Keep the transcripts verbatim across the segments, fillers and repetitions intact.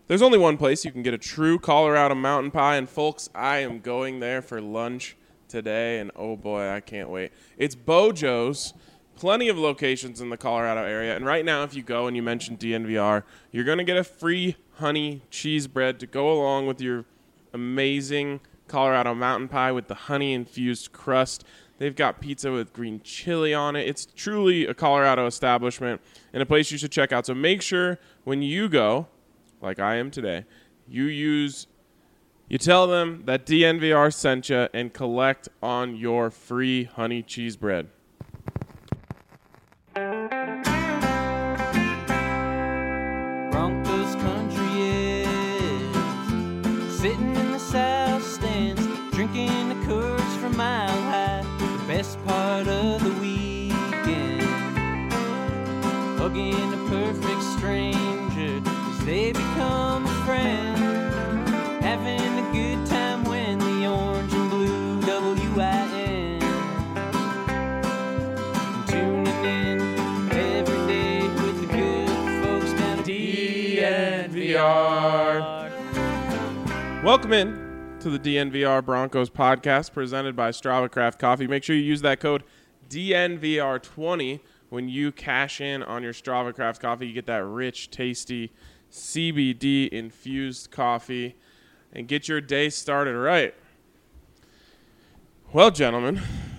There's only one place you can get a true Colorado mountain pie, and folks, I am going there for lunch today, and oh boy, I can't wait. It's Bojo's. Plenty of locations in the Colorado area, and right now, if you go and you mention D N V R, you're going to get a free honey cheese bread to go along with your amazing Colorado mountain pie with the honey-infused crust. They've got pizza with green chili on it. It's truly a Colorado establishment and a place you should check out. So make sure when you go, like I am today, you use, you tell them that D N V R sent you and collect on your free honey cheese bread. Broncos country is sitting in the south stands, drinking the Coors from Mile High. The best part of the weekend, hugging a perfect stranger as they become a friend, having a good time when the orange and blue W I N, tuning in every day with the good folks down at D N V R. Welcome in to the D N V R Broncos podcast presented by Strava Craft Coffee. Make sure you use that code D N V R twenty when you cash in on your Strava Craft Coffee. You get that rich, tasty C B D infused coffee and get your day started right. Well, gentlemen,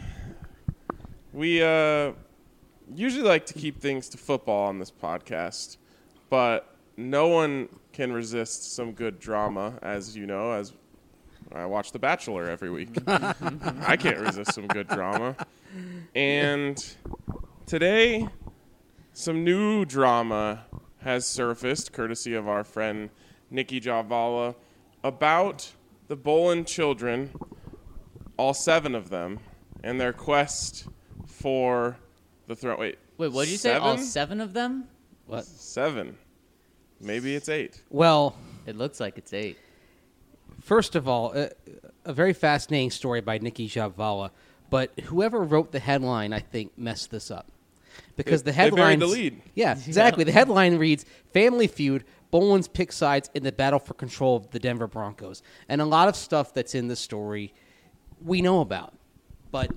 we uh, usually like to keep things to football on this podcast, but no one can resist some good drama, as you know, as I watch The Bachelor every week. I can't resist some good drama. And today, some new drama has surfaced, courtesy of our friend Nikki Javala, about the Bolin children, all seven of them, and their quest for the throne. Wait, Wait, what did you seven? say? All seven of them? What? Seven. Maybe it's eight. Well, It looks like it's eight. first of all, a, a very fascinating story by Nikki Javala, but whoever wrote the headline, I think, messed this up. Because They- the they buried headline, the lead. Yeah, exactly. The headline reads, Family Feud, Bolin's pick sides in the battle for control of the Denver Broncos. And a lot of stuff that's in the story we know about. But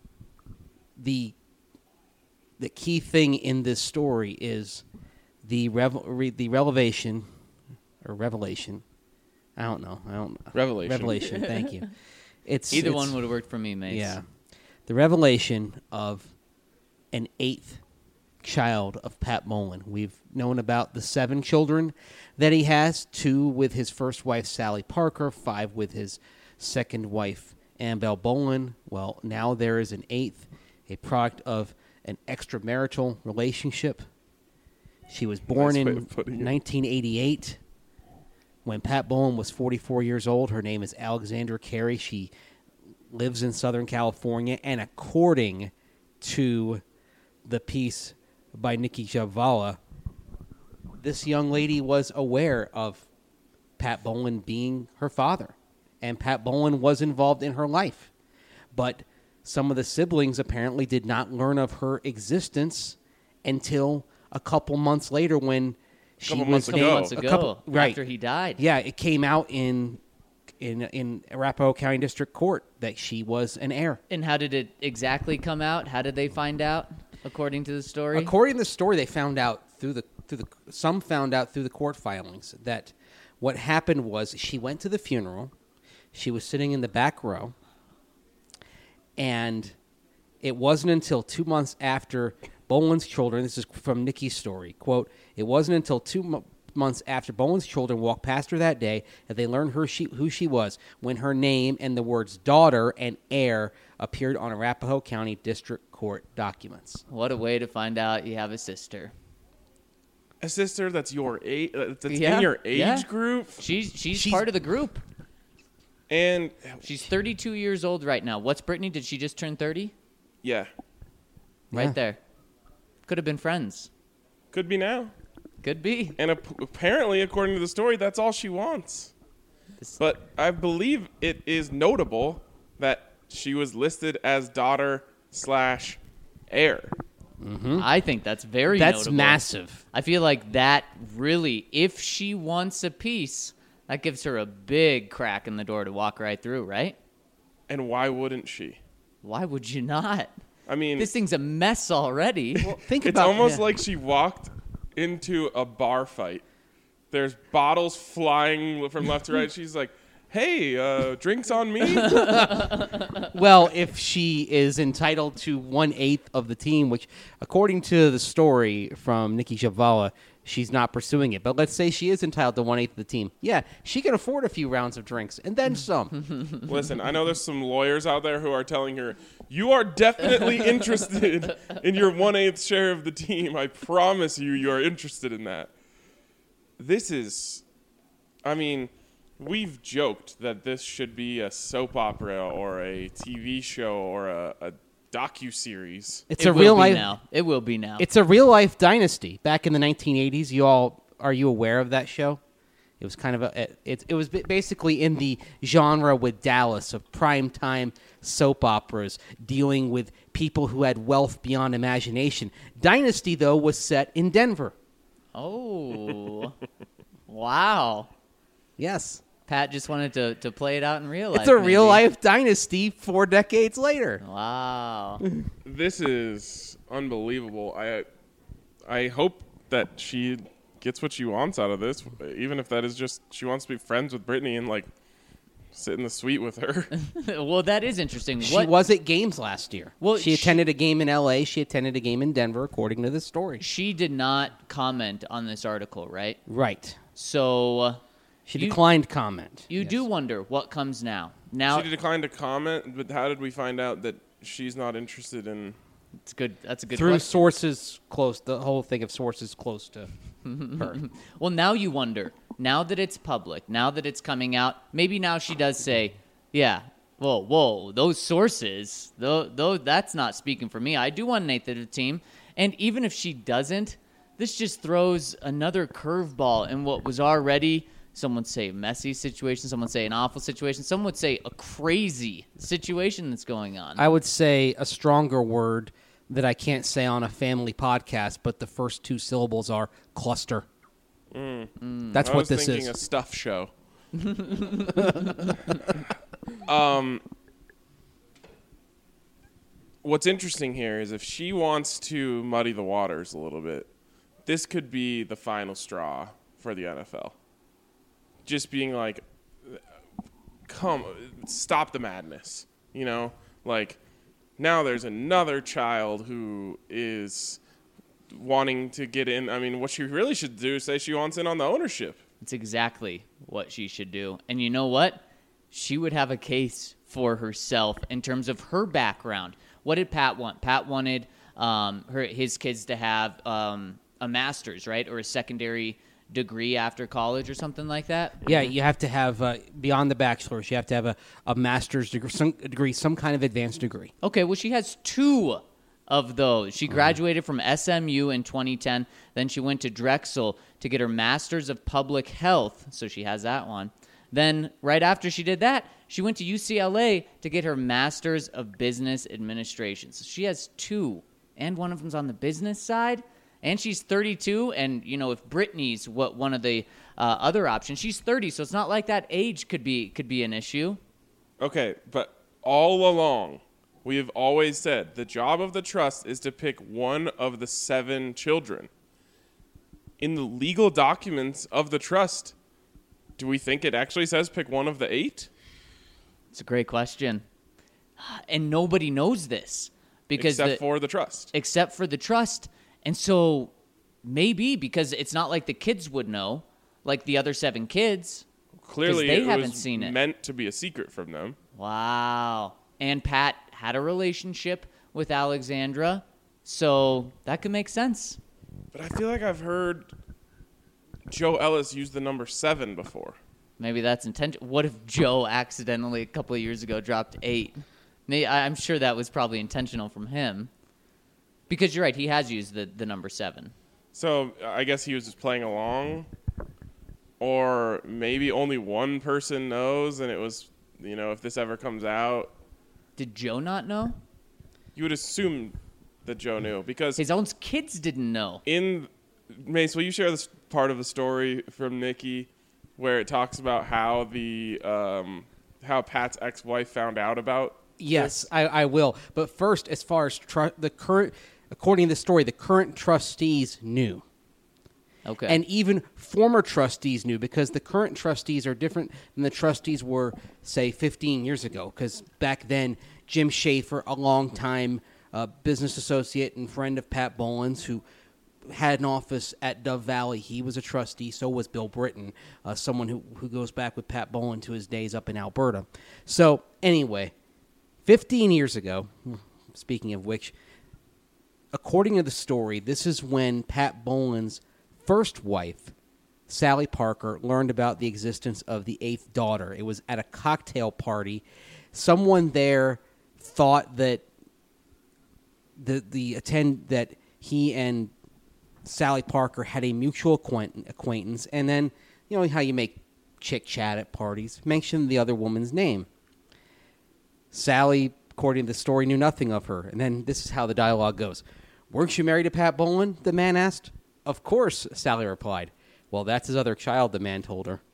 the the key thing in this story is the revel- re- the revelation, or revelation, I don't know. I don't Revelation. Revelation, thank you. It's Either it's- one would have worked for me, Mace. Yeah. The revelation of an eighth child of Pat Bolin. We've known about the seven children that he has, two with his first wife, Sally Parker, five with his second wife, Annabelle Bolin. Well, now there is an eighth, a product of an extramarital relationship. She was born Nice way in of putting it. nineteen eighty-eight. When Pat Bolin was forty-four years old, her name is Alexandra Carey. She lives in Southern California, and according to the piece by Nikki Javala, this young lady was aware of Pat Bolin being her father, and Pat Bolin was involved in her life. But some of the siblings apparently did not learn of her existence until a couple months later when she Couple was months Couple ago. months a ago, couple- right. after he died. Yeah, it came out in in in Arapahoe County District Court that she was an heir. And how did it exactly come out? How did they find out, according to the story? According to the story, they found out through the through the some found out through the court filings that what happened was she went to the funeral. She was sitting in the back row, and it wasn't until two months after Bolin's children, this is from Nikki's story, quote, it wasn't until two mo- months after Bolin's children walked past her that day that they learned her she, who she was when her name and the words daughter and heir appeared on Arapahoe County District Court documents. What a way to find out you have a sister. A sister that's your age, uh, that's Yeah, in your age yeah. group, She's, she's She's- part of the group. and She's thirty-two years old right now. What's Brittany? Did she just turn thirty? yeah, Yeah. Right there. Could have been friends. could be now. Could be. And ap- apparently, according to the story, that's all she wants. This- But I believe it is notable that she was listed as daughter slash heir. I think that's very That's notable. massive. I feel like that really, if she wants a piece, that gives her a big crack in the door to walk right through, right? And why wouldn't she? Why would you not? I mean, This thing's a mess already. Think it's about almost yeah. like she walked into a bar fight. There's bottles flying from left to right. She's like, hey, uh, drinks on me? Well, if she is entitled to one eighth of the team, which, according to the story from Nikki Javala, she's not pursuing it. But let's say she is entitled to one eighth of the team. Yeah, she can afford a few rounds of drinks and then some. Listen, I know there's some lawyers out there who are telling her, you are definitely interested in your one-eighth share of the team. I promise you, you are interested in that. This is, I mean, we've joked that this should be a soap opera or a T V show or a, a docu-series. It's it a will real be life. now. It will be now. It's a real life dynasty. Back in the nineteen eighties, you all are you aware of that show? It was kind of a it. It was basically in the genre with Dallas of primetime soap operas dealing with people who had wealth beyond imagination. Dynasty, though, was set in Denver. Oh, wow. Yes, Pat just wanted to, to play it out in real life. it's a real maybe. life dynasty four decades later. Wow. This is unbelievable. I, I hope that she gets what she wants out of this, even if that is just she wants to be friends with Brittany and like sit in the suite with her. Well, that is interesting. She What was at games last year. Well, she she- attended a game in L A. She attended a game in Denver, according to this story. she did not comment on this article, right? Right. So uh, She You- declined comment. you Yes. do wonder what comes now. Now She declined to comment, but how did we find out that she's not interested in? it's good. That's a good through question. sources close. The whole thing of sources close to her. Well, now you wonder. Now that it's public, now that it's coming out, maybe now she does say, "Yeah, whoa, whoa, those sources, though, though that's not speaking for me. I do want an eighth of the team." And even if she doesn't, this just throws another curveball in what was already, some would say, a messy situation. Some would say an awful situation. Some would say a crazy situation that's going on. I would say a stronger word that I can't say on a family podcast, but the first two syllables are cluster. That's I what was this thinking is. a stuff show. um, what's interesting here is if she wants to muddy the waters a little bit, this could be the final straw for the N F L. Just being like, come, stop the madness. You know, like now there's another child who is wanting to get in. I mean, what she really should do is say she wants in on the ownership. It's exactly what she should do. And you know what? She would have a case for herself in terms of her background. What did Pat want? Pat wanted um, her his kids to have um, a master's, right? Or a secondary degree after college or something like that. Yeah, you have to have, uh, beyond the bachelor's, you have to have a, a master's degree some, degree, some kind of advanced degree. Okay, well, she has two of those. She graduated from S M U in twenty ten. Then she went to Drexel to get her master's of public health. So she has that one. Then right after she did that, she went to U C L A to get her master's of business administration. So she has two, and one of them's on the business side. And she's thirty-two, and you know if Brittany's what one of the uh, other options, she's thirty, so it's not like that age could be could be an issue. Okay, but all along, we have always said the job of the trust is to pick one of the seven children. In the legal documents of the trust, do we think it actually says pick one of the eight? It's a great question, and nobody knows this because Except the, for the trust. except for the trust. And so maybe because it's not like the kids would know, like the other seven kids. Clearly, they it haven't was seen it. meant to be a secret from them. Wow. And Pat had a relationship with Alexandra, so that could make sense. But I feel like I've heard Joe Ellis use the number seven before. Maybe that's intentional. What if Joe accidentally a couple of years ago dropped eight? May- I- I'm sure that was probably intentional from him. Because you're right, he has used the, the number seven. So I guess he was just playing along. Or maybe only one person knows, and it was, you know, if this ever comes out, Did Joe not know? you would assume that Joe knew because His own kids didn't know. in Mace, will you share this part of the story from Nikki where it talks about how the um, how Pat's ex-wife found out about? Yes, I, I will. But first, as far as tru- the current, according to the story, the current trustees knew. Okay. And even former trustees knew because the current trustees are different than the trustees were, say, fifteen years ago. Because back then, Jim Schaefer, a longtime uh, business associate and friend of Pat Boland's, who had an office at Dove Valley, he was a trustee. So was Bill Britton, uh, someone who, who goes back with Pat Boland to his days up in Alberta. So anyway, fifteen years ago, speaking of which, according to the story, this is when Pat Boland's first wife, Sally Parker, learned about the existence of the eighth daughter. It was at a cocktail party. Someone there thought that the the attend that he and Sally Parker had a mutual acquaint- acquaintance, and then you know how you make chick chat at parties, mentioned the other woman's name. Sally, according to the story, knew nothing of her, and then this is how the dialogue goes. "Weren't you married to Pat Boland?" the man asked. "Of course," Sally replied. "Well, that's his other child," the man told her.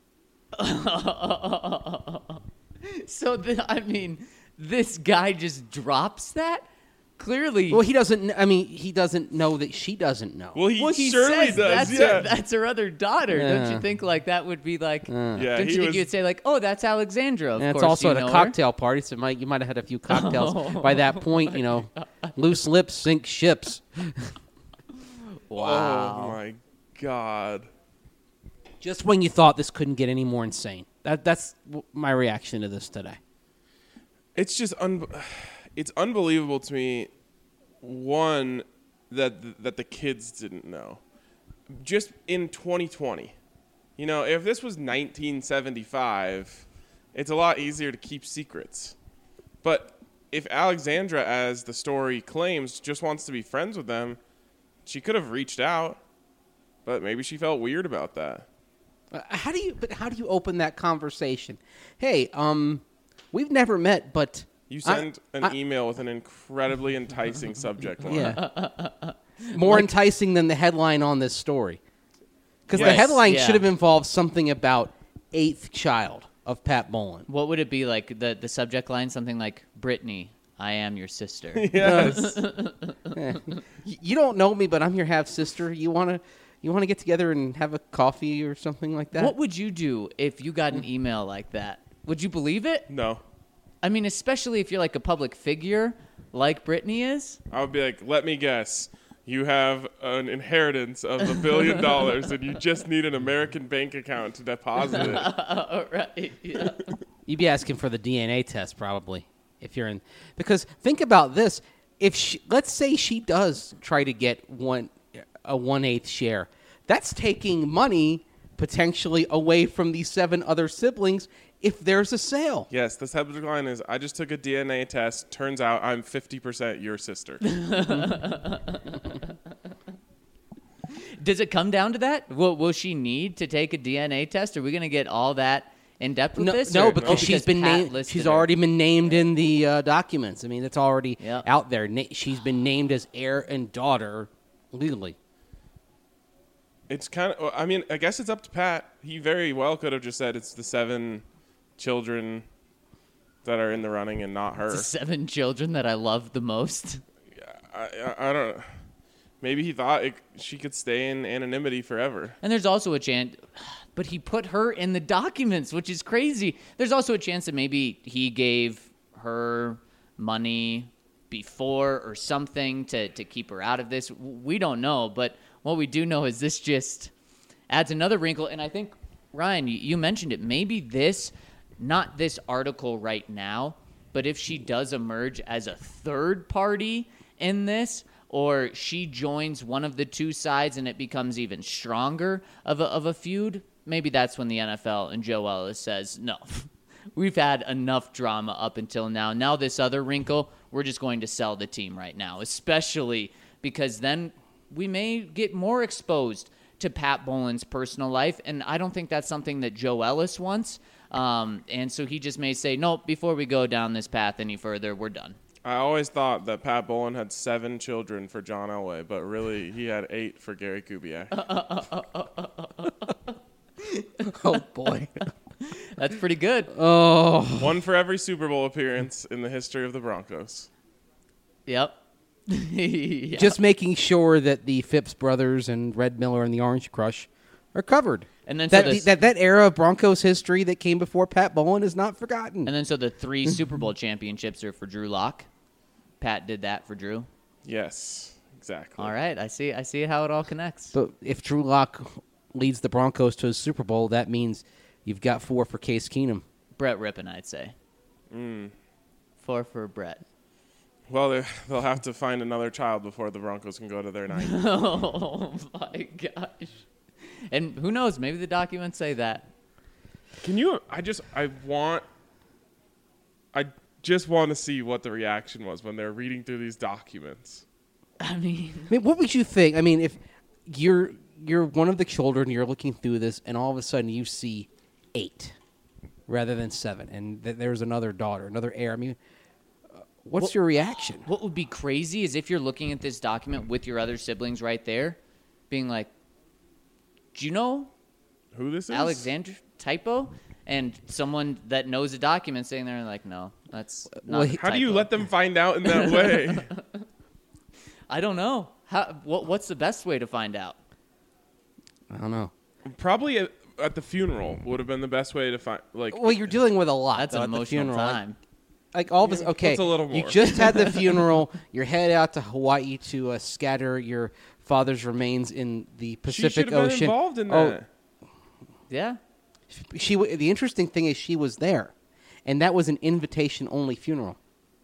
So, the, I mean, this guy just drops that? Clearly. Well, he doesn't. I mean, he doesn't know that she doesn't know. Well, he, well, he surely says does. that's, Yeah, her, that's her other daughter. Don't Yeah. you think like that would be like, yeah. don't He you think was, you'd say like, oh, that's Alexandra, of and it's course also you at a know cocktail party, so might, you might have had a few cocktails. Oh. By that point, you know, loose lips sink ships. her? Wow. Oh my God. Just when you thought this couldn't get any more insane. That That's w- my reaction to this today. It's just un- it's unbelievable to me. One, that that the kids didn't know. Just in twenty twenty, you know, if this was nineteen seventy-five, it's a lot easier to keep secrets. But if Alexandra, as the story claims, just wants to be friends with them, she could have reached out. But maybe she felt weird about that. Uh, How do you? But how do you open that conversation? Hey, um, we've never met, but You I- send an I- email with an incredibly enticing subject line. yeah, more enticing than the headline on this story. Because the Yes, headline yeah. should have involved something about eighth child of Pat Boland. What would it be like? The the subject line something like, "Brittany, I am your sister." Yes. Y- You don't know me, but I'm your half sister. You wanna you wanna get together and have a coffee or something like that? What would you do if you got an email like that? Would you believe it? No. I mean, especially if you're like a public figure, like Brittany is. I would be like, let me guess. You have an inheritance of a billion dollars and you just need an American bank account to deposit it. Oh, right. Yeah. You'd be asking for the D N A test probably if you're in. Because think about this: if she, let's say she does try to get one a one eighth share, that's taking money potentially away from the seven other siblings if there's a sale. Yes, the subject line is, I just took a D N A test. Turns out I'm fifty percent your sister. Does it come down to that? Will, will she need to take a D N A test? Are we going to get all that in depth with No, this? no or- because oh, she's been Pat named. listed She's her? already been named in the uh, documents. I mean, it's already Yeah. out there. Na- she's been named as heir and daughter legally. It's kind of, I mean, I guess it's up to Pat. He very well could have just said it's the seven children that are in the running and not her. The seven children that I love the most. I, I, I don't Maybe he thought it, she could stay in anonymity forever. And there's also a chance, but he put her in the documents, which is crazy. There's also a chance that maybe he gave her money before or something to, to keep her out of this. We don't know, but what we do know is this just adds another wrinkle. And I think, Ryan, you, you mentioned it. Maybe this, not this article right now, but if she does emerge as a third party in this, or she joins one of the two sides and it becomes even stronger of a, of a feud, maybe that's when the N F L and Joe Ellis says, no, we've had enough drama up until now. Now this other wrinkle, we're just going to sell the team right now, especially because then we may get more exposed to Pat Boland's personal life, and I don't think that's something that Joe Ellis wants. Um, and so he just may say, no, before we go down this path any further, we're done. I always thought that Pat Bowlen had seven children for John Elway, but really he had eight for Gary Kubiak. Oh, boy. That's pretty good. Oh. One for every Super Bowl appearance in the history of the Broncos. Yep. Yeah. Just making sure that the Phipps brothers and Red Miller and the Orange Crush are covered. And then so that, this- that that era of Broncos history that came before Pat Bowlen is not forgotten. And then so the three Super Bowl championships are for Drew Lock. Pat did that for Drew. Yes, exactly. All right, I see. I see how it all connects. But if Drew Lock leads the Broncos to a Super Bowl, that means you've got four for Case Keenum. Brett Rippon, I'd say. Mm. Four for Brett. Well, they- they'll have to find another child before the Broncos can go to their ninety. Oh my gosh! And who knows? Maybe the documents say that. Can you? I just, I want, I just want to see what the reaction was when they're reading through these documents. I mean, I mean, what would you think? I mean, if you're you're one of the children, you're looking through this, and all of a sudden you see eight rather than seven, and th- there's another daughter, another heir. I mean, uh, what's Well- your reaction? what would be crazy is if you're looking at this document with your other siblings right there, being like, "Do you know Who this is? Alexander typo?" And someone that knows a document sitting there and like, "No, that's not." Well, a he- How do you typo." let them find out in that way? I don't know. How? What? What's the best way to find out? I don't know. Probably at, at the funeral would have been the best way to find. Like, Well, you're dealing with a lot. That's though, an at the emotional funeral. Like- time. Like all of us, okay. What's a little You more? just had the funeral. You're headed out to Hawaii to uh, scatter your father's remains in the she Pacific should have been Ocean. involved in Oh, that. Yeah. She. w- The interesting thing is she was there, and that was an invitation-only funeral.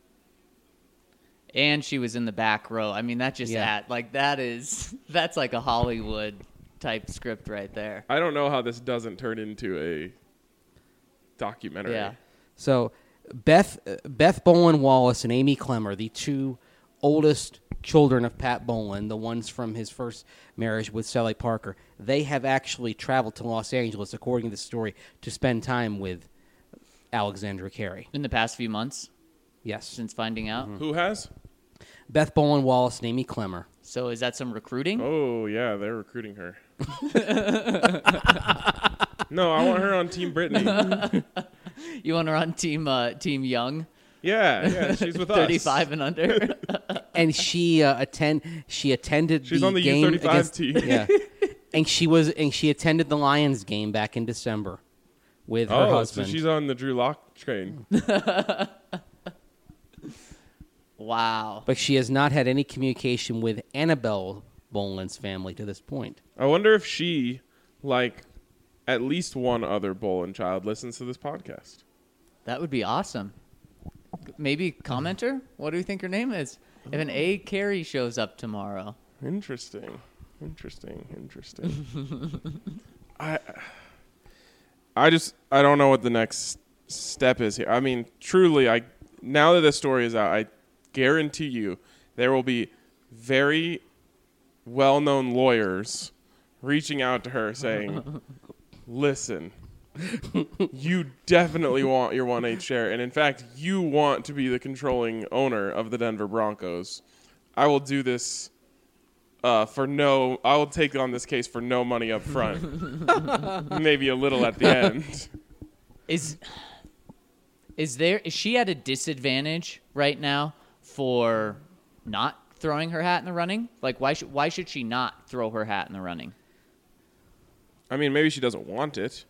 And she was in the back row. I mean, that just Yeah. at like that is that's like a Hollywood type script right there. I don't know how this doesn't turn into a documentary. Yeah. So Beth uh, Beth Bowlen Wallace and Amy Clemmer, the two oldest children of Pat Bowlen, the ones from his first marriage with Sally Parker, they have actually traveled to Los Angeles, according to the story, to spend time with Alexandra Carey. In the past few months Yes. since finding out. Who has? Beth Bowlen Wallace and Amy Clemmer. So is that some recruiting? Oh yeah, they're recruiting her. No, I want her on Team Brittany. You want her on team uh, Team Young, Yeah, yeah, she's with us. thirty-five and under. And she uh, attend she attended She's the on the game U thirty-five against, team. Yeah. And she was and she attended the Lions game back in December with her Oh, husband. so she's on the Drew Lock train. Wow. But she has not had any communication with Annabelle Bolen's family to this point. I wonder if she, like, at least one other Bolin child listens to this podcast. That would be awesome. Maybe commenter? What do you think her name is? If an A. Carey shows up tomorrow. Interesting. Interesting. Interesting. I I just I don't know what the next step is here. I mean, truly, I now that this story is out, I guarantee you there will be very well-known lawyers reaching out to her saying, "Listen, you definitely want your one eighth share, and in fact, you want to be the controlling owner of the Denver Broncos. I will do this uh, for no. I will take on this case for no money up front, maybe a little at the end." Is is there is she at a disadvantage right now for not throwing her hat in the running? Like why should why should she not throw her hat in the running? I mean, maybe she doesn't want it.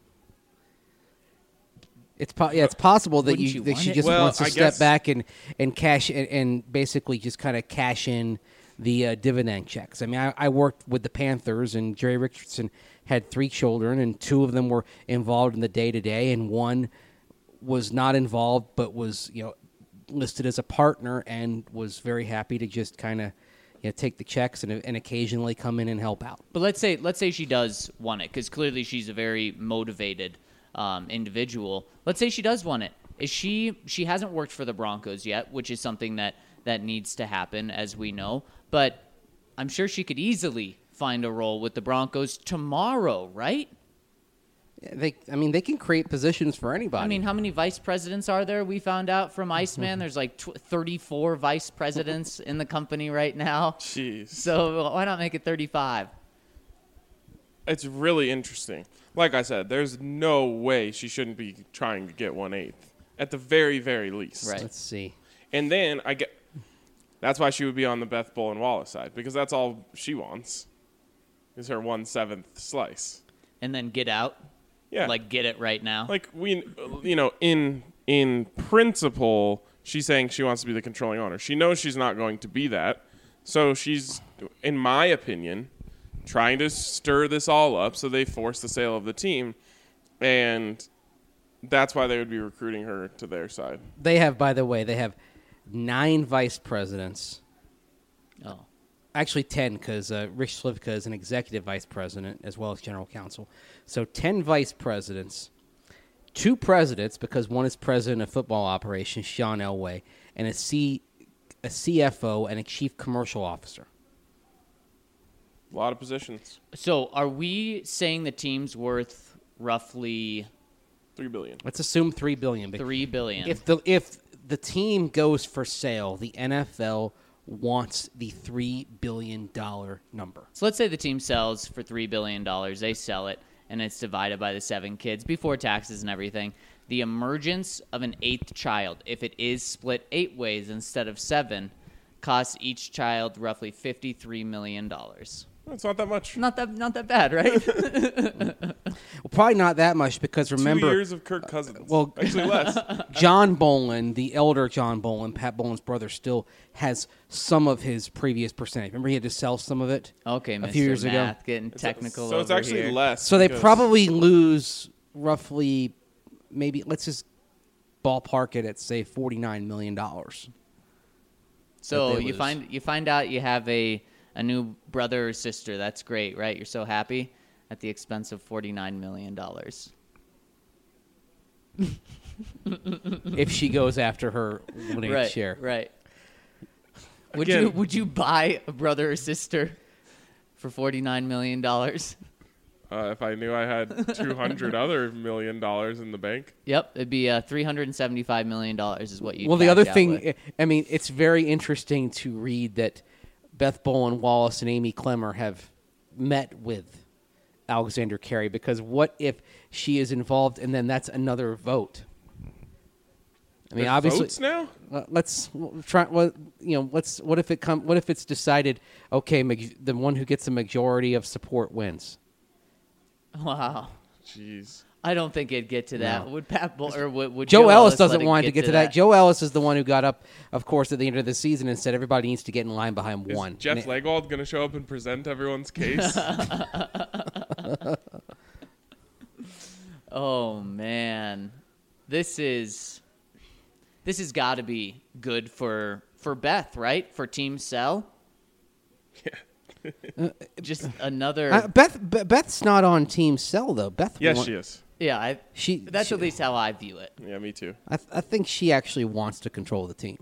It's po- yeah, it's possible that Wouldn't you you that want she it? just Well, wants to I step guess- back and and cash and, and basically just kind of cash in the uh, dividend checks. I mean, I, I worked with the Panthers, and Jerry Richardson had three children, and two of them were involved in the day to day, and one was not involved but was you know listed as a partner and was very happy to just kind of you know take the checks and and occasionally come in and help out. But let's say let's say she does want it because clearly she's a very motivated um, individual. Let's say she does want it. Is she she hasn't worked for the Broncos yet, which is something that that needs to happen, as we know. But I'm sure she could easily find a role with the Broncos tomorrow, right? they. I mean, they can create positions for anybody. I mean, how many vice presidents are there? We found out from Iceman. There's like tw- thirty-four vice presidents in the company right now. Jeez. So why not make it thirty-five? It's really interesting. Like I said, there's no way she shouldn't be trying to get one eighth at the very, very least. Right. let's see. And then I get that's why she would be on the Beth Bull and Wallace side, because that's all she wants is her one seventh slice. And then get out. Yeah. Like get it right now. Like we, you know, in in principle, she's saying she wants to be the controlling owner. She knows she's not going to be that, so she's, in my opinion, trying to stir this all up so they force the sale of the team, and that's why they would be recruiting her to their side. They have, by the way, they have nine vice presidents. Oh. Actually, ten, because uh, Rich Slivka is an executive vice president as well as general counsel. So ten vice presidents, two presidents, because one is president of football operations, Sean Elway, and a, C, a C F O and a chief commercial officer. A lot of positions. So are we saying the team's worth roughly Three billion. Let's assume three billion dollars. three billion dollars? If the if the team goes for sale, the N F L wants the three billion dollars number. So let's say the team sells for three billion dollars. They sell it, and it's divided by the seven kids before taxes and everything. The emergence of an eighth child, if it is split eight ways instead of seven, costs each child roughly fifty-three million dollars. It's not that much. Not that, not that bad, right? Well, probably not that much, because remember, Two years of Kirk Cousins. well- actually less. John Bolin, the elder John Bolin, Pat Bolin's brother, still has some of his previous percentage. Remember, he had to sell some of it Okay, a Mister few years ago. Math, getting technical So it's over actually here. less. So they because- probably lose roughly, maybe let's just ballpark it at say forty-nine million dollars. So that they you lose. find you find out you have a a new brother or sister. That's great, right? You're so happy at the expense of forty-nine million dollars. If she goes after her winning Right, share. right. Would Again- you would you buy a brother or sister for forty-nine million dollars? Uh, if I knew I had two hundred other million dollars in the bank. Yep, it'd be uh, three hundred seventy-five million dollars is what you. Well, the other thing, I mean, it's very interesting to read that Beth Bolin, Wallace, and Amy Clemmer have met with Alexander Carey, because what if she is involved and then that's another vote? I mean, There's obviously, votes now? uh, let's try. What you know? Let's. What if it come? What if it's decided? Okay, maj- the one who gets the majority of support wins. Wow, Jeez. I don't think it'd get to that. No. Would Pat Bull or would, would Joe, Joe Ellis let doesn't it want to get to that. Joe Ellis is the one who got up, of course, at the end of the season and said everybody needs to get in line behind Is one. Jeff And it- Legwald going to show up and present everyone's case? Oh man, this is this has got to be good for for Beth, right? For Team Cell. Yeah. Just another. Uh, Beth, Be- Beth's not on Team Cell though. Beth, Yes, wa- she is. yeah, I, She. that's she- at least how I view it. Yeah, me too. I, th- I think she actually wants to control the team.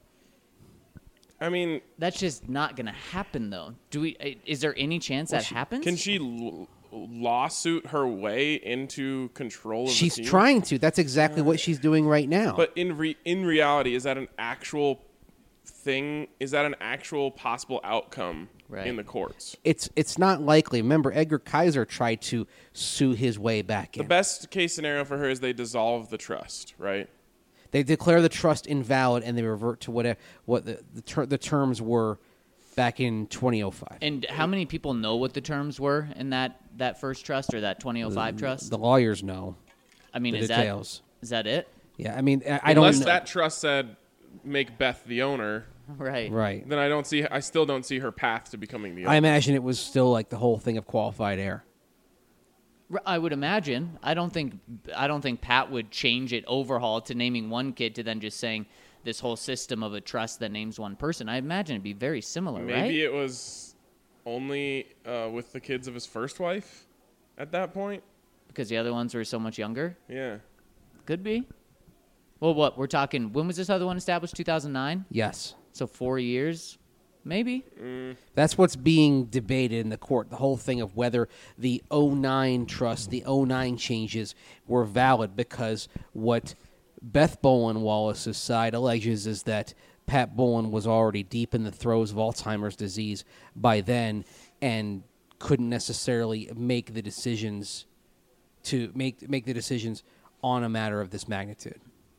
I mean, That's just not going to happen, though. Do we? uh, Is there any chance that she- happens? can she l- lawsuit her way into control of She's the team? trying to. That's exactly what she's doing right now. But in re- in reality, is that an actual thing? Is that an actual possible outcome Right. in the courts? it's it's not likely. Remember, Edgar Kaiser tried to sue his way back The in. best case scenario for her is they dissolve the trust, right? They declare the trust invalid and they revert to whatever what the the, ter- the terms were back in twenty oh five. And how many people know what the terms were in that, that first trust or that twenty oh five trust? The lawyers know. I mean, the is details. that is that it? Yeah, I mean, I, I don't Unless know. that trust said make Beth the owner, Right. Right. then I don't see. I still don't see her path to becoming the I owner. imagine it was still like the whole thing of qualified air. R- I would imagine. I don't think I don't think Pat would change it, overhaul to naming one kid to then just saying this whole system of a trust that names one person. I imagine it'd be very similar, Maybe right? it was only uh, with the kids of his first wife at that point. Because the other ones were so much younger. Yeah. Could be. Well, what we're talking? When was this other one established? two thousand nine. Yes. So four years. Maybe. That's what's being debated in the court. The whole thing of whether the oh nine trust, the oh nine changes were valid, because what Beth Bolin Wallace's side alleges is that Pat Bolin was already deep in the throes of Alzheimer's disease by then and couldn't necessarily make the decisions to make make the decisions on a matter of this magnitude.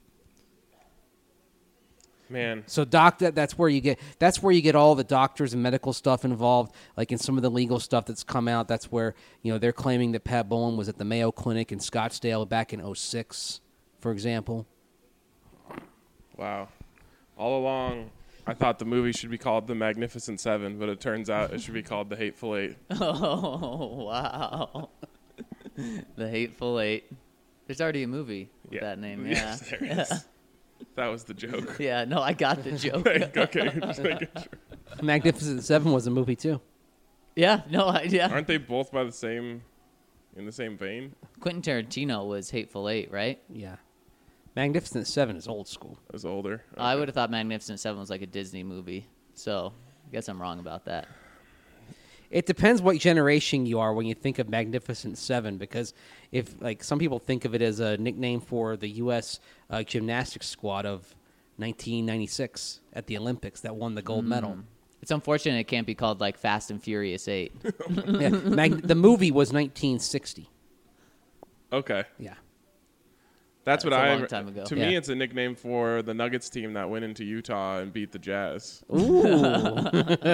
Man, So doc, that, that's where you get that's where you get all the doctors and medical stuff involved. Like in some of the legal stuff that's come out, that's where you know they're claiming that Pat Bolin was at the Mayo Clinic in Scottsdale back in oh six, for example. wow. All along, I thought the movie should be called The Magnificent Seven, but it turns out it should be called The Hateful Eight. Oh, wow. The Hateful Eight. There's already a movie with that name. Yeah. Yes, there is. That was the joke. Yeah, no, I got the joke. Okay, just making sure. Magnificent Seven was a movie too. Yeah, no, I, yeah. Aren't they both by the same, in the same vein? Quentin Tarantino was Hateful Eight, right? Yeah, Magnificent Seven is old school. I was older. I Okay. would have thought Magnificent Seven was like a Disney movie. So I guess I'm wrong about that. It depends what generation you are when you think of Magnificent Seven, because if like some people think of it as a nickname for the U S uh, gymnastics squad of nineteen ninety-six at the Olympics that won the gold medal. It's unfortunate it can't be called like Fast and Furious Eight. Yeah, Mag- the movie was nineteen sixty. Okay. Yeah. That's what That's a I. long time ago. To Yeah. me, it's a nickname for the Nuggets team that went into Utah and beat the Jazz. Ooh.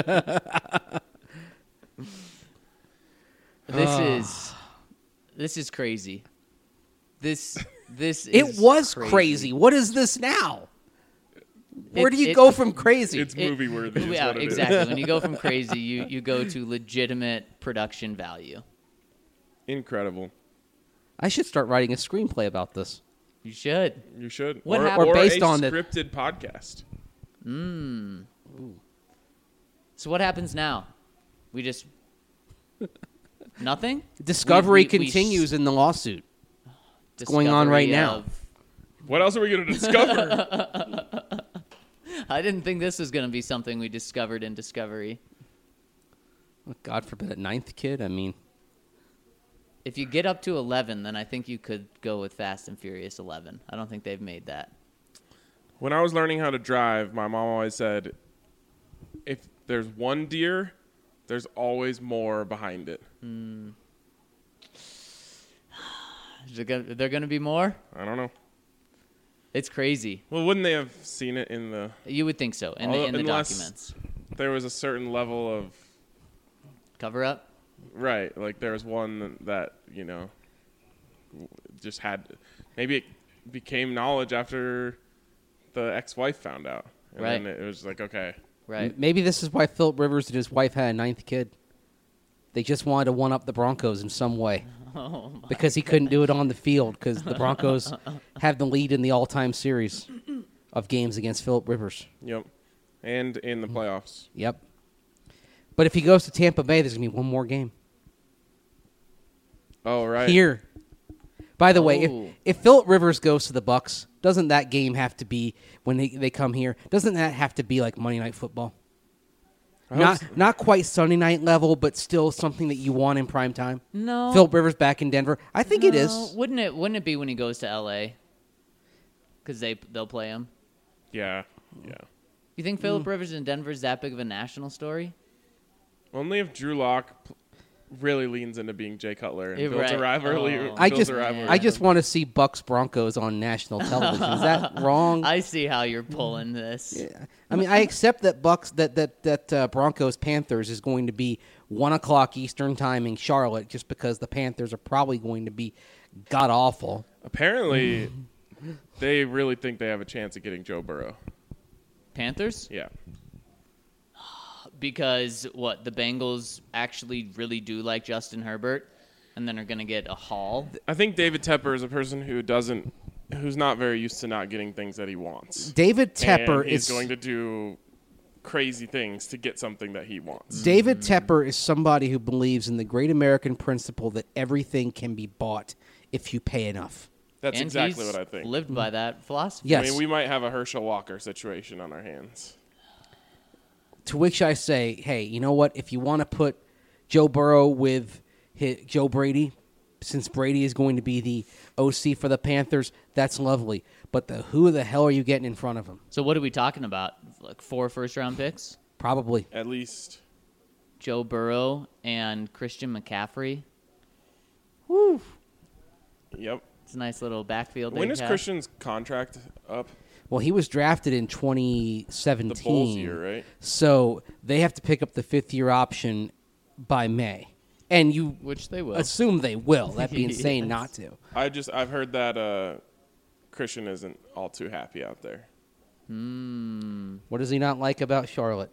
This Ah. is this is crazy. This this It is was crazy. What is this now? Where It- do you it- go from crazy? It's It- movie worthy. is Yeah, what it is. exactly. When you go from crazy, you you go to legitimate production value. Incredible. I should start writing a screenplay about this. You should. You should. What or, happened- or Or based a on the- scripted podcast. So what happens now? We just nothing. Discovery We- we- we s- continues in the lawsuit. going on right Discovery now. of- What else are we going to discover? I didn't think this was going to be something we discovered in Discovery. God forbid a ninth kid. I mean, If you get up to eleven, then I think you could go with Fast and Furious eleven. I don't think they've made that. When I was learning how to drive, my mom always said, if there's one deer, there's always more behind it. Is there gonna, there going to be more? I don't know. It's crazy. Well, wouldn't they have seen it in the... You would think so in the, Although- in the unless- documents. There was a certain level of... Cover up. Right, like there was one that, you know, just had... Maybe it became knowledge after the ex-wife found out. And Right. then it was like, okay. Right. maybe this is why Philip Rivers and his wife had a ninth kid. They just wanted to one up the Broncos in some way. Oh, my. Because he couldn't do it on the field because the Broncos have the lead in the all-time series of games against Philip Rivers. Yep. And in the playoffs. Yep. But if he goes to Tampa Bay, there's going to be one more game. Oh, right. Here. By the way, Oh. if, if Philip Rivers goes to the Bucks, doesn't that game have to be, when they, they come here, doesn't that have to be like Monday Night Football? I hope Not so. not quite Sunday night level, but still something that you want in prime time. No. Philip Rivers back in Denver. I think it No, is. Wouldn't it? Wouldn't it be when he goes to L A? Because they they'll play him. Yeah, yeah. You think Mm. Philip Rivers in Denver is that big of a national story? Only if Drew Lock p- really leans into being Jay Cutler and Yeah, builds right. a rivalry. Oh. I builds just a rivalry. I just want to see Bucks Broncos on national television. Is that wrong? I see how you're pulling this. Yeah. I mean, I accept that Bucks that that that uh, Broncos Panthers is going to be one o'clock Eastern time in Charlotte, just because the Panthers are probably going to be god awful. Apparently, they really think they have a chance of getting Joe Burrow. Panthers? Yeah. Because what the Bengals actually really do like Justin Herbert, and then are going to get a haul. I think David Tepper is a person who doesn't, who's not very used to not getting things that he wants. David Tepper and he's is going to do crazy things to get something that he wants. David Tepper is somebody who believes in the great American principle that everything can be bought if you pay enough. That's and exactly he's what I think. lived by that philosophy. Yes. I mean, we might have a Herschel Walker situation on our hands. To which I say, hey, you know what? If you want to put Joe Burrow with his, Joe Brady, since Brady is going to be the O C for the Panthers, that's lovely. But the who the hell are you getting in front of him? So what are we talking about? Like four first-round picks? Probably. At least. Joe Burrow and Christian McCaffrey. Woo. Yep. It's a nice little backfield. When they is have. Christian's contract up? Well, he was drafted in twenty seventeen. The Bulls year, right? So they have to pick up the fifth-year option by May. And you Which they will. assume they will. That'd be insane Yes. not to. I just I've heard that uh, Christian isn't all too happy out there. What does he not like about Charlotte?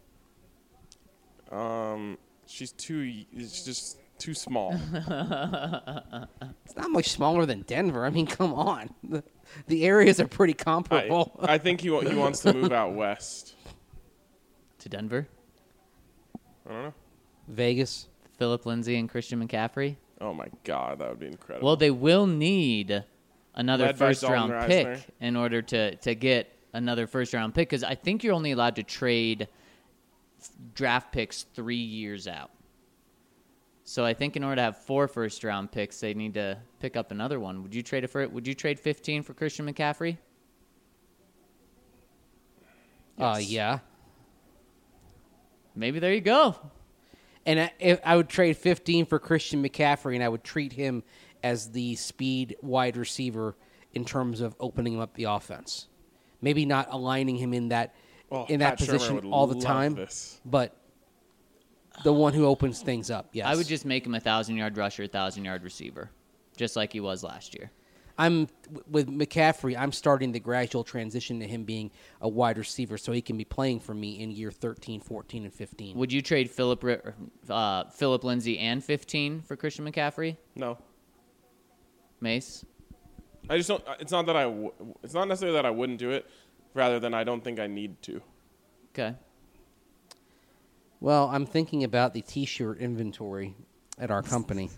Um, she's too. It's just too small. It's not much smaller than Denver. I mean, come on. The, the areas are pretty I, comparable. I think he wa- he wants to move out west. To Denver. I don't know. Vegas. Philip Lindsay and Christian McCaffrey. Oh my God, that would be incredible. Well, they will need another Led by first-round Dalton pick Reisner. in order to, to get another first-round pick because I think you're only allowed to trade draft picks three years out. So I think in order to have four first-round picks, they need to pick up another one. Would you trade it for? Would you trade fifteen for Christian McCaffrey? Uh, Yes. yeah. Maybe there you go. And I, if I would trade fifteen for Christian McCaffrey, and I would treat him as the speed wide receiver in terms of opening up the offense. Maybe not aligning him in that Oh, in that Pat Shurmur position would all the love time, this. but the one who opens things up. Yes, I would just make him a thousand-yard rusher, thousand-yard receiver, just like he was last year. I'm with McCaffrey. I'm starting the gradual transition to him being a wide receiver, so he can be playing for me in year thirteen, fourteen, and fifteen. Would you trade Philip Ri- uh, Philip Lindsay and fifteen for Christian McCaffrey? No, Mace? I just don't. It's not that I. W- it's not necessarily that I wouldn't do it, rather than I don't think I need to. Okay. Well, I'm thinking about the T-shirt inventory at our company,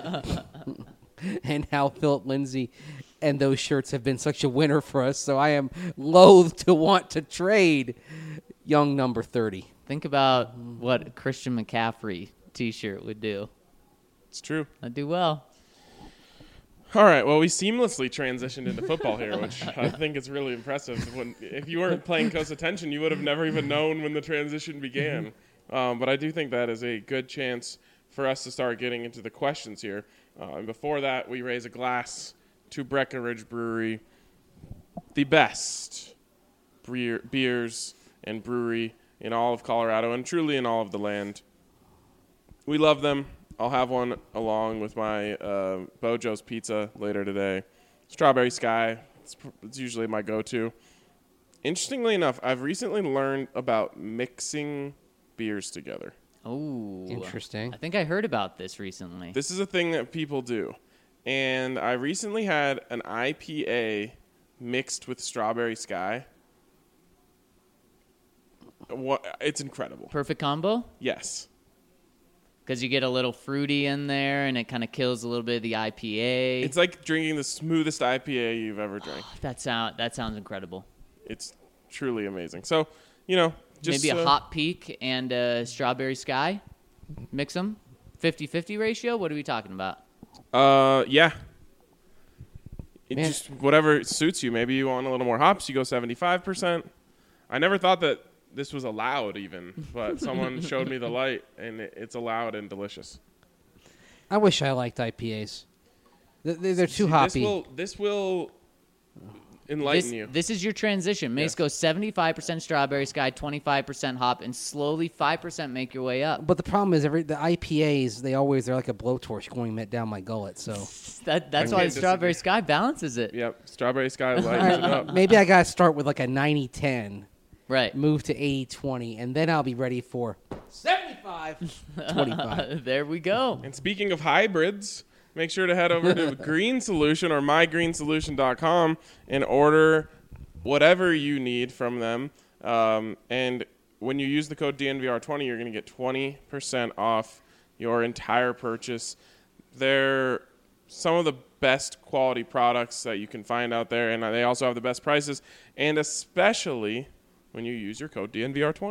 and how Philip Lindsay and those shirts have been such a winner for us. So I am loath to want to trade young number thirty. Think about what a Christian McCaffrey T-shirt would do. It's true. I'd do well. All right. Well, we seamlessly transitioned into football here, which I think is really impressive. When, if you weren't paying close attention, you would have never even known when the transition began. Um, but I do think that is a good chance for us to start getting into the questions here. Uh, and before that, we raise a glass to Breckenridge Brewery, the best beer, beers and brewery in all of Colorado and truly in all of the land. We love them. I'll have one along with my uh, Bojo's Pizza later today. Strawberry Sky, it's, it's usually my go-to. Interestingly enough, I've recently learned about mixing beers together. Oh, Interesting. I think I heard about this recently. This is a thing that people do. And I recently had an I P A mixed with Strawberry Sky. What? It's incredible. Perfect combo? Yes. Because you get a little fruity in there, and it kind of kills a little bit of the I P A. It's like drinking the smoothest I P A you've ever drank. that sound that sounds incredible. It's truly amazing. So, you know, just Maybe a uh, hot peak and a strawberry sky. Mix them. fifty-fifty ratio? What are we talking about? Uh, yeah. It Man. just whatever suits you. Maybe you want a little more hops. You go seventy-five percent. I never thought that this was allowed, even, but someone showed me the light, and it, it's allowed and delicious. I wish I liked I P As. Th- They're, they're too See, hoppy. This will this will enlighten This, you. this is your transition. Mace Yes. goes seventy-five percent strawberry sky, twenty-five percent hop, and slowly five percent make your way up. But the problem is, every the I P As they always they're like a blowtorch going met down my gullet. So That, that's I why can't the strawberry disagree. sky balances it. Yep, Strawberry Sky lightens it up. maybe I gotta start with like a ninety ten, Right. move to eighty twenty, and then I'll be ready for seventy-five twenty-five. There we go. And speaking of hybrids, make sure to head over to Green Solution or my green solution dot com and order whatever you need from them. Um, and when you use the code D N V R twenty, you're going to get twenty percent off your entire purchase. They're some of the best quality products that you can find out there, and they also have the best prices, and especially when you use your code D N V R twenty.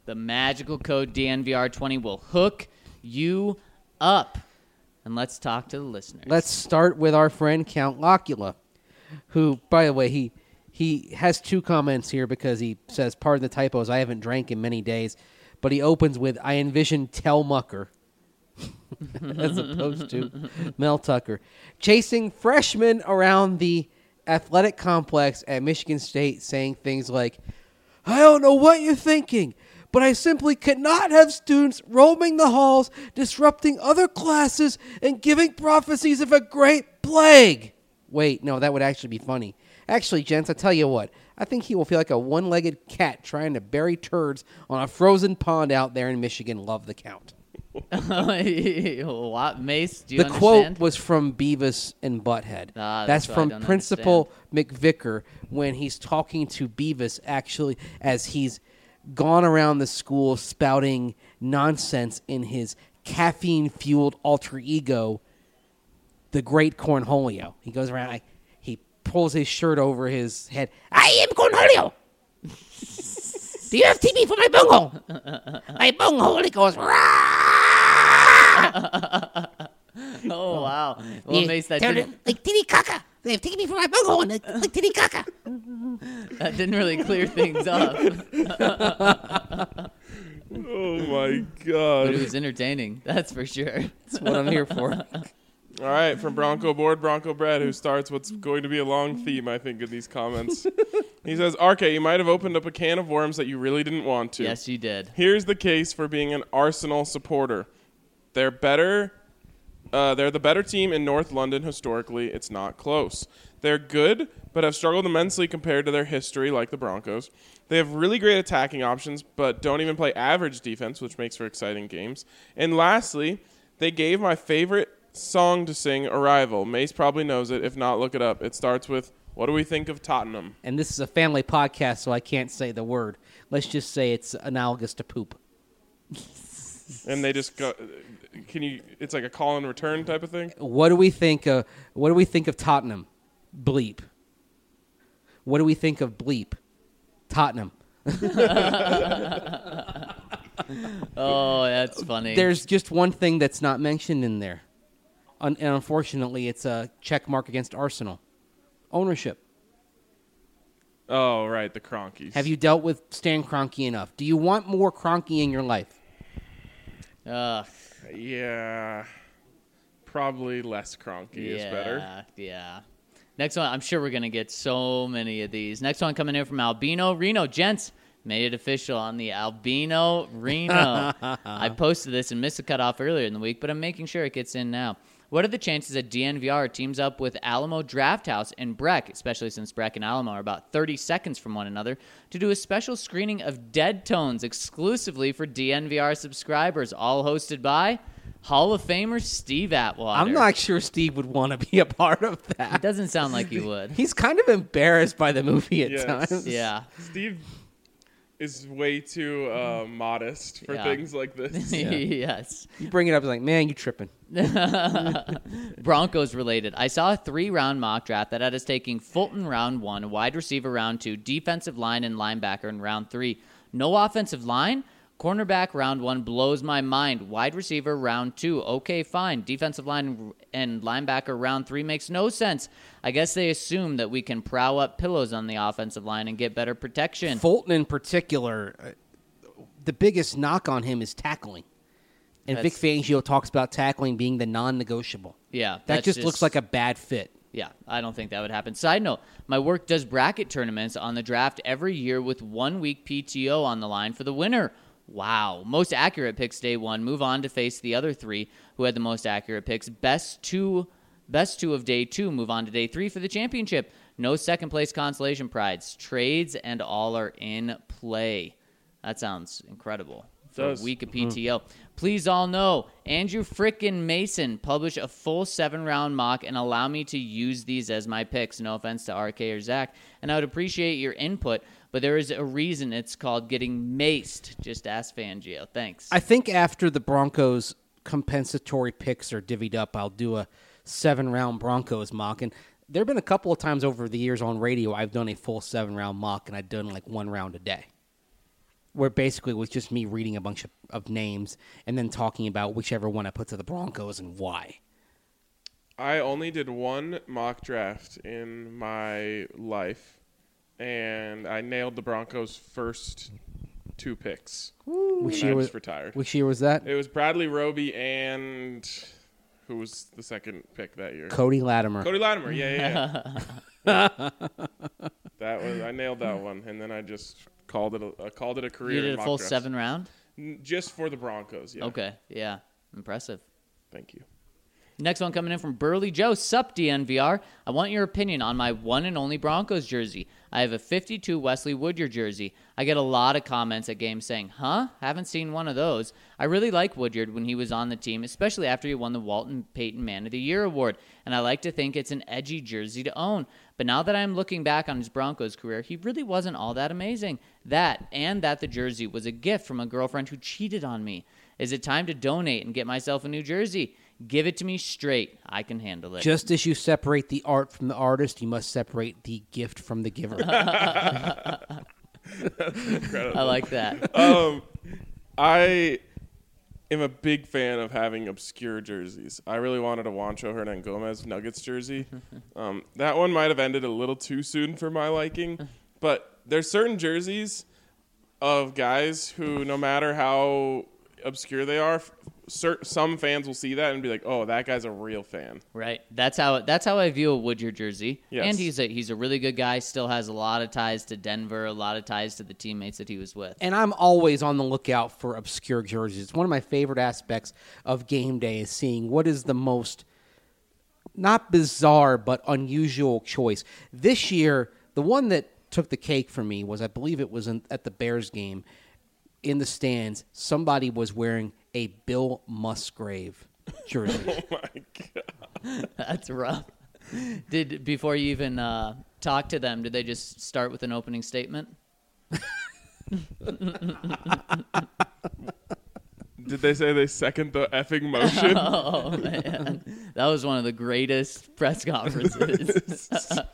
the magical code D N V R twenty will hook you up. And let's talk to the listeners. Let's start with our friend Count Locula, who, by the way, he he has two comments here because he says, pardon the typos, I haven't drank in many days. But he opens with, I envision Tel Mucker, as opposed to Mel Tucker, chasing freshmen around the athletic complex at Michigan State, saying things like, I don't know what you're thinking, but I simply cannot have students roaming the halls, disrupting other classes, and giving prophecies of a great plague. Wait, no, that would actually be funny. Actually, gents, I tell you what, I think he will feel like a one-legged cat trying to bury turds on a frozen pond out there in Michigan. Love the Count. What, Mace, do you the understand? quote was from Beavis and Butthead. Ah, that's that's what I from don't Principal McVicker when he's talking to Beavis, actually, as he's gone around the school spouting nonsense in his caffeine-fueled alter ego, the Great Cornholio. He goes around, like, he pulls his shirt over his head. I am Cornholio! Do you have T V for my bunghole? My bunghole, he goes, Oh, wow. Well, Yeah, Mace, that tell didn't, them, like titty caca. They have taken me for my bunghole and like, like titty caca. that didn't really clear things up. Oh my But god. it was entertaining, that's for sure. That's what I'm here for. All right, from Bronco Board, Bronco Bread, who starts what's going to be a long theme, I think, in these comments. He says, R K, you might have opened up a can of worms that you really didn't want to. Yes, you did. Here's the case for being an Arsenal supporter. They're better. Uh, they're the better team in North London historically. It's not close. They're good, but have struggled immensely compared to their history, like the Broncos. They have really great attacking options, but don't even play average defense, which makes for exciting games. And lastly, they gave my favorite song to sing Arrival. Mace probably knows it. If not, look it up. It starts with, what do we think of Tottenham? And this is a family podcast, so I can't say the word. Let's just say it's analogous to poop. And they just go, can you, it's like a call and return type of thing? What do we think of, what do we think of Tottenham? Bleep. What do we think of bleep? Tottenham. Oh, that's funny. There's just one thing that's not mentioned in there. Un- and unfortunately, it's a check mark against Arsenal. Ownership. Oh, right, the Cronkies. Have you dealt with Stan Kroenke enough? Do you want more Kroenke in your life? Ugh, Yeah, probably less Cronky yeah, is better. Yeah. Next one, I'm sure we're going to get so many of these. Next one coming in from Albino Reno. Gents, made it official on the Albino Reno. I posted this and missed the cutoff earlier in the week, but I'm making sure it gets in now. What are the chances that D N V R teams up with Alamo Drafthouse and Breck, especially since Breck and Alamo are about thirty seconds from one another, to do a special screening of Dead Tones exclusively for D N V R subscribers, all hosted by Hall of Famer Steve Atwater? I'm not sure Steve would want to be a part of It that. doesn't sound like he would. He's kind of embarrassed by the movie at Yes. times. Yeah. Steve is way too uh, modest for Yeah. things like this. Yes. You bring it up, it's like, man, you tripping. Broncos related. I saw a three-round mock draft that had us taking Fulton round one, wide receiver round two, defensive line and linebacker in round three. No offensive line? Cornerback round one blows my mind. Wide receiver round two. Okay, fine. Defensive line and linebacker round three makes no sense. I guess they assume that we can prow up pillows on the offensive line and get better protection. Fulton in particular, uh, the biggest knock on him is tackling. And That's- Vic Fangio talks about tackling being the non-negotiable. Yeah. That that's just, looks like a bad fit. Yeah, I don't think that would happen. Side note, my work does bracket tournaments on the draft every year with one week P T O on the line for the winner. Wow. Most accurate picks day one. Move on to face the other three who had the most accurate picks. Best two best two of day two move on to day three for the championship. No second place consolation prize. Trades and all are in play. That sounds incredible. For Does. a week of P T O. Please all know, Andrew frickin' Mason published a full seven-round mock and allow me to use these as my picks. No offense to R K or Zach. And I would appreciate your input, but there is a reason it's called getting maced. Just ask Fangio. Thanks. I think after the Broncos compensatory picks are divvied up, I'll do a seven-round Broncos mock. And there have been a couple of times over the years on radio I've done a full seven-round mock, and I've done like one round a day. where basically it was just me reading a bunch of, of names and then talking about whichever one I put to the Broncos and why. I only did one mock draft in my life, and I nailed the Broncos' first two picks. Which and year I was just retired. Which year was that? It was Bradley Roby and who was the second pick that year? Cody Latimer. Cody Latimer. Yeah, yeah. yeah. That was I nailed that one, and then I just called it a uh, called it a career. You did in a mock full drafts. seven round? N- just for the Broncos. Yeah. Okay, yeah. Impressive. Thank you. Next one coming in from Burley Joe. Sup, D N V R. I want your opinion on my one and only Broncos jersey. I have a fifty-two Wesley Woodyard jersey. I get a lot of comments at games saying, huh? Haven't seen one of those. I really like Woodyard when he was on the team, especially after he won the Walton Payton Man of the Year award, and I like to think it's an edgy jersey to own. But now that I'm looking back on his Broncos career, he really wasn't all that amazing. That, and that the jersey was a gift from a girlfriend who cheated on me. Is it time to donate and get myself a new jersey? Give it to me straight. I can handle it. Just as you separate the art from the artist, you must separate the gift from the giver. Incredible. I like that. um, I am a big fan of having obscure jerseys. I really wanted a Juancho Hernan Gomez Nuggets jersey. Um, that one might have ended a little too soon for my liking, but there's certain jerseys of guys who, no matter how obscure they are, cer- some fans will see that and be like, "Oh, that guy's a real fan." Right. That's how that's how I view a Woodyard jersey. Yes. And he's a he's a really good guy. Still has a lot of ties to Denver, a lot of ties to the teammates that he was with. And I'm always on the lookout for obscure jerseys. It's one of my favorite aspects of game day is seeing what is the most, not bizarre, but unusual choice. This year, the one that took the cake for me was, I believe it was in, at the Bears game, in the stands, somebody was wearing a Bill Musgrave jersey. Oh my god. That's rough. Did before you even uh, talk to them, did they just start with an opening statement? Did they say they second the effing motion? Oh man, that was one of the greatest press conferences.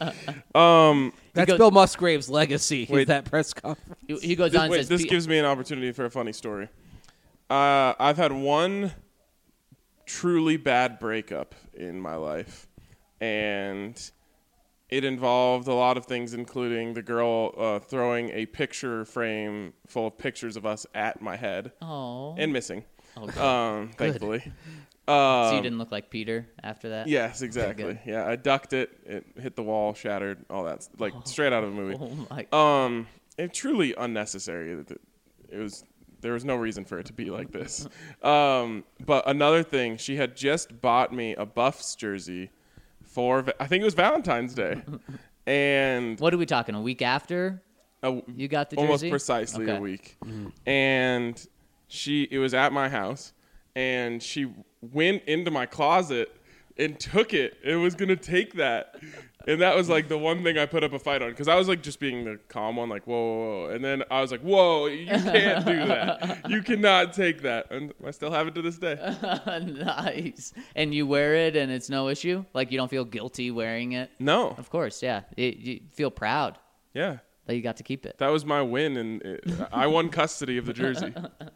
um, That's goes- Bill Musgrave's legacy, is Wait. that press conference. he, he goes This, on and wait, says, this "Pe- gives me an opportunity for a funny story. Uh, I've had one truly bad breakup in my life, and it involved a lot of things, including the girl uh, throwing a picture frame full of pictures of us at my head "Oh, and missing, oh good. um, thankfully. so Um, you didn't look like Peter after that." Yes, exactly. good. Yeah, I ducked it. It hit the wall, shattered, all that. Like, straight out of a movie. Oh my. Um, it truly unnecessary. It it was there was no reason for it to be like this. Um, but another thing, she had just bought me a Buffs jersey for Va- I think it was Valentine's Day, and What are we talking? A week after a, you got the jersey? almost precisely Okay. a week, and she it was at my house, and she went into my closet and took it. It was gonna take that. And that was like the one thing I put up a fight on because I was like just being the calm one, like, whoa, whoa, whoa. And then I was like, whoa, you can't do that. You cannot take that. And I still have it to this day. Nice. And you wear it and it's no issue? Like you don't feel guilty wearing it? No. Of course, yeah. It, you feel proud Yeah. that you got to keep it. That was my win. And it, I won custody of the jersey.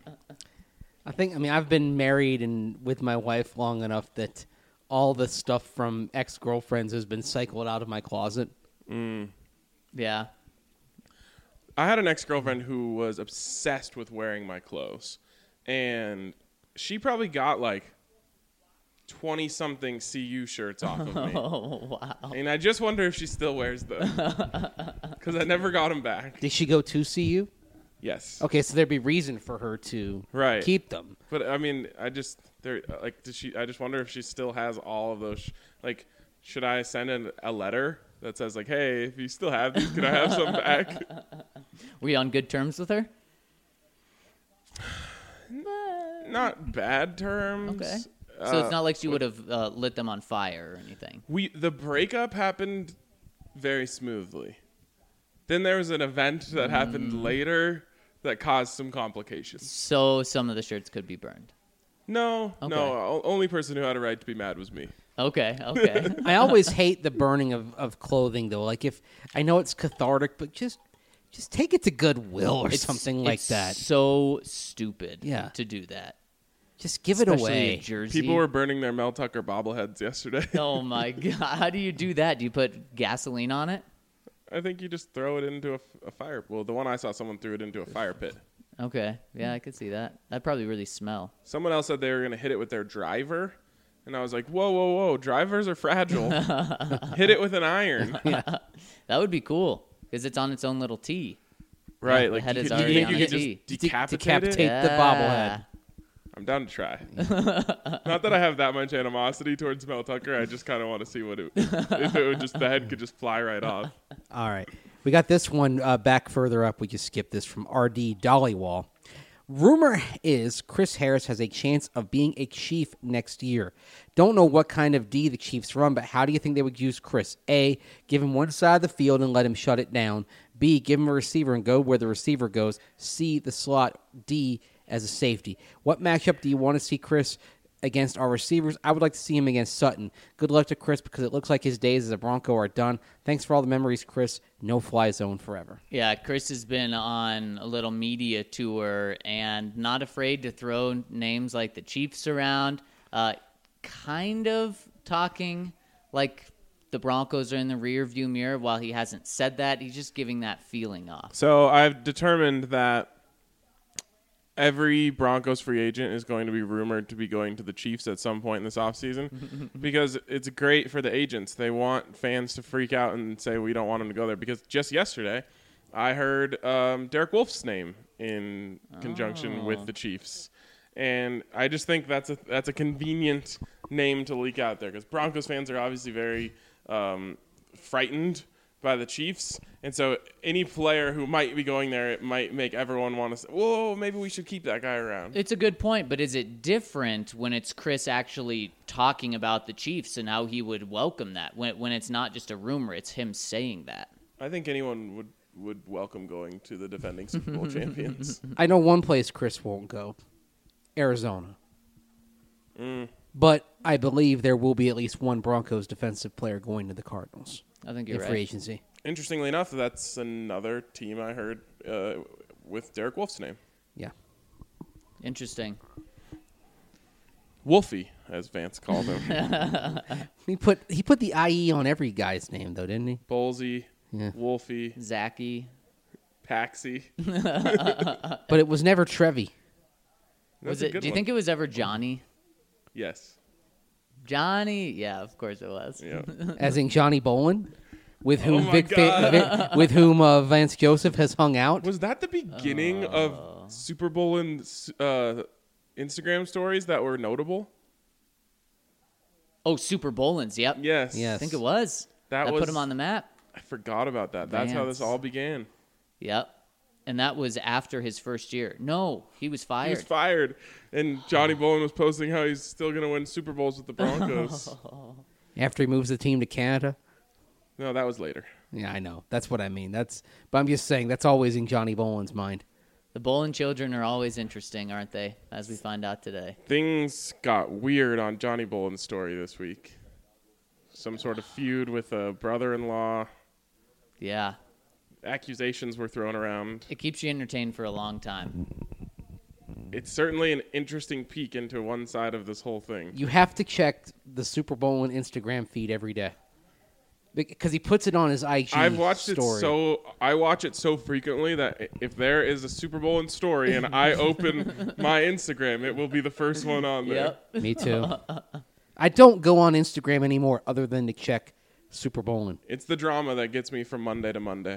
I think, I mean, I've been married and with my wife long enough that all the stuff from ex-girlfriends has been cycled out of my closet. Yeah. I had an ex-girlfriend who was obsessed with wearing my clothes. And she probably got like twenty-something C U shirts off of me. Oh, wow. And I just wonder if she still wears them. Because I never got them back. Did she go to see you? Yes. Okay, so there'd be reason for her to Right. keep them. But I mean, I just there like did she? I just wonder if she still has all of those. Sh- like, should I send in a letter that says like, "Hey, if you still have these, can I have some back?" Were you on good terms with her? Not bad terms. Okay. Uh, So it's not like she would have uh, lit them on fire or anything. we the breakup happened very smoothly. Then there was an event that happened Mm. later that caused some complications. So some of the shirts could be burned. No, Okay. no. o- Only person who had a right to be mad was me. Okay, okay. I always hate the burning of, of clothing, though. Like, if I know it's cathartic, but just just take it to Goodwill or It's- something like it's that. So stupid. Yeah. To do that. Just give it Especially away. a jersey. People were burning their Mel Tucker bobbleheads yesterday. Oh my god! How do you do that? Do you put gasoline on it? I think you just throw it into a, f- a fire. Well, the one I saw, someone threw it into a fire pit. Okay. Yeah, I could see that. That'd probably really smell. Someone else said they were going to hit it with their driver. And I was like, whoa, whoa, whoa. Drivers are fragile. Hit it with an iron. That would be cool because it's on its own little tee. Right. the like head you is could, already you, on you a could tee. just De- decapitate, decapitate it. the bobblehead. I'm down to try. Not that I have that much animosity towards Mel Tucker. I just kind of want to see what it, if it would just, the head could just fly right off. All right. We got this one uh, back further up. We just skipped this from R D Dollywall. Rumor is Chris Harris has a chance of being a Chief next year. Don't know what kind of D the Chiefs run, but how do you think they would use Chris? A, give him one side of the field and let him shut it down. B, give him a receiver and go where the receiver goes. C, the slot. D, as a safety. What matchup do you want to see Chris against our receivers? I would like to see him against Sutton. Good luck to Chris because it looks like his days as a Bronco are done. Thanks for all the memories, Chris. No fly zone forever. Yeah, Chris has been on a little media tour and not afraid to throw names like the Chiefs around. Uh, kind of talking like the Broncos are in the rear view mirror. While he hasn't said that, he's just giving that feeling off. So I've determined that every Broncos free agent is going to be rumored to be going to the Chiefs at some point in this offseason because it's great for the agents. They want fans to freak out and say, we don't want them to go there. Because just yesterday, I heard um, Derek Wolf's name in conjunction Oh. with the Chiefs. And I just think that's a that's a convenient name to leak out there because Broncos fans are obviously very um, frightened by the Chiefs. And so any player who might be going there, it might make everyone want to say, whoa, maybe we should keep that guy around. It's a good point, but is it different when it's Chris actually talking about the Chiefs and how he would welcome that? When when it's not just a rumor, it's him saying that. I think anyone would, would welcome going to the defending Super Bowl champions. I know one place Chris won't go. Arizona. Mm. But I believe there will be at least one Broncos defensive player going to the Cardinals I think in you're free right. agency. Interestingly enough, that's another team I heard uh, with Derek Wolf's name. Yeah. Interesting. Wolfie, as Vance called him. He put he put the I E on every guy's name though, didn't he? Ballsy, Yeah. Wolfie, Zachy. Paxi. But it was never Trevi. Was That's a it? good Do you one. think it was ever Johnny? Yes. Johnny? Yeah, of course it was. Yeah. As in Johnny Bolin, with Oh whom my Vic, Fa- God. Vic with whom uh, Vance Joseph has hung out. Was that the beginning of Super Bowl and uh, Instagram stories that were notable? Oh, Super Bowlins. Yep. Yes. Yes. I think it was. That That was- put him on the map. I forgot about that. That's how this Vance. all began. Yep. And that was after his first year. No, he was He fired. was fired, and Johnny Bolin was posting how he's still going to win Super Bowls with the Broncos. After he moves the team to Canada. No, that was later. Yeah, I know. That's what I mean. That's but I'm just saying that's always in Johnny Bolin's mind. The Bolin children are always interesting, aren't they? As we find out today. Things got weird on Johnny Bolin's story this week. Some sort of feud with a brother-in-law. Yeah. Accusations were thrown around. It keeps you entertained for a long time. It's certainly an interesting peek into one side of this whole thing. You have to check the Super Bowl and Instagram feed every day because he puts it on his I G. I've watched story. it so I watch it so frequently that if there is a Super Bowl in story and I open my Instagram, it will be the first one on there. Yep. Me too. I don't go on Instagram anymore other than to check Super Bowling. It's the drama that gets me from Monday to Monday.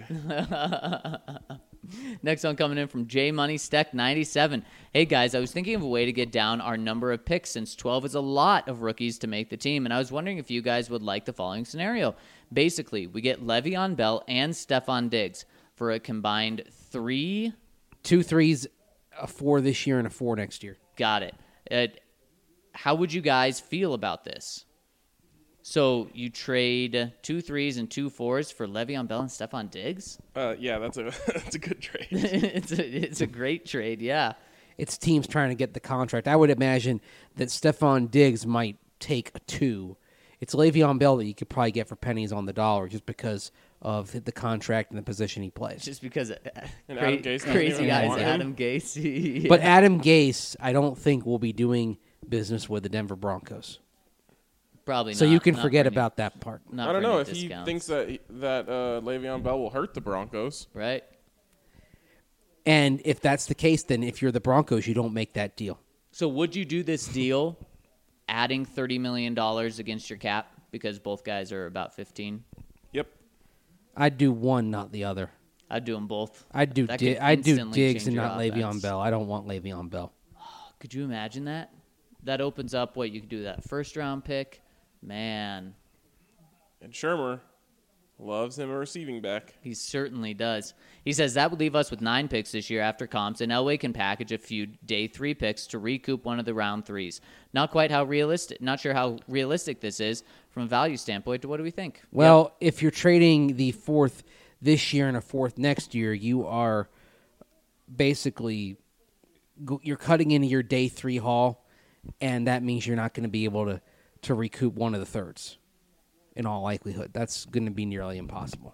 Next one coming in from J Money Steck ninety-seven. Hey guys, I was thinking of a way to get down our number of picks since twelve is a lot of rookies to make the team, and I was wondering if you guys would like the following scenario. Basically, we get Le'Veon Bell and Stephon Diggs for a combined three. Two threes, a four this year and a four next year. Got it. Uh, how would you guys feel about this? So you trade two threes and two fours for Le'Veon Bell and Stephon Diggs? Uh, yeah, that's a that's a good trade. it's a it's a great trade, yeah. It's teams trying to get the contract. I would imagine that Stephon Diggs might take a two it's Le'Veon Bell that you could probably get for pennies on the dollar just because of the contract and the position he plays. Just because uh, And cra- Adam Gase doesn't crazy even guys, want him. Adam Gase. Yeah. But Adam Gase, I don't think will be doing business with the Denver Broncos. Probably So not, you can not forget for any- about that part. not I don't for know any if he discounts, thinks that he- that uh, Le'Veon Bell will hurt the Broncos. right. And if that's the case, then if you're the Broncos, you don't make that deal. So would you do this deal, adding thirty million dollars against your cap because both guys are about fifteen? Yep. I'd do one, not the other. I'd do them both. I'd do That Di- could I'd do instantly Diggs change and your not Le'Veon offense. Bell. I don't want Le'Veon Bell. Could you imagine that? That opens up what you could do that first round pick. Man, And Shermer loves him a receiving back. he certainly does. He says that would leave us with nine picks this year after comps, and Elway can package a few day three picks to recoup one of the round threes. Not quite how realistic, not sure how realistic this is from a value standpoint. What do we think? Well, if you're trading the fourth this year and a fourth next year, you are basically go- you're cutting into your day three haul, and that means you're not going to be able to, to recoup one of the thirds. In all likelihood, that's going to be nearly impossible.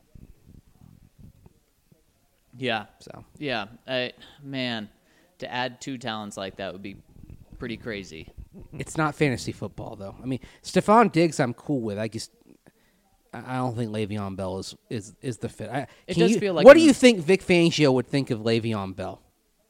Yeah, So yeah. I, man, to add two talents like that would be pretty crazy. it's not fantasy football, though. I mean, Stephon Diggs, I'm cool with. I just I I don't think Le'Veon Bell is is, is the fit. I, It can does you- feel like What in- do you think Vic Fangio would think of Le'Veon Bell?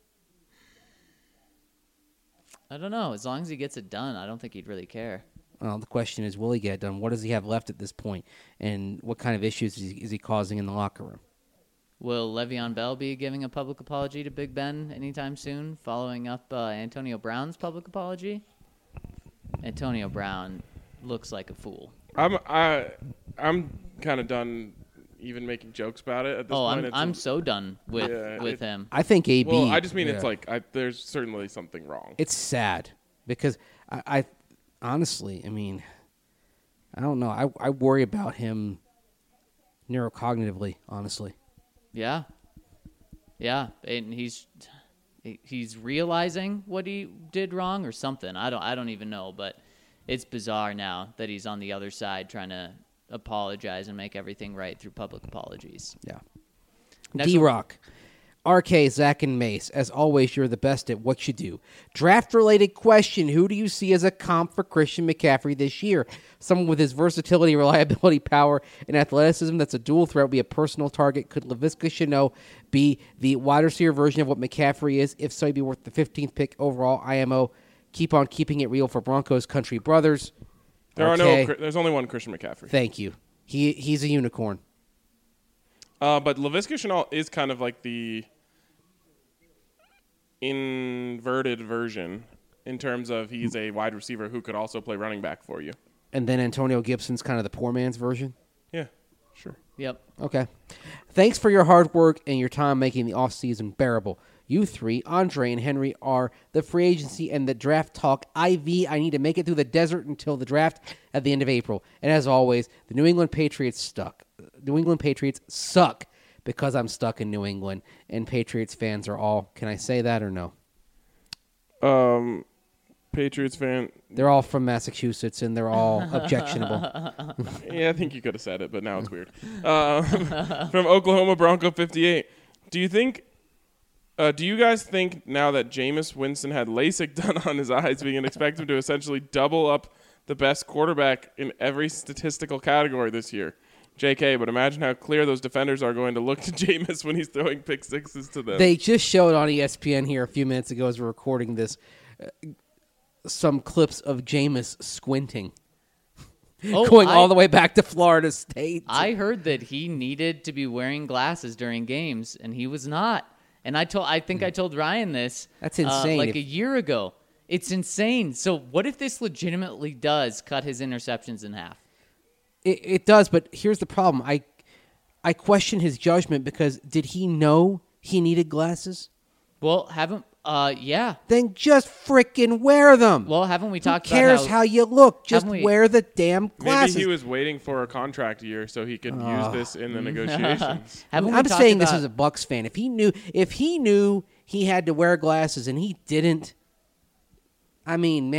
I don't know. As long as he gets it done, I don't think he'd really care. Well, the question is, will he get it done? What does he have left at this point, and what kind of issues is he, is he causing in the locker room? Will Le'Veon Bell be giving a public apology to Big Ben anytime soon, following up uh, Antonio Brown's public apology? Antonio Brown looks like a fool. I'm I I'm kind of done even making jokes about it at this Oh, point. I'm It's I'm a- so done with Yeah, with it- him. I think A B. well, I just mean it's yeah. like I, there's certainly something wrong. it's sad because I, I honestly, I mean, I don't know. I I worry about him neurocognitively, honestly. Yeah, yeah, and he's he's realizing what he did wrong or something. I don't I don't even know, but it's bizarre now that he's on the other side trying to apologize and make everything right through public apologies. Yeah. Next D Rock. R K, Zach, and Mace. As always, you're the best at what you do. Draft related question. Who do you see as a comp for Christian McCaffrey this year? Someone with his versatility, reliability, power, and athleticism that's a dual threat would be a personal target. Could Laviska Shenault be the wide receiver version of what McCaffrey is? If so, he'd be worth the fifteenth pick overall. I M O. Keep on keeping it real for Broncos Country Brothers. There are Okay. no. There's only one Christian McCaffrey. Thank you. He He's a unicorn. Uh, but Laviska Shenault is kind of like the inverted version in terms of he's a wide receiver who could also play running back for you. And then Antonio Gibson's kind of the poor man's version. Yeah, sure. Yep. Okay. Thanks for your hard work and your time making the offseason bearable. You three, Andre and Henry, are the free agency and the draft talk I V. I need to make it through the desert until the draft at the end of April. And as always, the New England Patriots stuck. New England Patriots suck because I'm stuck in New England. And Patriots fans are all, can I say that or no? Um, Patriots fan. They're all from Massachusetts and they're all objectionable. Yeah, I think you could have said it, but now it's weird. Uh, from Oklahoma Bronco fifty-eight. Do you think? Uh, do you guys think now that Jameis Winston had LASIK done on his eyes, we can expect him to essentially double up the best quarterback in every statistical category this year? J K, but imagine how clear those defenders are going to look to Jameis when he's throwing pick sixes to them. They just showed on E S P N here a few minutes ago as we're recording this uh, some clips of Jameis squinting. Oh, going I- all the way back to Florida State. I heard that he needed to be wearing glasses during games, and he was not. And I told, I think I told Ryan this. That's uh, insane. like If- a year ago. It's insane. So what if this legitimately does cut his interceptions in half? It, it does, but here's the problem. I I question his judgment because did he know he needed glasses? Well, haven't uh yeah. Then just frickin' wear them. Well, haven't we Who talked cares about how, how, you look? Just haven't we- wear the damn glasses. Maybe he was waiting for a contract year so he could use this in the negotiations. haven't we I'm talked saying this about- as a Bucks fan. If he knew, if he knew he had to wear glasses and he didn't, I mean, man,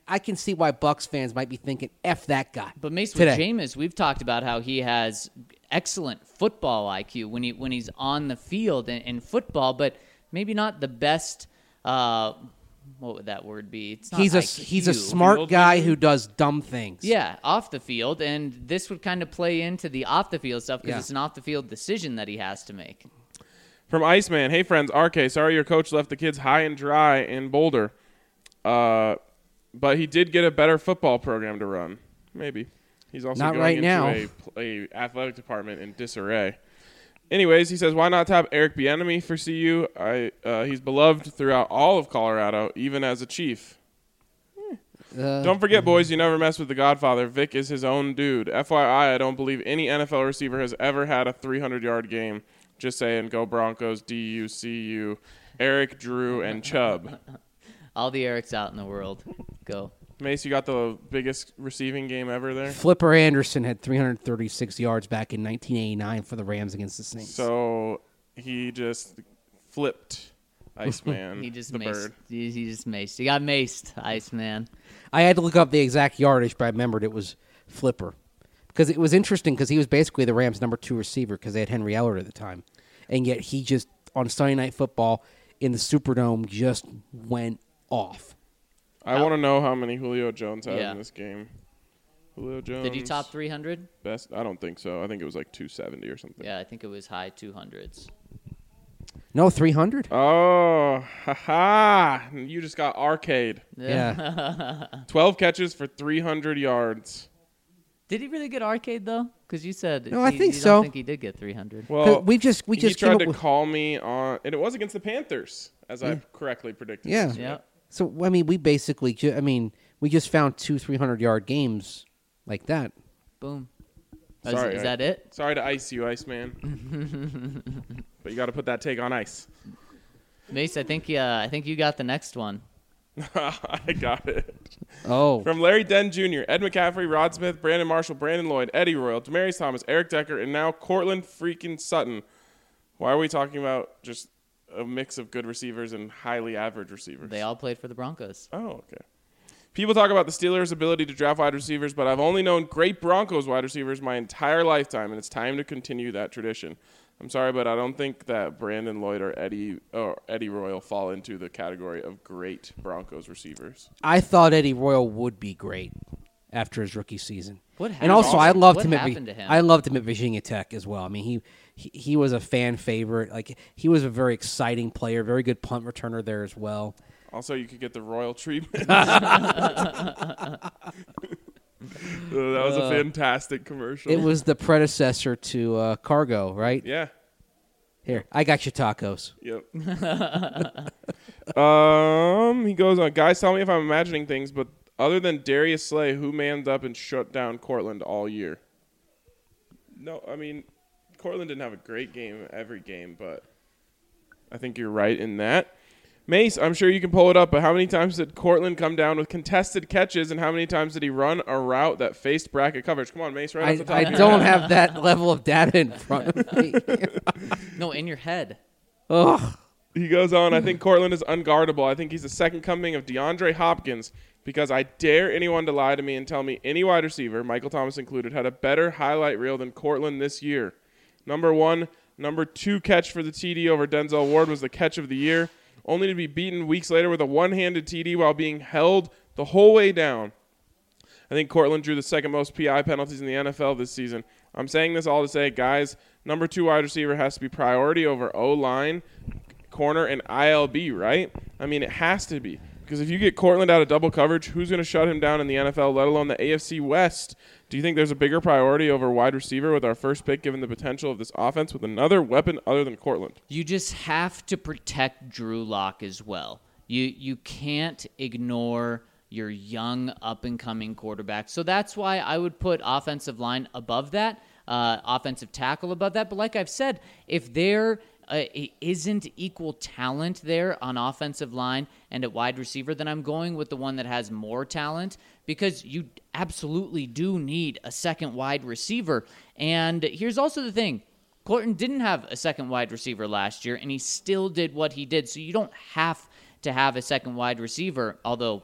I can see why Bucks fans might be thinking, F that guy. But Mace, today. with Jameis, we've talked about how he has excellent football I Q when he when he's on the field in, in football, but maybe not the best. Uh, what would that word be? It's not He's a I Q. he's a smart Field guy vision? who does dumb things. Yeah, off the field, and this would kind of play into the off the field stuff because Yeah. it's an off the field decision that he has to make. From Iceman, hey friends, R K, sorry your coach left the kids high and dry in Boulder. Uh, but he did get a better football program to run. Maybe. He's also Not going right into now. a, a athletic department in disarray. Anyways, he says, why not tap Eric Bieniemy for C U? I uh, he's beloved throughout all of Colorado, even as a Chief. Uh, Don't forget, boys, you never mess with the Godfather. Vic is his own dude. F Y I, I don't believe any N F L receiver has ever had a three hundred yard game. Just saying, go Broncos, D U, C U, Eric, Drew, and Chubb. All the Erics out in the world, go. Mace, you got the biggest receiving game ever there. Flipper Anderson had three hundred thirty-six yards back in nineteen eighty-nine for the Rams against the Saints. So he just flipped Iceman, He just the maced. bird. He, he just maced. He got maced, Iceman. I had to look up the exact yardage, but I remembered it was Flipper. Because it was interesting because he was basically the Rams' number two receiver because they had Henry Ellard at the time. And yet he just, on Sunday Night Football in the Superdome, just went off. I want to know how many Julio Jones had Yeah. in this game. Julio Jones. Did he top three hundred? Best? I don't think so. I think it was like two seventy or something. Yeah, I think it was high two hundreds. No, three hundred? Oh, ha-ha. You just got arcade. Yeah. twelve catches for three hundred yards. Did he really get arcade though? Because you said No, I he- think you so. don't think he did get three hundred. Well, we just we just he came tried up to with- call me on, and it was against the Panthers, as I correctly predicted. Yeah. yesterday. Yeah. So, I mean, we basically, ju- I mean, we just found two three hundred yard games like that. Boom. Is- Sorry, is, I- that it? Sorry to ice you, Iceman. But you got to put that take on ice. Mace, I think uh, I think you got the next one. I got it. Oh. From Larry Denn Junior, Ed McCaffrey, Rod Smith, Brandon Marshall, Brandon Lloyd, Eddie Royal, Demaryius Thomas, Eric Decker, and now Cortland freaking Sutton. Why are we talking about just a mix of good receivers and highly average receivers? They all played for the Broncos. Oh, okay. People talk about the Steelers' ability to draft wide receivers, but I've only known great Broncos wide receivers my entire lifetime, and it's time to continue that tradition. I'm sorry, but I don't think that Brandon Lloyd or Eddie or Eddie Royal fall into the category of great Broncos receivers. I thought Eddie Royal would be great after his rookie season. What And happened? also, I loved What him at happened Vi- to him? I loved him at Virginia Tech as well. I mean, he, he he was a fan favorite. Like he was a very exciting player, very good punt returner there as well. Also, you could get the Royal treatment. that was a fantastic commercial. It was the predecessor to uh, Cargo, right? Yeah. Here, I got your tacos. Yep. um, he goes on. Guys, tell me if I'm imagining things, but other than Darius Slay, who manned up and shut down Cortland all year? No, I mean, Cortland didn't have a great game every game, but I think you're right in that. Mace, I'm sure you can pull it up, but how many times did Cortland come down with contested catches, and how many times did he run a route that faced bracket coverage? Come on, Mace, right I, off the top I of your don't head. have that level of data in front of me. No, in your head. Ugh. He goes on, I think Cortland is unguardable. I think he's the second coming of DeAndre Hopkins because I dare anyone to lie to me and tell me any wide receiver, Michael Thomas included, had a better highlight reel than Cortland this year. Number one, number two catch for the T D over Denzel Ward was the catch of the year, only to be beaten weeks later with a one-handed T D while being held the whole way down. I think Cortland drew the second most P I penalties in the N F L this season. I'm saying this all to say, guys, number two wide receiver has to be priority over O-line, corner, and I L B, right? I mean, it has to be. Because if you get Cortland out of double coverage, who's going to shut him down in the N F L, let alone the A F C West? Do you think there's a bigger priority over wide receiver with our first pick, given the potential of this offense with another weapon other than Cortland? You just have to protect Drew Lock as well. You you can't ignore your young up-and-coming quarterback. So that's why I would put offensive line above that, uh, offensive tackle above that. But like I've said, if there uh, isn't equal talent there on offensive line and at wide receiver, then I'm going with the one that has more talent because you absolutely do need a second wide receiver. And here's also the thing. Cortland didn't have a second wide receiver last year, and he still did what he did. So you don't have to have a second wide receiver, although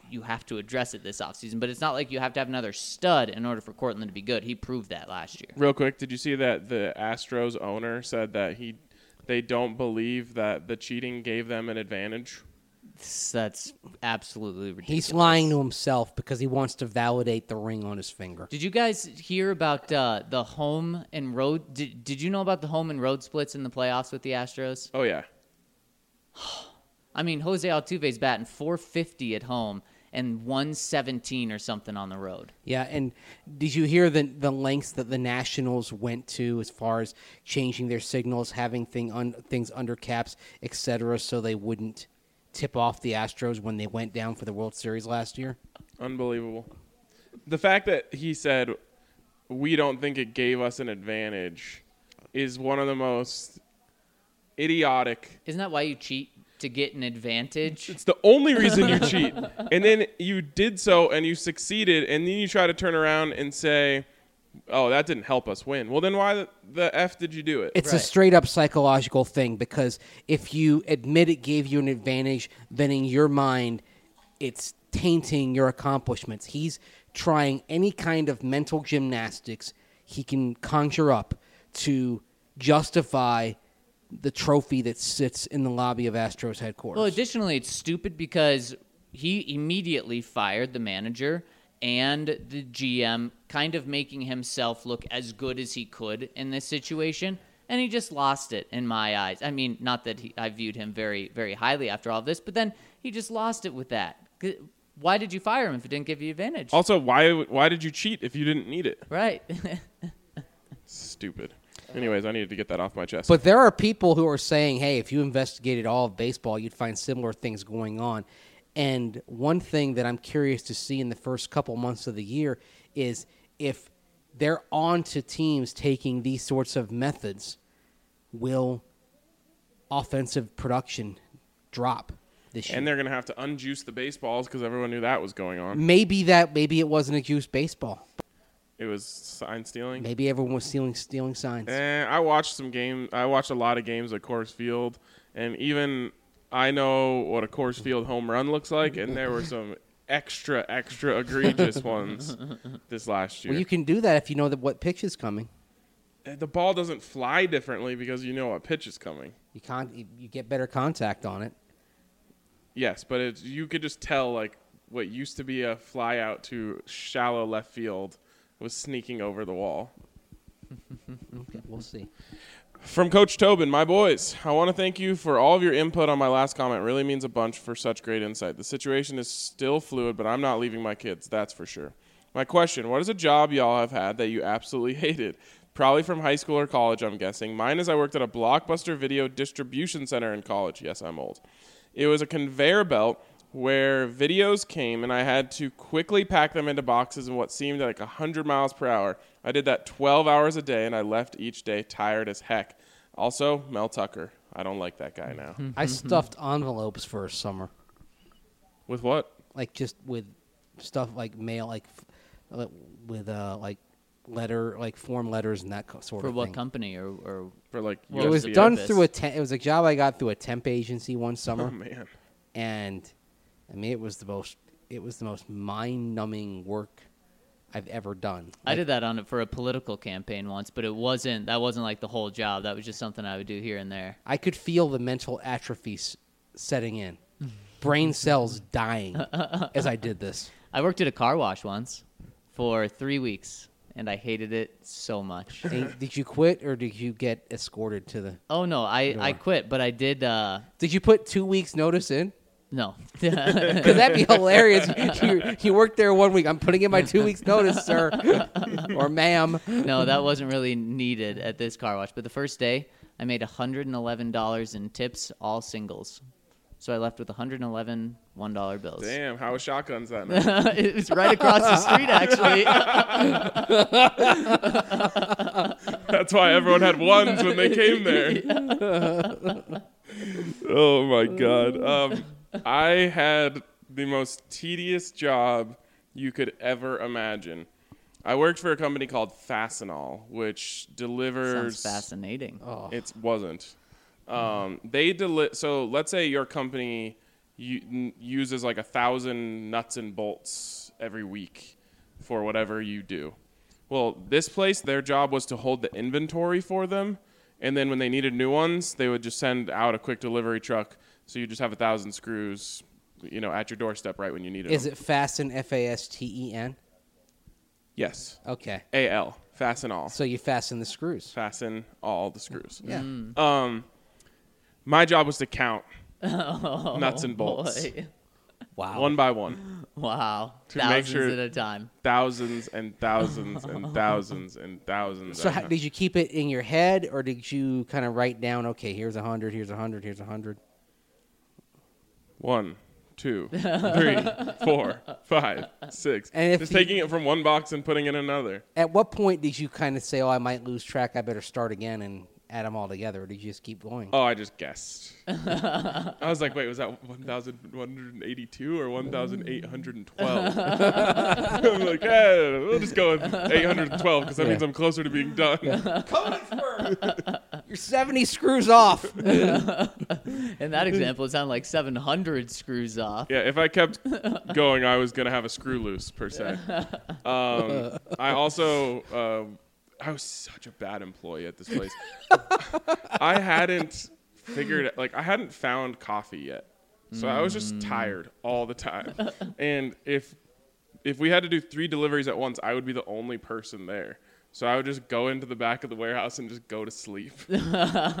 you have to address it this offseason. But it's not like you have to have another stud in order for Cortland to be good. He proved that last year. Real quick, did you see that the Astros owner said that he they don't believe that the cheating gave them an advantage? That's absolutely ridiculous. He's lying to himself because he wants to validate the ring on his finger. Did you guys hear about uh, the home and road? Did, did you know about the home and road splits in the playoffs with the Astros? Oh, yeah. I mean, Jose Altuve's batting four fifty at home and one seventeen or something on the road. Yeah, and did you hear the the lengths that the Nationals went to as far as changing their signals, having thing un, things under caps, et cetera, so they wouldn't tip off the Astros when they went down for the World Series last year? Unbelievable. The fact that he said, we don't think it gave us an advantage is one of the most idiotic. Isn't that why you cheat? To get an advantage? It's the only reason you cheat. And then you did so and you succeeded, and then you try to turn around and say, oh, that didn't help us win. Well, then why the, the F did you do it? It's Right. a straight-up psychological thing because if you admit it gave you an advantage, then in your mind, it's tainting your accomplishments. He's trying any kind of mental gymnastics he can conjure up to justify the trophy that sits in the lobby of Astros headquarters. Well, additionally, it's stupid because he immediately fired the manager and the G M, kind of making himself look as good as he could in this situation, and he just lost it in my eyes. I mean, not that he, I viewed him very, very highly after all of this, but then he just lost it with that. Why did you fire him if it didn't give you advantage? Also, why why did you cheat if you didn't need it? Right. Stupid. Anyways, I needed to get that off my chest. But there are people who are saying, hey, if you investigated all of baseball, you'd find similar things going on. And one thing that I'm curious to see in the first couple months of the year is if they're on to teams taking these sorts of methods, will offensive production drop this year? And they're going to have to unjuice the baseballs because everyone knew that was going on. Maybe that maybe it wasn't a juice baseball. It was sign stealing. Maybe everyone was stealing stealing signs. Eh, I watched some game. I watched a lot of games at Coors Field, and even I know what a Coors Field home run looks like, and there were some extra, extra egregious ones this last year. Well, you can do that if you know that what pitch is coming. The ball doesn't fly differently because you know what pitch is coming. You can't. You, you get better contact on it. Yes, but it's, you could just tell like what used to be a fly out to shallow left field was sneaking over the wall. Okay, we'll see. From Coach Tobin, my boys, I want to thank you for all of your input on my last comment. It really means a bunch for such great insight. The situation is still fluid, but I'm not leaving my kids, that's for sure. My question, what is a job y'all have had that you absolutely hated? Probably from high school or college, I'm guessing. Mine is I worked at a Blockbuster video distribution center in college. Yes, I'm old. It was a conveyor belt where videos came, and I had to quickly pack them into boxes in what seemed like one hundred miles per hour. I did that twelve hours a day, and I left each day tired as heck. Also, Mel Tucker. I don't like that guy now. I stuffed envelopes for a summer, With what? like just with stuff like mail, like f- with uh like letter, like form letters and that co- sort For of what thing. company or, or For like Well, It was the done purpose? through a. Te- it was a job I got through a temp agency one Oh, summer, man. and I mean it was the most. It was the most mind-numbing work I've ever done. I Like, did that on it for a political campaign once, but it wasn't. That wasn't like the whole job. That was just something I would do here and there. I could feel the mental atrophy s- setting in, brain cells dying as I did this. I worked at a car wash once for three weeks, and I hated it so much. And did you quit or did you get escorted to the? Oh no, I, I Door. quit, but I did. Uh, Did you put two weeks notice in? no, Because that'd be hilarious. You, you worked there one week. I'm putting in my two weeks notice, sir, or ma'am. no, that wasn't really needed at this car wash. But the first day, I made one hundred eleven dollars in tips, all singles. So I left with one hundred eleven one dollar bills. Damn, how was shotguns that night? It was right across the street, actually. That's why everyone had ones when they came there. Oh, my God. Um, I had the most tedious job you could ever imagine. I worked for a company called Fastenal, which delivers... Sounds fascinating. Oh, It wasn't. Um, they deli- So let's say your company u- n- uses like a thousand nuts and bolts every week for whatever you do. Well, this place, their job was to hold the inventory for them, and then when they needed new ones, they would just send out a quick delivery truck. So you just have a thousand screws, you know, at your doorstep right when you needed Is them. it Fasten, F A S T E N? Yes. Okay. A L. Fasten all. So you fasten the screws. Fasten all the screws. Yeah. Um, my job was to count Oh, nuts and bolts, boy. Wow. one by one, Wow. To make Thousands sure- at a time. thousands and thousands and thousands and thousands. So and how, did you keep it in your head, or did you kind of write down, okay, here's a hundred, here's a hundred, here's a hundred? One, two, three, four, five, six. And if Just you- taking it from one box and putting it in another. At what point did you kind of say, oh, I might lose track, I better start again and add them all together, or did you just keep going? Oh, I just guessed. I was like, wait, was that one thousand one hundred eighty-two or one thousand eight hundred twelve? I'm like, yeah, we'll just go with eight hundred twelve because that Yeah. means I'm closer to being done. You're seventy screws off. In that example, it sounded like seven hundred screws off. Yeah, if I kept going, I was going to have a screw loose, per se. Um, I also, um, I was such a bad employee at this place. I hadn't figured, like, I hadn't found coffee yet. So I was just tired all the time. And if if we had to do three deliveries at once, I would be the only person there. So I would just go into the back of the warehouse and just go to sleep. Just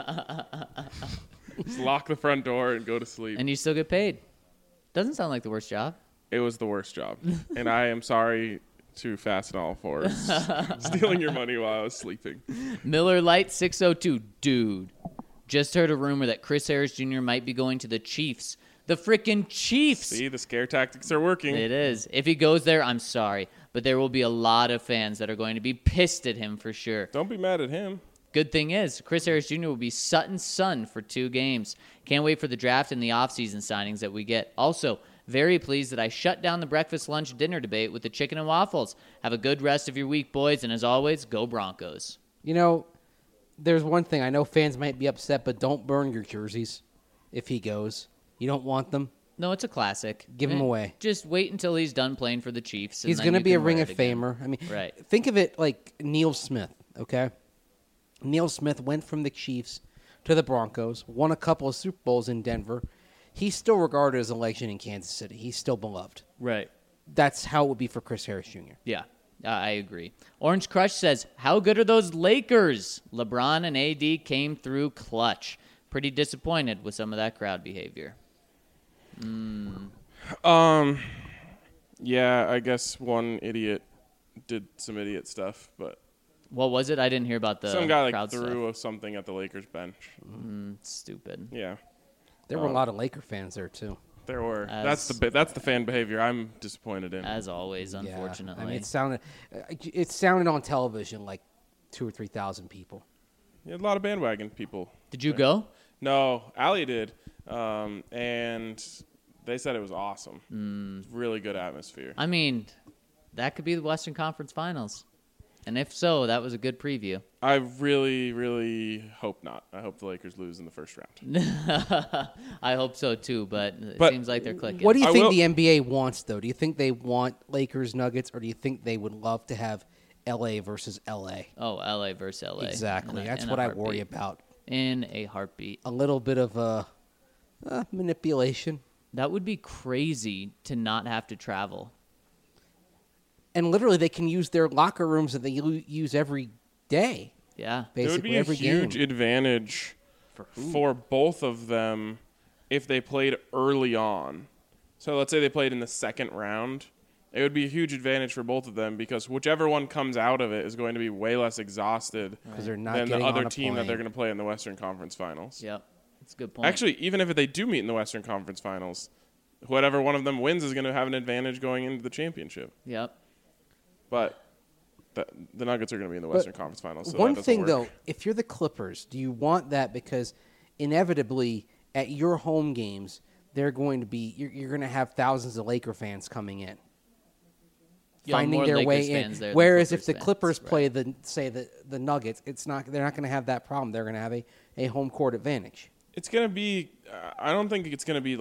lock the front door and go to sleep. And you still get paid. Doesn't sound like the worst job. It was the worst job. And I am sorry to Fastenal for s- stealing your money while I was sleeping. Miller Lite six oh two. Dude, just heard a rumor that Chris Harris Junior might be going to the Chiefs. The frickin' Chiefs. See, the scare tactics are working. It is. If he goes there, I'm sorry. But there will be a lot of fans that are going to be pissed at him for sure. Don't be mad at him. Good thing is, Chris Harris Junior will be Sutton's son for two games. Can't wait for the draft and the offseason signings that we get. Also, very pleased that I shut down the breakfast, lunch, dinner debate with the chicken and waffles. Have a good rest of your week, boys, and as always, go Broncos. You know, there's one thing. I know fans might be upset, but don't burn your jerseys if he goes. You don't want them. No, it's a classic. Give him Eh, away. Just wait until he's done playing for the Chiefs. and He's then going to you be a can wear Ring it of again. Famer. I mean, Right. think of it like Neil Smith, okay? Neil Smith went from the Chiefs to the Broncos, won a couple of Super Bowls in Denver. He's still regarded as a legend in Kansas City. He's still beloved. Right. That's how it would be for Chris Harris Junior Yeah, uh, I agree. Orange Crush says, how good are those Lakers? LeBron and A D came through clutch. Pretty disappointed with some of that crowd behavior. Um, yeah, I guess one idiot did some idiot stuff, but What was it? I didn't hear about the some guy like crowd threw something at the Lakers bench. stuff. Stupid. Yeah, There were a Um, lot of Laker fans there, too. there were. As- that's the bi- that's the fan behavior I'm disappointed in. As always, Yeah. unfortunately. I mean, it sounded, uh, it sounded on television like two or three thousand people. You had a lot of bandwagon people. Did you go? No, Allie did, um, and they said it was awesome. Hmm. Really good atmosphere. I mean, that could be the Western Conference Finals. And if so, that was a good preview. I really, really hope not. I hope the Lakers lose in the first round. I hope so too, but it But seems like they're clicking. What do you I think will- the N B A wants, though? Do you think they want Lakers Nuggets, or do you think they would love to have L A versus L A? Oh, L A versus L A. Exactly. In a- That's in a what I worry heartbeat. about. In a heartbeat. A little bit of uh, uh, manipulation. That would be crazy to not have to travel. And literally, they can use their locker rooms that they u- use every day, Yeah. It would basically be a every huge game. advantage For who? for both of them if they played early on. So let's say they played in the second round. It would be a huge advantage for both of them because whichever one comes out of it is going to be way less exhausted Because they're not than the getting other on a team that plane. they're going to play in the Western Conference Finals. Yep. That's a good point. Actually, even if they do meet in the Western Conference Finals, whatever one of them wins is going to have an advantage going into the championship. Yep. But the, the Nuggets are going to be in the But Western Conference Finals. So One that doesn't thing, work. though, if you're the Clippers, do you want that? Because inevitably, at your home games, they're going to be you're, you're going to have thousands of Laker fans coming in, Yeah, finding more their Lakers way fans in. there than Whereas if Clippers the fans, Clippers right. play the say the the Nuggets, it's not they're not going to have that problem. They're going to have a, a home court advantage. It's going to be, uh, I don't think it's going to be like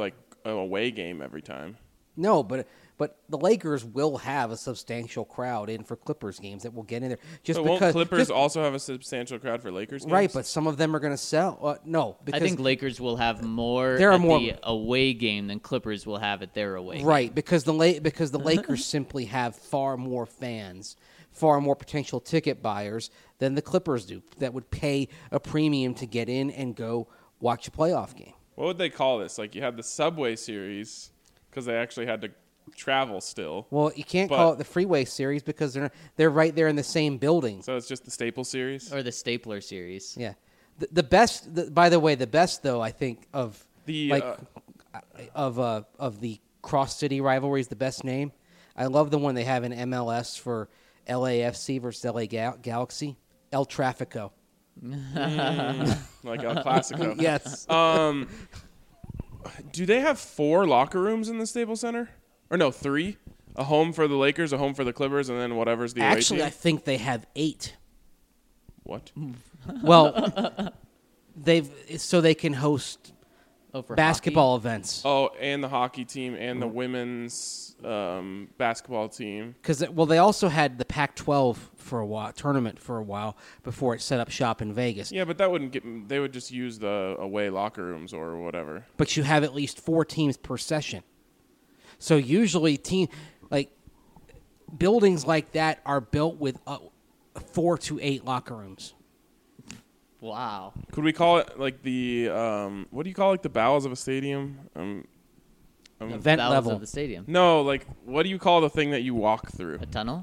away game every time. No, but but the Lakers will have a substantial crowd in for Clippers games that will get in there. Just But because won't Clippers just- also have a substantial crowd for Lakers games? right, but some of them are going to sell. Uh, no, I because think Lakers will have more There are at more- the away game than Clippers will have at their away game. right because the La- because the Lakers simply have far more fans, far more potential ticket buyers than the Clippers do that would pay a premium to get in and go watch a playoff game. What would they call this? Like you had the Subway Series because they actually had to travel still. Well, you can't But- call it the Freeway Series because they're they're right there in the same building. So it's just the Staples Series. Or the Stapler series. Yeah, the, the best. The, by the way, the best though I think of The, like uh, of uh, of the cross city rivalries. The best name. I love the one they have in M L S for L A F C versus L A Gal- Galaxy. El Trafico. Like El Clasico. Yes. Um, do they have four locker rooms in the Staples Center? Or no, three? A home for the Lakers, a home for the Clippers, and then whatever's the away Actually, I team? think they have eight. What? Well, they've so they can host Oh, for basketball events. Oh, and the hockey team and the women's um, basketball team. Because well, they also had the Pac twelve for a while, tournament for a while before it set up shop in Vegas. Yeah, but that wouldn't get. They would just use the away locker rooms or whatever. But you have at least four teams per session. So usually, team like buildings like that are built with uh, four to eight locker rooms. Wow. Could we call it like the um, what do you call like the bowels of a stadium? Um, um, Event Bowels level. of the stadium. no, like what do you call the thing that you walk through? A tunnel?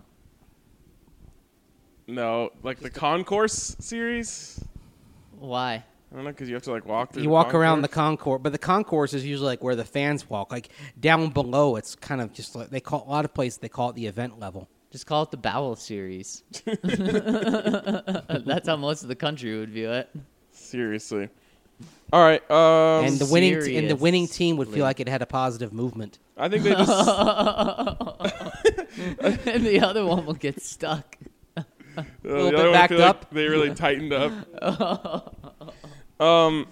No, like the concourse series. Why? I don't know because you have to like walk through. You the walk around the concourse. concourse, but the concourse is usually like where the fans walk. Like down below, it's kind of just like they call a lot of places they call it the event level. Just call it the Bowel series. That's how most of the country would view it. Seriously. All right. Um, And the winning t- and the winning team would Seriously. feel like it had a positive movement. I think they just. And the other one will get stuck. Uh, little the bit other one backed feel like up. they really tightened up. um,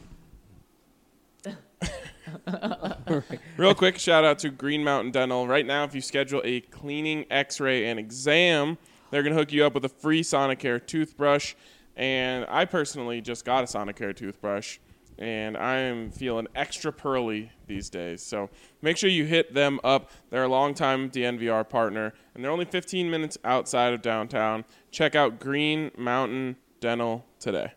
real quick, shout out to Green Mountain Dental. Right now, if you schedule a cleaning, X-ray, and exam, they're gonna hook you up with a free Sonicare toothbrush. And I personally just got a Sonicare toothbrush, and I am feeling extra pearly these days. So make sure you hit them up. They're a longtime D N V R partner, and they're only fifteen minutes outside of downtown. Check out Green Mountain Dental today.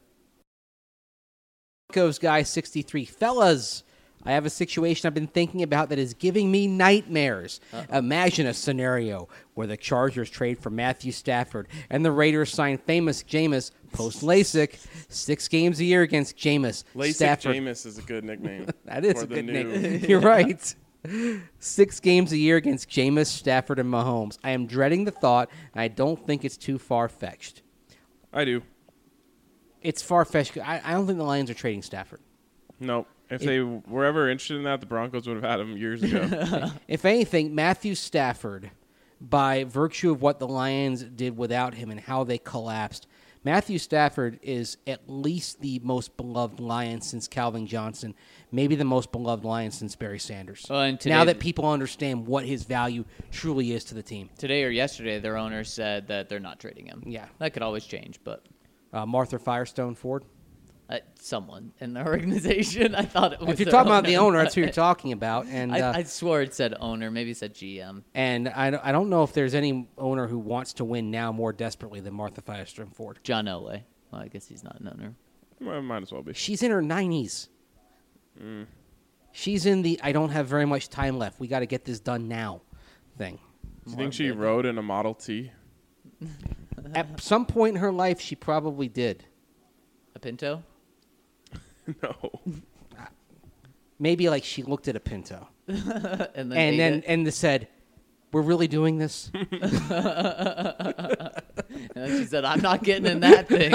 Goes guy sixty-three. Fellas, I have a situation I've been thinking about that is giving me nightmares. Uh-oh. Imagine a scenario where the Chargers trade for Matthew Stafford and the Raiders sign famous Jameis post LASIK six games a year against Jameis. LASIK Stafford. Jameis is a good nickname. That is for a the good new- name. You're right. Six games a year against Jameis, Stafford, and Mahomes. I am dreading the thought, and I don't think it's too far-fetched. I do. It's far-fetched. I, I don't think the Lions are trading Stafford. Nope. If they were ever interested in that, the Broncos would have had him years ago. If anything, Matthew Stafford, by virtue of what the Lions did without him and how they collapsed, Matthew Stafford is at least the most beloved Lion since Calvin Johnson, maybe the most beloved Lion since Barry Sanders. Well, and today- now that people understand what his value truly is to the team. Today or yesterday, their owner said that they're not trading him. Yeah. That could always change, but Uh, Martha Firestone Ford. uh, someone in the organization, I thought it was If you're their talking about the owner. owner, that's who you're talking about. And uh, I, I swore it said owner. Maybe it said G M. and I, don't- I don't know if there's any owner who wants to win now more desperately than Martha Firestone Ford. John Elway. Well, I guess he's not an owner. Well, might as well be. She's in her nineties. She's in the I don't have very much time left. We got to get this done now thing. Do you think she rode in a Model T? At some point in her life, she probably did. A Pinto? No. Maybe like she looked at a Pinto and then, and ate then it. and said, "We're really doing this." And then she said, I'm not getting in that thing.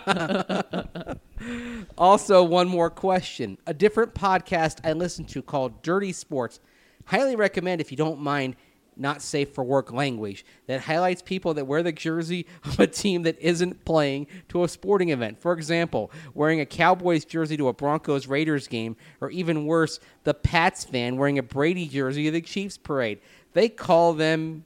Also, one more question. A different podcast I listen to called Dirty Sports. Highly recommend if you don't mind not safe for work language that highlights people that wear the jersey of a team that isn't playing to a sporting event. For example, wearing a Cowboys jersey to a Broncos Raiders game, or even worse, the Pats fan wearing a Brady jersey to the Chiefs parade. They call them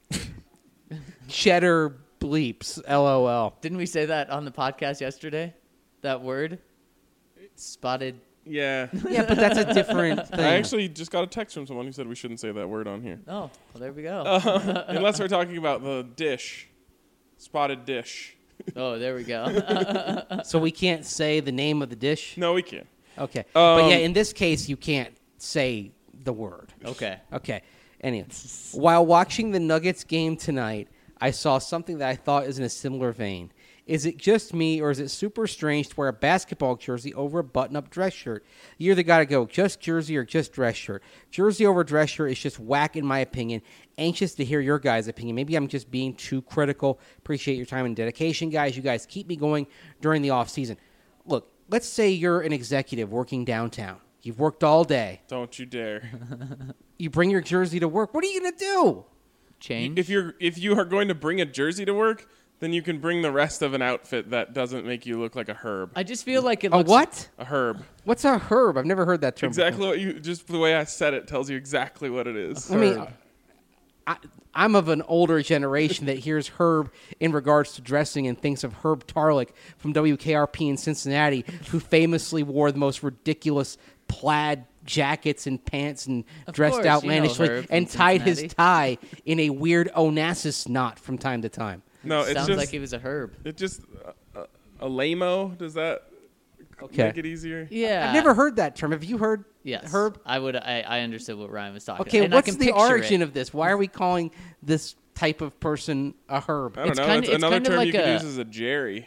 cheddar bleeps, LOL. Didn't we say that on the podcast yesterday? That word? Spotted. Yeah. Yeah, but that's a different thing. I actually just got a text from someone who said we shouldn't say that word on here. Oh, well, there we go. Uh, unless we're talking about the dish. Spotted dish. Oh, there we go. So we can't say the name of the dish? No, we can't. Okay. but Um, yeah, in this case, you can't say the word. Okay. Okay. Anyway, while watching the Nuggets game tonight, I saw something that I thought is in a similar vein. Is it just me, or is it super strange to wear a basketball jersey over a button-up dress shirt? You either got to go just jersey or just dress shirt. Jersey over dress shirt is just whack, in my opinion. Anxious to hear your guys' opinion. Maybe I'm just being too critical. Appreciate your time and dedication, guys. You guys keep me going during the off-season. Look, let's say you're an executive working downtown. You've worked all day. Don't you dare. You bring your jersey to work. What are you going to do? Change. If you're if you are going to bring a jersey to work, then you can bring the rest of an outfit that doesn't make you look like a herb. I just feel like it A looks. what? A herb. What's a herb? I've never heard that term Exactly before. what you just the way I said it tells you exactly what it is. I mean, I, I'm of an older generation that hears herb in regards to dressing and thinks of Herb Tarlick from W K R P in Cincinnati, who famously wore the most ridiculous plaid jackets and pants and Of dressed course, you know outlandishly Herb from and tied his Cincinnati. tie in a weird Onassis knot from time to time. no, it's Sounds just like he was a herb. it just uh, a lame-o. Does that Okay. make it easier? Yeah. I've never heard that term. Have you heard Yes. herb? I would. I, I understood what Ryan was talking. Okay, and I what's can the picture origin it. of this? Why are we calling this type of person a herb? I don't It's know. kinda- it's it's another kinda term like you could a- use as a Jerry.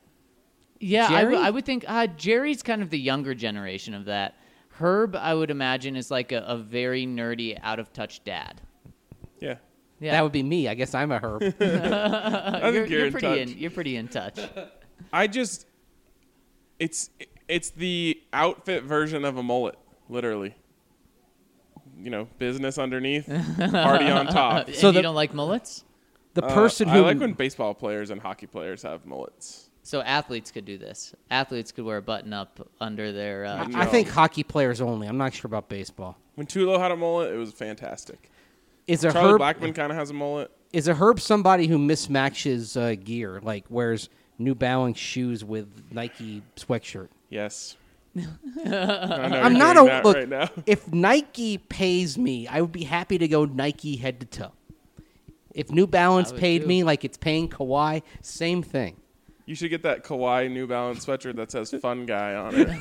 Yeah, I, Jerry? w- I would think uh, Jerry's kind of the younger generation of that. Herb, I would imagine, is like a, a very nerdy, out of touch dad. Yeah. Yeah, That would be me. I guess I'm a herb. I you're, think you're, you're in pretty touch. in. You're pretty in touch. I just it's it's the outfit version of a mullet, literally. You know, business underneath, party on top. And So you the- don't like mullets? The Uh, person I who like when baseball players and hockey players have mullets. So athletes could do this. Athletes could wear a button up under their. Uh, No. I think hockey players only. I'm not sure about baseball. When Tulo had a mullet, it was fantastic. Is a Charlie herb Blackman kind of has a mullet. is a herb somebody who mismatches uh, gear, like wears New Balance shoes with Nike sweatshirt? Yes. I'm not a that look. right now. If Nike pays me, I would be happy to go Nike head to toe. If New Balance would paid too. me like it's paying Kawhi, same thing. You should get that Kawhi New Balance sweatshirt that says "Fun Guy" on it.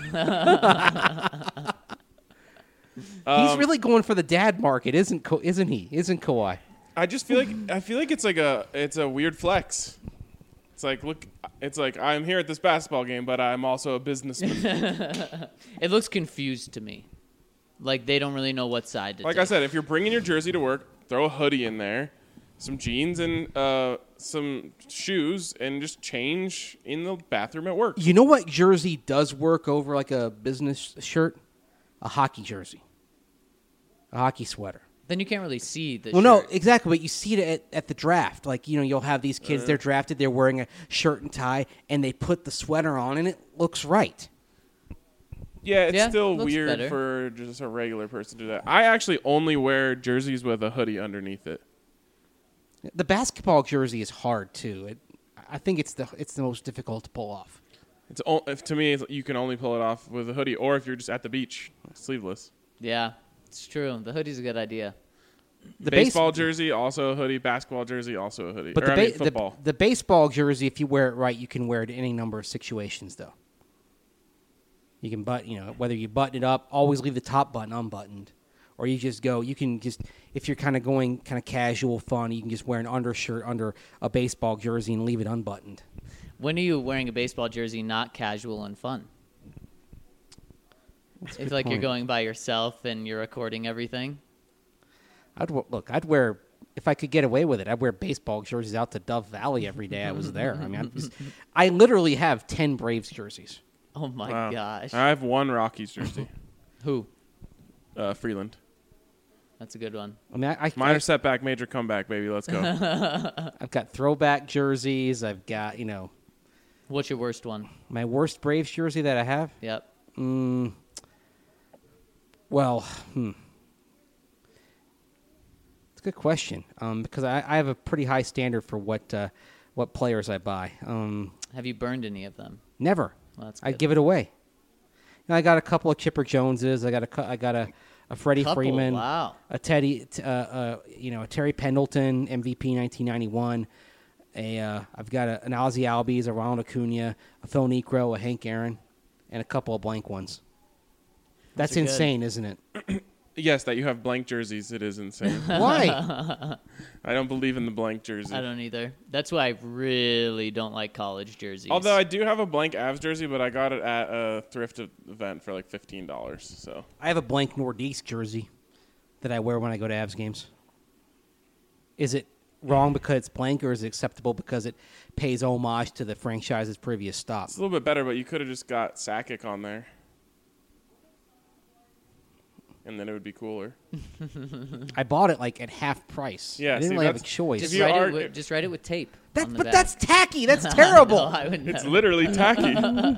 He's Um, really going for the dad market, isn't Ka- isn't he? Isn't Kawhi? I just feel like I feel like it's like a it's a weird flex. It's like look, it's like I'm here at this basketball game, but I'm also a businessman. it looks confused to me. Like they don't really know what side to Like take. I said, if you're bringing your jersey to work, throw a hoodie in there, some jeans and uh, some shoes, and just change in the bathroom at work. You know what jersey does work over like a business shirt? A hockey jersey. A hockey sweater. Then you can't really see the. Well, no, shirt. exactly. But you see it at, at the draft. Like, you know, you'll have these kids, they're drafted, they're wearing a shirt and tie, and they put the sweater on, and it looks right. Yeah, it's Yeah, still looks weird better. for just a regular person to do that. I actually only wear jerseys with a hoodie underneath it. The basketball jersey is hard, too. It, I think it's the it's the most difficult to pull off. It's o- if, to me, it's, you can only pull it off with a hoodie, or if you're just at the beach, sleeveless. Yeah, it's true. The hoodie's a good idea. The base- Baseball jersey, also a hoodie. Basketball jersey, also a hoodie. But or, the, I ba- mean, the, football. the baseball jersey, if you wear it right, you can wear it in any number of situations, though. You can button, you know, whether you button it up, always leave the top button unbuttoned, or you just go. You can just, if you're kind of going kind of casual, fun, you can just wear an undershirt under a baseball jersey and leave it unbuttoned. When are you wearing a baseball jersey not casual and fun? It's like you're point. going by yourself and you're recording everything. I'd w- look. I'd wear if I could get away with it. I'd wear baseball jerseys out to Dove Valley every day I was there. I mean, I'm just, I literally have ten Braves jerseys. Oh my Wow. gosh. I have one Rockies jersey. Who? uh, Freeland. That's a good one. I mean, I, I, Minor I, setback, major comeback, baby. Let's go. I've got throwback jerseys. I've got, you know, What's your worst one? my worst Braves jersey that I have. Yep. Mm, well, hmm. It's a good question um, because I, I have a pretty high standard for what uh, what players I buy. Um, Have you burned any of them? never. Well, that's I good. give it away. You know, I got a couple of Chipper Joneses. I got a cou- I got a, a Freddie Couple, Freeman. wow. A Teddy. t- Uh, uh, you know, a Terry Pendleton M V P nineteen ninety-one. A uh, I've got a, an Ozzie Albies, a Ronald Acuna, a Phil Niekro, a Hank Aaron, and a couple of blank ones. That's Those are good. insane, isn't it? Yes, that you have blank jerseys. It is insane. Why? I don't believe in the blank jersey. I don't either. That's why I really don't like college jerseys. Although I do have a blank Avs jersey, but I got it at a thrift event for like fifteen dollars. So I have a blank Nordiques jersey that I wear when I go to Avs games. Is it wrong because it's blank, or is it acceptable because it pays homage to the franchise's previous stop? it's a little bit better, but you could have just got Sakic on there. And then it would be cooler. I bought it like at half price. Yeah, I didn't see, really have a that's- choice. just If you write, are- it with, just write it with tape. That, on the but back. that's tacky. That's terrible. No, I wouldn't. It's have- literally tacky.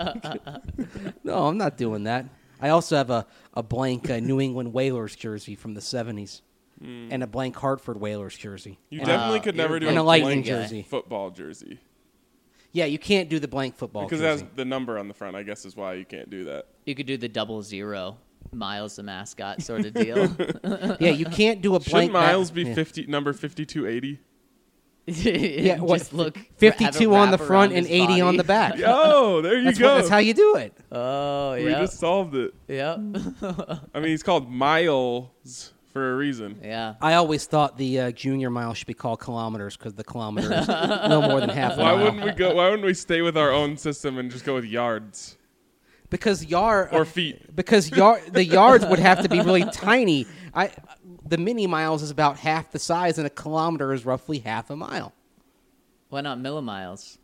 No, I'm not doing that. I also have a, a blank uh, New England Whalers jersey from the seventies and a blank Hartford Whalers jersey. You and, definitely Uh, could you're never do and a, a Lightning blank jersey. football jersey. Yeah, you can't do the blank football Because it jersey. has the number on the front, I guess is why you can't do that. You could do the double zero. Miles the mascot sort of deal. Yeah, you can't do a blank. Shouldn't Miles ma- be yeah. fifty number fifty-two eighty? yeah, what, just look. have it fifty-two on the wrap front around and his eighty on body. the back. Oh, there you That's, go. what, that's how you do it. Oh, we yeah. just solved it. Yep. I mean, he's called Miles for a reason. yeah. I always thought the uh, junior mile should be called kilometers because the kilometer is no more than half a Why mile. wouldn't we go? Why wouldn't we stay with our own system and just go with yards Because yard or feet? because yard the yards would have to be really tiny. I the mini miles is about half the size, and a kilometer is roughly half a mile. Why not millimiles?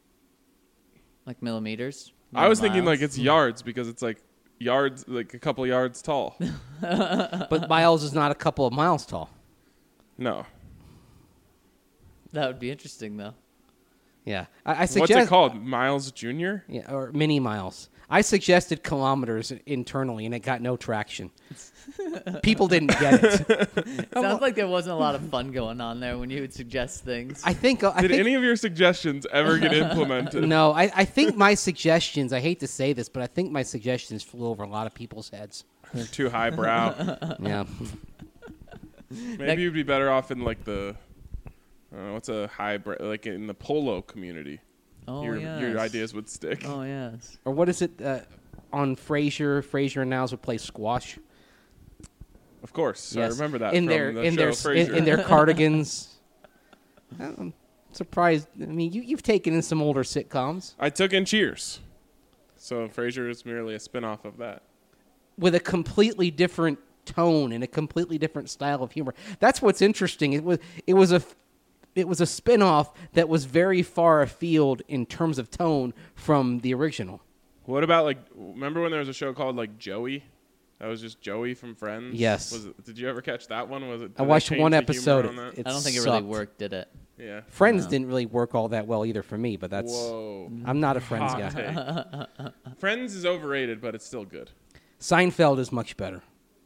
Like millimeters? I was thinking like Millimiles? it's yards because it's like yards, like a couple yards tall. But miles is not a couple of miles tall. No, That would be interesting, though. Yeah, I, I what's suggest it called? Miles Junior? Yeah, or mini miles. I suggested kilometers internally, and it got no traction. People didn't get it. Sounds like there wasn't a lot of fun going on there when you would suggest things. I think. I Did think, any of your suggestions ever get implemented? No, I, I think my suggestions. I hate to say this, but I think my suggestions flew over a lot of people's heads. They're too highbrow. Yeah. Maybe you'd be better off in like the, I don't know, what's a hybrid, like in the polo community. oh, your yes. your ideas would stick. Oh, yes. Or what is it uh, on Frasier? Frasier and Niles would play squash. Of course, I Yes. remember that in from their the in show their Frasier. in, in their cardigans. I'm surprised. I mean, you you've taken in some older sitcoms I took in Cheers, so Frasier is merely a spin-off of that. with a completely different tone and a completely different style of humor. That's what's interesting. It was it was a it was a spin-off that was very far afield in terms of tone from the original. What about like? Remember when there was a show called like Joey? That was just Joey from Friends. Yes. Was it, did you ever catch that one? Was it? I did they watched change one the episode. humor on that? It I don't think it really sucked. worked, did it? Yeah. Friends No. didn't really work all that well either for me, but that's Whoa. I'm not a Friends Hot guy. take. Friends is overrated, but it's still good. Seinfeld is much better.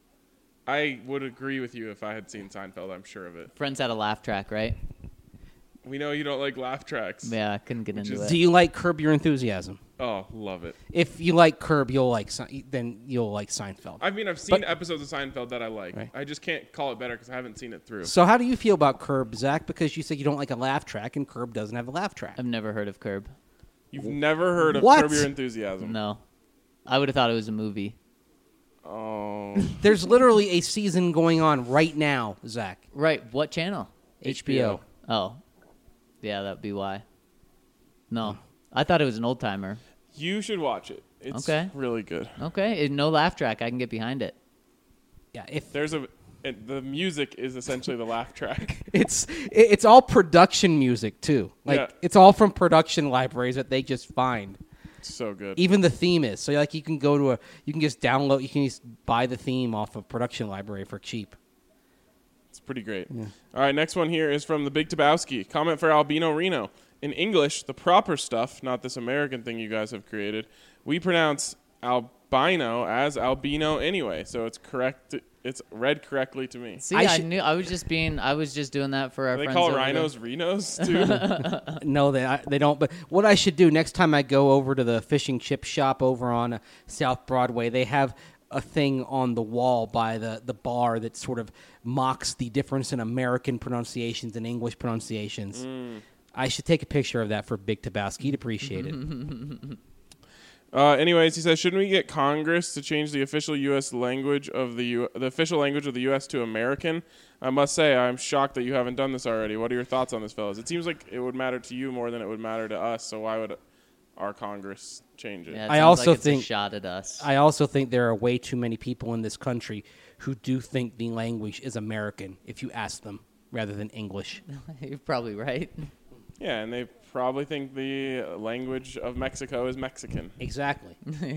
I would agree with you if I had seen Seinfeld. I'm sure of it. Friends had a laugh track, right? We know you don't like laugh tracks. Yeah, I couldn't get Which into is- it. Do you like Curb Your Enthusiasm? Oh, love it. If you like Curb, you'll like Se- then you'll like Seinfeld. I mean, I've seen But- episodes of Seinfeld that I like. Right. I just can't call it better because I haven't seen it through. So how do you feel about Curb, Zach? Because you said you don't like a laugh track, and Curb doesn't have a laugh track. I've never heard of Curb. You've never heard of What? Curb Your Enthusiasm? No. I would have thought it was a movie. Oh, There's literally a season going on right now, Zach. Right. What channel? H B O. Oh. Yeah, that'd be why. No. I thought it was an old timer. you should watch it. It's Okay. really good. Okay. it- No laugh track. I can get behind it. Yeah, if There's a it, the music is essentially the laugh track. it's it- it's all production music too. Like Yeah. it's all from production libraries that they just find. It's so good. Even the theme is. So like you can go to a you can just download you can just buy the theme off of production library for cheap. It's pretty great. Yeah. All right, next one here is from the Big Tabowski. Comment for Albino Reno. In English, the proper stuff, not this American thing you guys have created, we pronounce albino as albino anyway, so it's correct. It's read correctly to me. See, I I, should- knew I was just being I was just doing that for our Do they friends. call over rhinos there. rhinos too? No, they I, they don't. But what I should do next time I go over to the fish and chip shop over on uh, South Broadway, they have a thing on the wall by the, the bar that sort of mocks the difference in American pronunciations and English pronunciations. Mm. I should take a picture of that for Big Tabowski. He'd appreciate it. Uh, anyways, he says, shouldn't we get Congress to change the official U S language of the U- the official language of the U S to American? I must say, I'm shocked that you haven't done this already. What are your thoughts on this, fellas? It seems like it would matter to you more than it would matter to us. So why would our Congress change it? Yeah, it I sounds also like it's think- a shot at us. I also think there are way too many people in this country who do think the language is American if you ask them rather than English. You're probably right. Yeah, and they probably think the language of Mexico is Mexican. Exactly.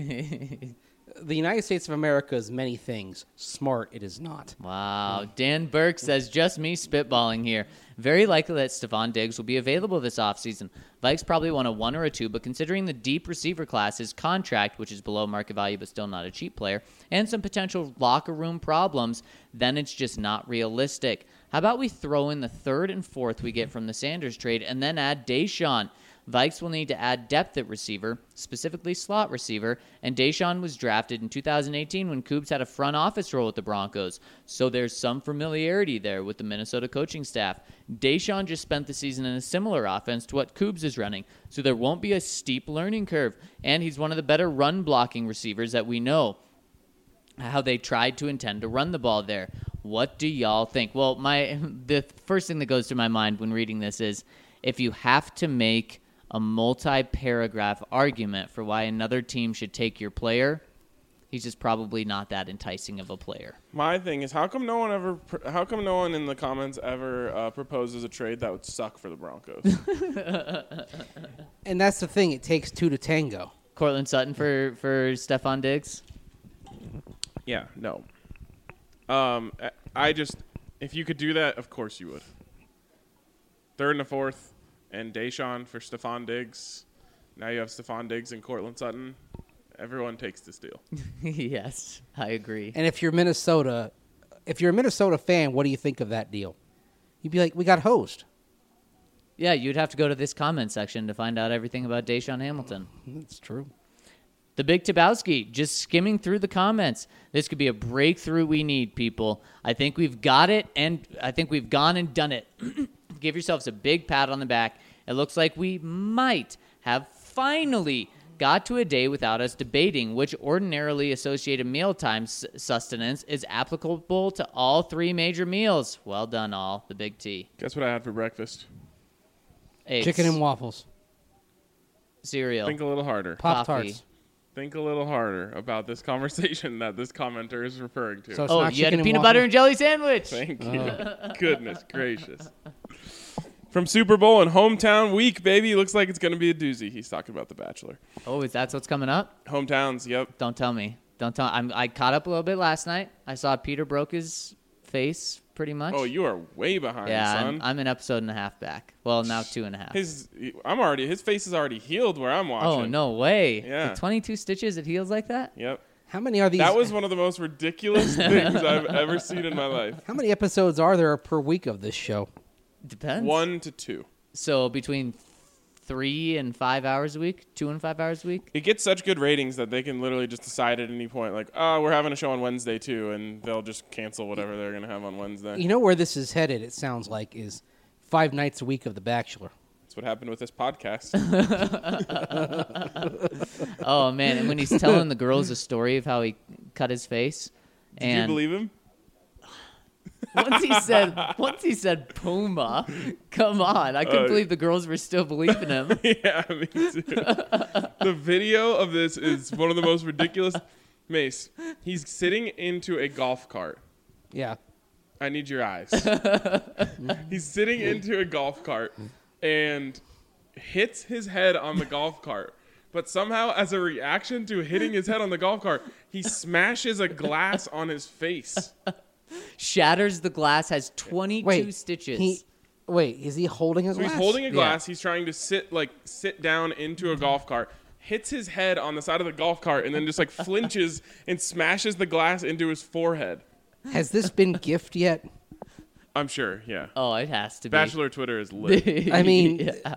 The United States of America is many things. Smart, it is not. Wow. Dan Burke says, just me spitballing here. Very likely that Stephon Diggs will be available this offseason. Vikes probably want a one or a two, but considering the deep receiver class, his contract, which is below market value but still not a cheap player, and some potential locker room problems, then it's just not realistic. How about we throw in the third and fourth we get from the Sanders trade and then add Deshaun? Vikes will need to add depth at receiver, specifically slot receiver, and Deshaun was drafted in two thousand eighteen when Cougs had a front office role with the Broncos, so there's some familiarity there with the Minnesota coaching staff. Deshaun just spent the season in a similar offense to what Cougs is running, so there won't be a steep learning curve, and he's one of the better run-blocking receivers that we know how they tried to intend to run the ball there. What do y'all think? Well, my the first thing that goes to my mind when reading this is if you have to make a multi-paragraph argument for why another team should take your player, he's just probably not that enticing of a player. My thing is, how come no one ever? Pr- how come no one in the comments ever uh, proposes a trade that would suck for the Broncos? And that's the thing. It takes two to tango. Cortland Sutton for for Stephon Diggs. Yeah, no. Um, I- I just, if you could do that, of course you would. Third and a fourth, and Deshaun for Stephon Diggs. Now you have Stephon Diggs and Cortland Sutton. Everyone takes this deal. Yes, I agree. And if you're Minnesota, if you're a Minnesota fan, what do you think of that deal? You'd be like, we got hosed. Yeah, you'd have to go to this comment section to find out everything about Deshaun Hamilton. That's true. The Big Tabowski, just skimming through the comments. This could be a breakthrough we need, people. I think we've got it, and I think we've gone and done it. Give yourselves a big pat on the back. It looks like we might have finally got to a day without us debating which ordinarily associated mealtime sustenance is applicable to all three major meals. Well done, all. The Big T. Guess what I had for breakfast? Eggs, Chicken and waffles. cereal, Think a little harder. Pop coffee. Tarts. Think a little harder about this conversation that this commenter is referring to. So it's Oh, not you had chicken a and peanut waffles? butter and jelly sandwich. Thank you. Goodness gracious. From Super Bowl and hometown week, baby. Looks like it's going to be a doozy. He's talking about The Bachelor. Oh, is that what's coming up? Hometowns, yep. Don't tell me. Don't tell. I'm, I caught up a little bit last night. I saw Peter broke his face pretty much. Oh, you are way behind, yeah, son. I'm, I'm an episode and a half back. Well, now two and a half. His, I'm already. His face is already healed where I'm watching. Oh, no way. Yeah. With twenty-two stitches, it heals like that? Yep. How many are these? That was one of the most ridiculous things I've ever seen in my life. How many episodes are there per week of this show? Depends. One to two. So between three and five hours a week? Two and five hours a week? It gets such good ratings that they can literally just decide at any point, like, oh, we're having a show on Wednesday too, and they'll just cancel whatever they're going to have on Wednesday. You know where this is headed, it sounds like, is five nights a week of The Bachelor. That's what happened with this podcast. Oh, man. And when he's telling the girls a story of how he cut his face. Did and you believe him? Once he said, once he said Puma, come on! I couldn't Uh, believe the girls were still believing him. Yeah, me too. The video of this is one of the most ridiculous. Mace, he's sitting into a golf cart. Yeah. I need your eyes. He's sitting into a golf cart and hits his head on the golf cart. But somehow, as a reaction to hitting his head on the golf cart, he smashes a glass on his face. Shatters the glass, has twenty-two Wait, stitches. He, wait, is he holding a So glass? he's holding a Yeah. glass. He's trying to sit like sit down into a golf cart. Hits his head on the side of the golf cart and then just like flinches and smashes the glass into his forehead. Has this been gift yet? I'm sure. Yeah. Oh, it has to be. Bachelor Twitter is lit. I mean, Yeah.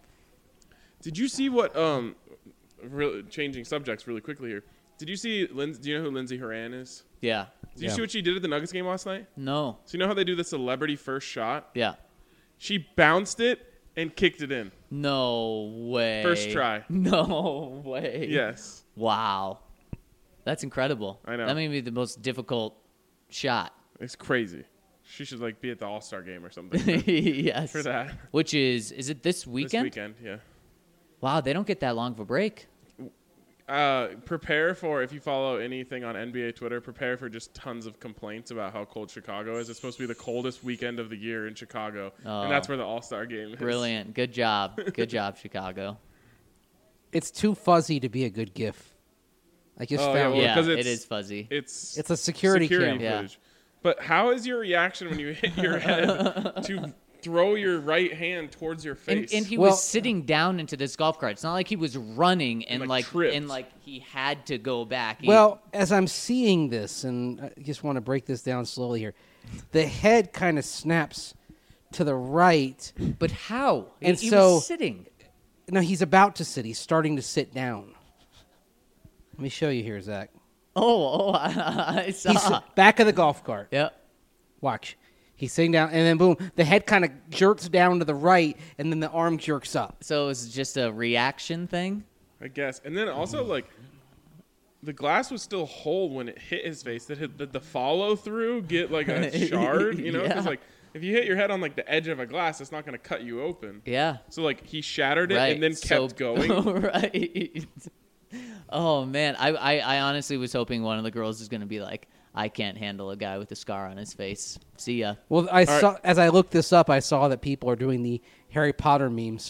Did you see what? Um, really changing subjects really quickly here. Did you see? Lindsay, do you know who Lindsay Horan is? Yeah. Did you Yeah. see what she did at the Nuggets game last night? No. So you know how they do the celebrity first shot? Yeah. She bounced it and kicked it in. No way. First try. No way. Yes. Wow. That's incredible. I know. That may be the most difficult shot. It's crazy. She should like be at the All Star game or something Yes. for that. Which is, is it this weekend? This weekend, yeah. Wow, they don't get that long of a break. Uh, prepare for, if you follow anything on N B A Twitter, prepare for just tons of complaints about how cold Chicago is. It's supposed to be the coldest weekend of the year in Chicago, Oh. and that's where the All Star game is. Brilliant. Good job. Good job, Chicago. it's too fuzzy to be a good gif. I just Oh, yeah, found well, yeah, 'cause it it's- is fuzzy. It's It's a security cam. Yeah. footage. But how is your reaction when you hit your head to throw your right hand towards your And, face? and he Well- was sitting down into this golf cart. It's not like he was running and like, like, tripped. and like he had to go back. He- Well, as I'm seeing this, and I just want to break this down slowly here, the head kind of snaps to the right. but how? He- And he so- was sitting. No, he's about to sit. He's starting to sit down. Let me show you here, Zach. Oh, oh, I, I saw. He's back of the golf cart. Yep. Watch. He's sitting down, and then boom, the head kind of jerks down to the right, and then the arm jerks up. So it was just a reaction thing. I guess. And then also, like, the glass was still whole when it hit his face. Did, it, did the follow through get, like, a shard? You know? Because, Yeah. like, if you hit your head on, like, the edge of a glass, it's not going to cut you open. Yeah. So, like, he shattered it Right. and then So- kept going. right. Oh man, I, I I honestly was hoping one of the girls is gonna be like, I can't handle a guy with a scar on his face. See ya. Well, I right. saw as I looked this up, I saw that people are doing the Harry Potter memes.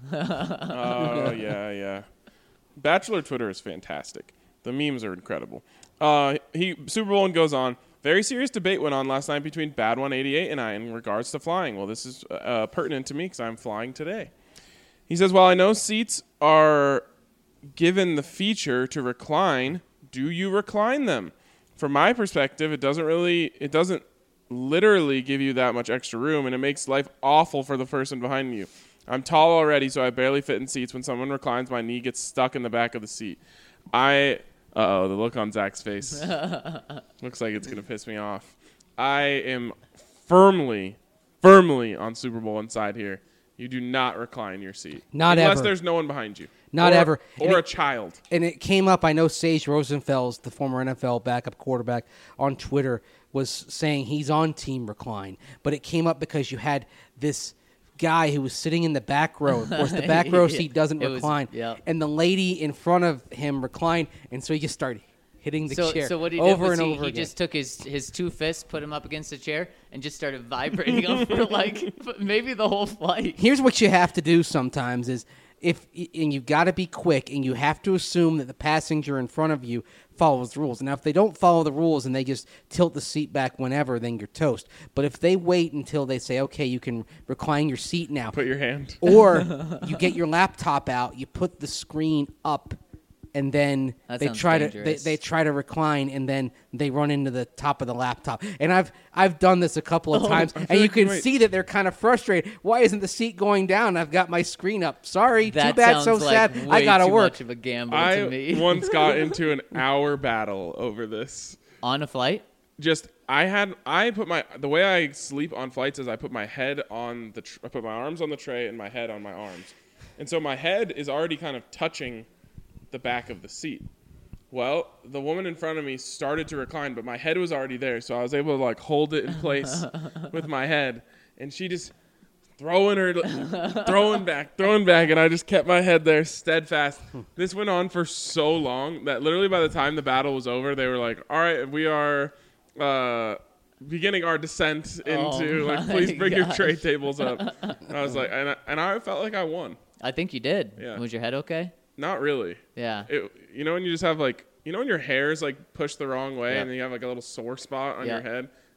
Oh, yeah, yeah. Bachelor Twitter is fantastic. The memes are incredible. Uh, he Super Bowl and goes on. Very serious debate went on last night between Bad one eighty-eight and I in regards to flying. Well, this is uh, pertinent to me because I'm flying today. He says, while I know seats are given the feature to recline, do you recline them? From my perspective, it doesn't really, it doesn't literally give you that much extra room, and it makes life awful for the person behind you. I'm tall already, so I barely fit in seats. When someone reclines, my knee gets stuck in the back of the seat. I, uh-oh, the look on Zach's face. Looks like it's going to piss me off. I am firmly, firmly on Super Bowl inside here. You do not recline your seat. Not Unless ever. there's no one behind you. Not Or- ever. And Or a it- child. And it came up, I know Sage Rosenfels, the former N F L backup quarterback, on Twitter was saying he's on Team Recline. But it came up because you had this guy who was sitting in the back row. Of course, the back row seat doesn't It was- recline. yep. And the lady in front of him reclined, and so he just started hitting the So chair so what he over did was and he, over he again. just took his his two fists, put him up against the chair, and just started vibrating him for like maybe the whole flight. Here's what you have to do sometimes is if and you've got to be quick and you have to assume that the passenger in front of you follows the rules. Now if they don't follow the rules and they just tilt the seat back whenever, then you're toast. But if they wait until they say, okay, you can recline your seat now, Put your hand. or you get your laptop out, you put the screen up, and then That they sounds try to they, dangerous. they try to recline, and then they run into the top of the laptop. And I've I've done this a couple of times, and you like can you might- see that they're kind of frustrated. Why isn't the seat going down? I've got my screen up. Sorry, That too bad, sounds so like sad. way I gotta too work. much of a gamble I to me. once got into an hour battle over this. On a flight. Just I had I put my the way I sleep on flights is I put my head on the tr- I put my arms on the tray and my head on my arms, and so my head is already kind of touching the back of the seat. Well, the woman in front of me started to recline, but my head was already there, so I was able to like hold it in place with my head, and she just throwing her, throwing back, throwing back, and I just kept my head there steadfast. This went on for so long that literally by the time the battle was over, they were like, "All right, we are uh, beginning our descent into Oh like, my please bring your gosh. tray tables up." And I was like, and I, and I felt like I won. I think you did. Yeah. Was your head okay? Not really. Yeah. It, you know when you just have like, you know when your hair's like pushed the wrong way Yeah. and then you have like a little sore spot on Yeah. your head?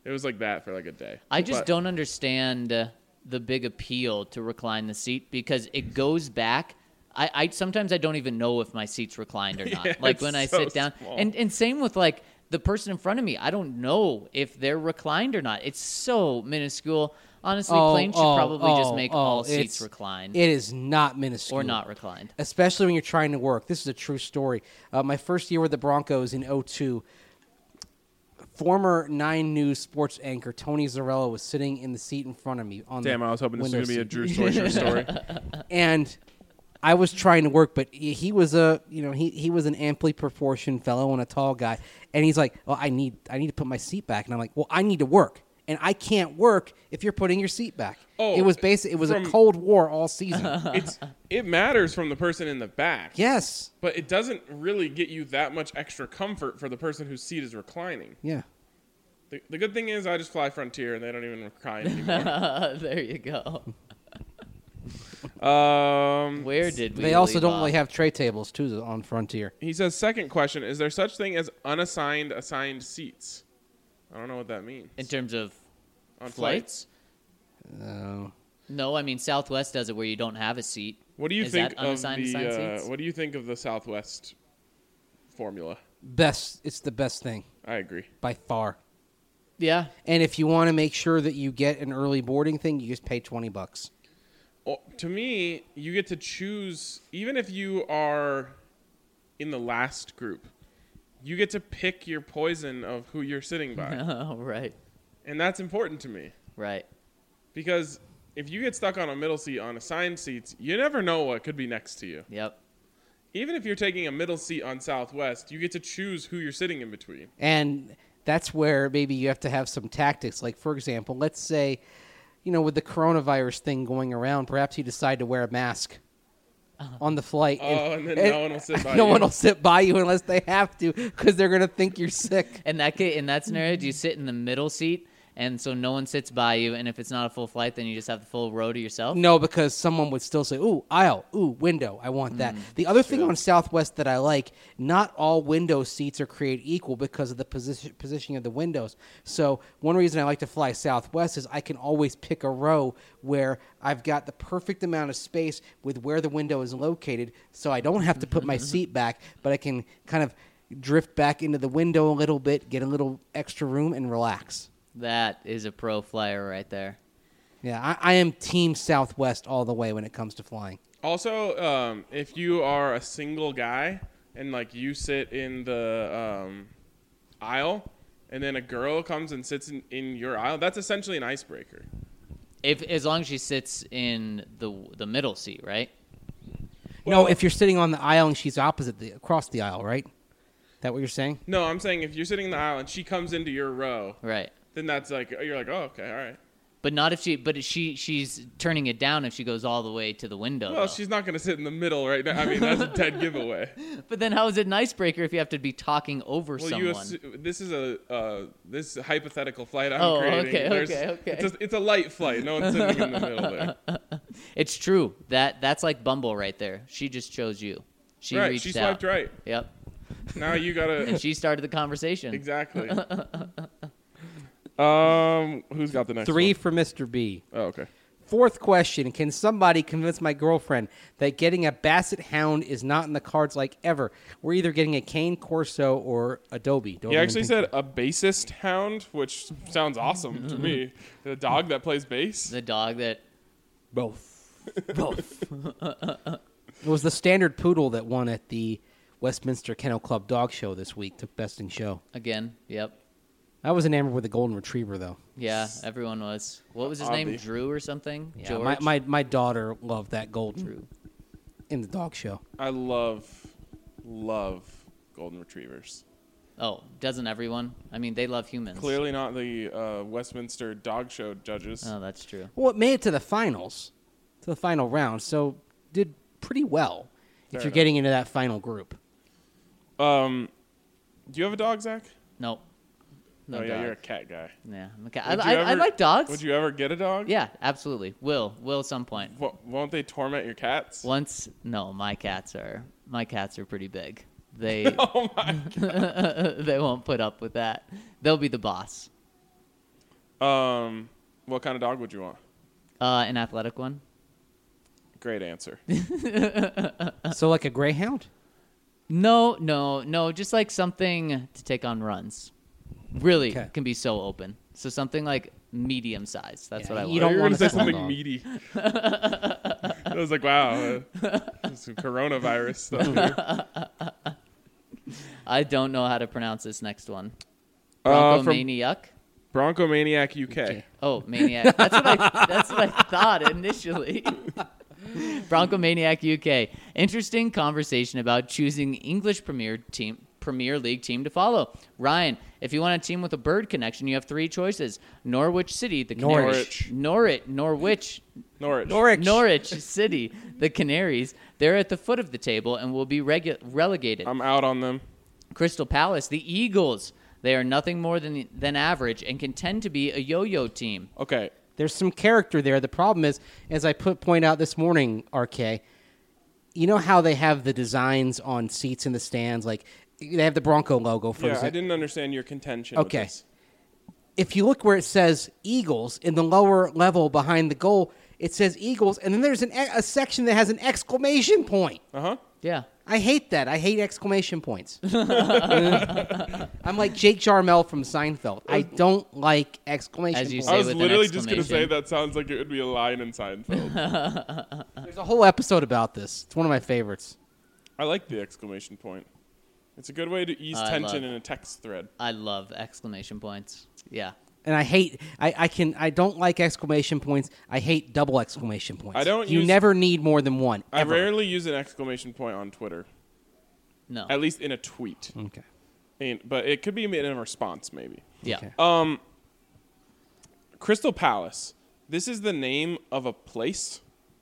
It was like that for like a day. I just But- don't understand uh, the big appeal to recline the seat because it goes back. I, I sometimes I don't even know if my seat's reclined or not. Yeah, like it's when I so sit down, small. and and same with like the person in front of me. I don't know if they're reclined or not. It's so minuscule. Honestly, Oh, planes should oh, probably just oh, make oh, all it's- seats reclined It is not minuscule. or not reclined. Especially when you're trying to work. This is a true story. Uh, my first year with the Broncos in oh two, former Nine News sports anchor Tony Zarella was sitting in the seat in front of me. On Damn, the I was hoping this was window going to be a seat. Drew Soicher story. And I was trying to work, but he, he was a you know he, he was an amply proportioned fellow and a tall guy, and he's like, "Well, I need I need to put my seat back," and I'm like, "Well, I need to work, and I can't work if you're putting your seat back." Oh, it was basic. It was from- a Cold War all season. It's It matters from the person in the back. Yes. But it doesn't really get you that much extra comfort for the person whose seat is reclining. Yeah. The, the good thing is I just fly Frontier and they don't even recline anymore. There you go. um, Where did we? They also leave don't off? really have tray tables too on Frontier. he says, second question, is there such thing as unassigned assigned seats? I don't know what that means. in terms of On flights. Uh, No, I mean Southwest does it where you don't have a seat. What do you Is think that of unassigned the assigned uh, seats? what do you think of the Southwest formula? best. It's the best thing I agree. by far. Yeah, And if you want to make sure that you get an early boarding thing, you just pay twenty bucks. Well, to me, you get to choose, even if you are in the last group, you get to pick your poison of who you're sitting by. oh, right, And that's important to me right. because if you get stuck on a middle seat on assigned seats, you never know what could be next to you. Yep. Even if you're taking a middle seat on Southwest, you get to choose who you're sitting in between. And that's where maybe you have to have some tactics. Like, for example, let's say, you know, with the coronavirus thing going around, perhaps you decide to wear a mask on the flight. Oh, and then no one will sit by no you. one will sit by you unless they have to because they're going to think you're sick. In that case, in that scenario, do you sit in the middle seat, and so no one sits by you, and if it's not a full flight, then you just have the full row to yourself? No, because someone would still say, ooh, aisle, ooh, window, I want that. Mm, the other thing on Southwest that I like, not all window seats are created equal because of the position positioning of the windows. So one reason I like to fly Southwest is I can always pick a row where I've got the perfect amount of space with where the window is located, so I don't have to put my seat back, but I can kind of drift back into the window a little bit, get a little extra room, and relax. That is a pro flyer right there. Yeah, I, I am Team Southwest all the way when it comes to flying. Also, um, if you are a single guy and like you sit in the um, aisle and then a girl comes and sits in, in your aisle, that's essentially an icebreaker. If as long as she sits in the the middle seat, right? No, Well- if you're sitting on the aisle and she's opposite the across the aisle, right? That what you're saying? No, I'm saying if you're sitting in the aisle and she comes into your row, Right. then that's like you're like, oh, okay, all right. But not if she. But she she's turning it down if she goes all the way to the window. Well, though. she's not going to sit in the middle right now. I mean, that's a dead giveaway. But then how is it an icebreaker if you have to be talking over Well, someone? you assu- this is a uh, this is a hypothetical flight I'm Oh, creating. okay, There's- okay, okay. It's a, it's a light flight. No one's sitting in the middle there. It's true. That that's like Bumble right there. She just chose you. She right, reached she out. swiped right. Yep. Now you gotta And she started the conversation. exactly. um, who's got the next Three one? for Mister B. Oh, okay. Fourth question: can somebody convince my girlfriend that getting a Basset Hound is not in the cards like ever? We're either getting a Cane Corso or Adobe. He actually said a bassist hound, which sounds awesome to me. The dog that plays bass. The dog that both. Both. It was the standard poodle that won at the Westminster Kennel Club Dog Show this week. Took best in show. again. Yep. I was enamored with the Golden Retriever though. Yeah. Everyone was. What was his Obvi. name? Drew or something? Yeah, George. my, my my daughter loved that Golden Drew. in the dog show. I love, love golden retrievers. Oh, doesn't everyone? I mean, they love humans. Clearly not the uh, Westminster Dog Show judges. Oh, that's true. Well, it made it to the finals, to the final round, so did pretty well if Fair you're enough. getting into that final group. Um, do you have a dog, Zach? Nope. No oh yeah, dog. you're a cat guy. Yeah, I'm a cat. I, Would you I, I ever- like dogs. Would you ever get a dog? Yeah, absolutely. Will. Will at some point. W- won't they torment your cats? Once, no, my cats are my cats are pretty big. They Oh my! they won't put up with that. They'll be the boss. Um, what kind of dog would you want? Uh, an athletic one. Great answer. So like a greyhound? No, no, no. Just like something to take on runs. Really Okay. can be so open. So something like medium size. That's Yeah, what I you want. don't You were want gonna a say small something dog. meaty. I was like, wow, uh, some coronavirus stuff here. I don't know how to pronounce this next one. Uh, from Broncomaniac. Bronco Maniac U K. Okay. Oh, maniac. That's what I. That's what I thought initially. Broncomaniac U K. Interesting conversation about choosing English Premier team, Premier League team to follow. Ryan, if you want a team with a bird connection, you have three choices: Norwich City, the Canaries, Norwich. Norwich, Norwich, Norwich. Norwich. Norwich City, the Canaries. They're at the foot of the table and will be regu- relegated. I'm out on them. Crystal Palace, the Eagles. They are nothing more than than average and can tend to be a yo-yo team. Okay. There's some character there. The problem is, as I put point out this morning, R K, you know how they have the designs on seats in the stands? Like, they have the Bronco logo, for Yeah, I example. didn't understand your contention. Okay. With this. If you look where it says Eagles in the lower level behind the goal, it says Eagles, and then there's an, a section that has an exclamation point. Uh huh. Yeah. I hate that. I hate exclamation points. I'm like Jake Jarmel from Seinfeld. I don't like exclamation As you points. say I was with an literally just gonna say exclamation. that sounds like it would be a line in Seinfeld. There's a whole episode about this. It's one of my favorites. I like the exclamation point. It's a good way to ease I tension love- in a text thread. I love exclamation points. Yeah. And I hate. I, I can. I don't like exclamation points. I hate double exclamation points. I don't You use- never need more than one. I Ever. rarely use an exclamation point on Twitter, No. at least in a tweet. Okay. And, but it could be in a response, maybe. Yeah. Okay. Um, Crystal Palace. This is the name of a place.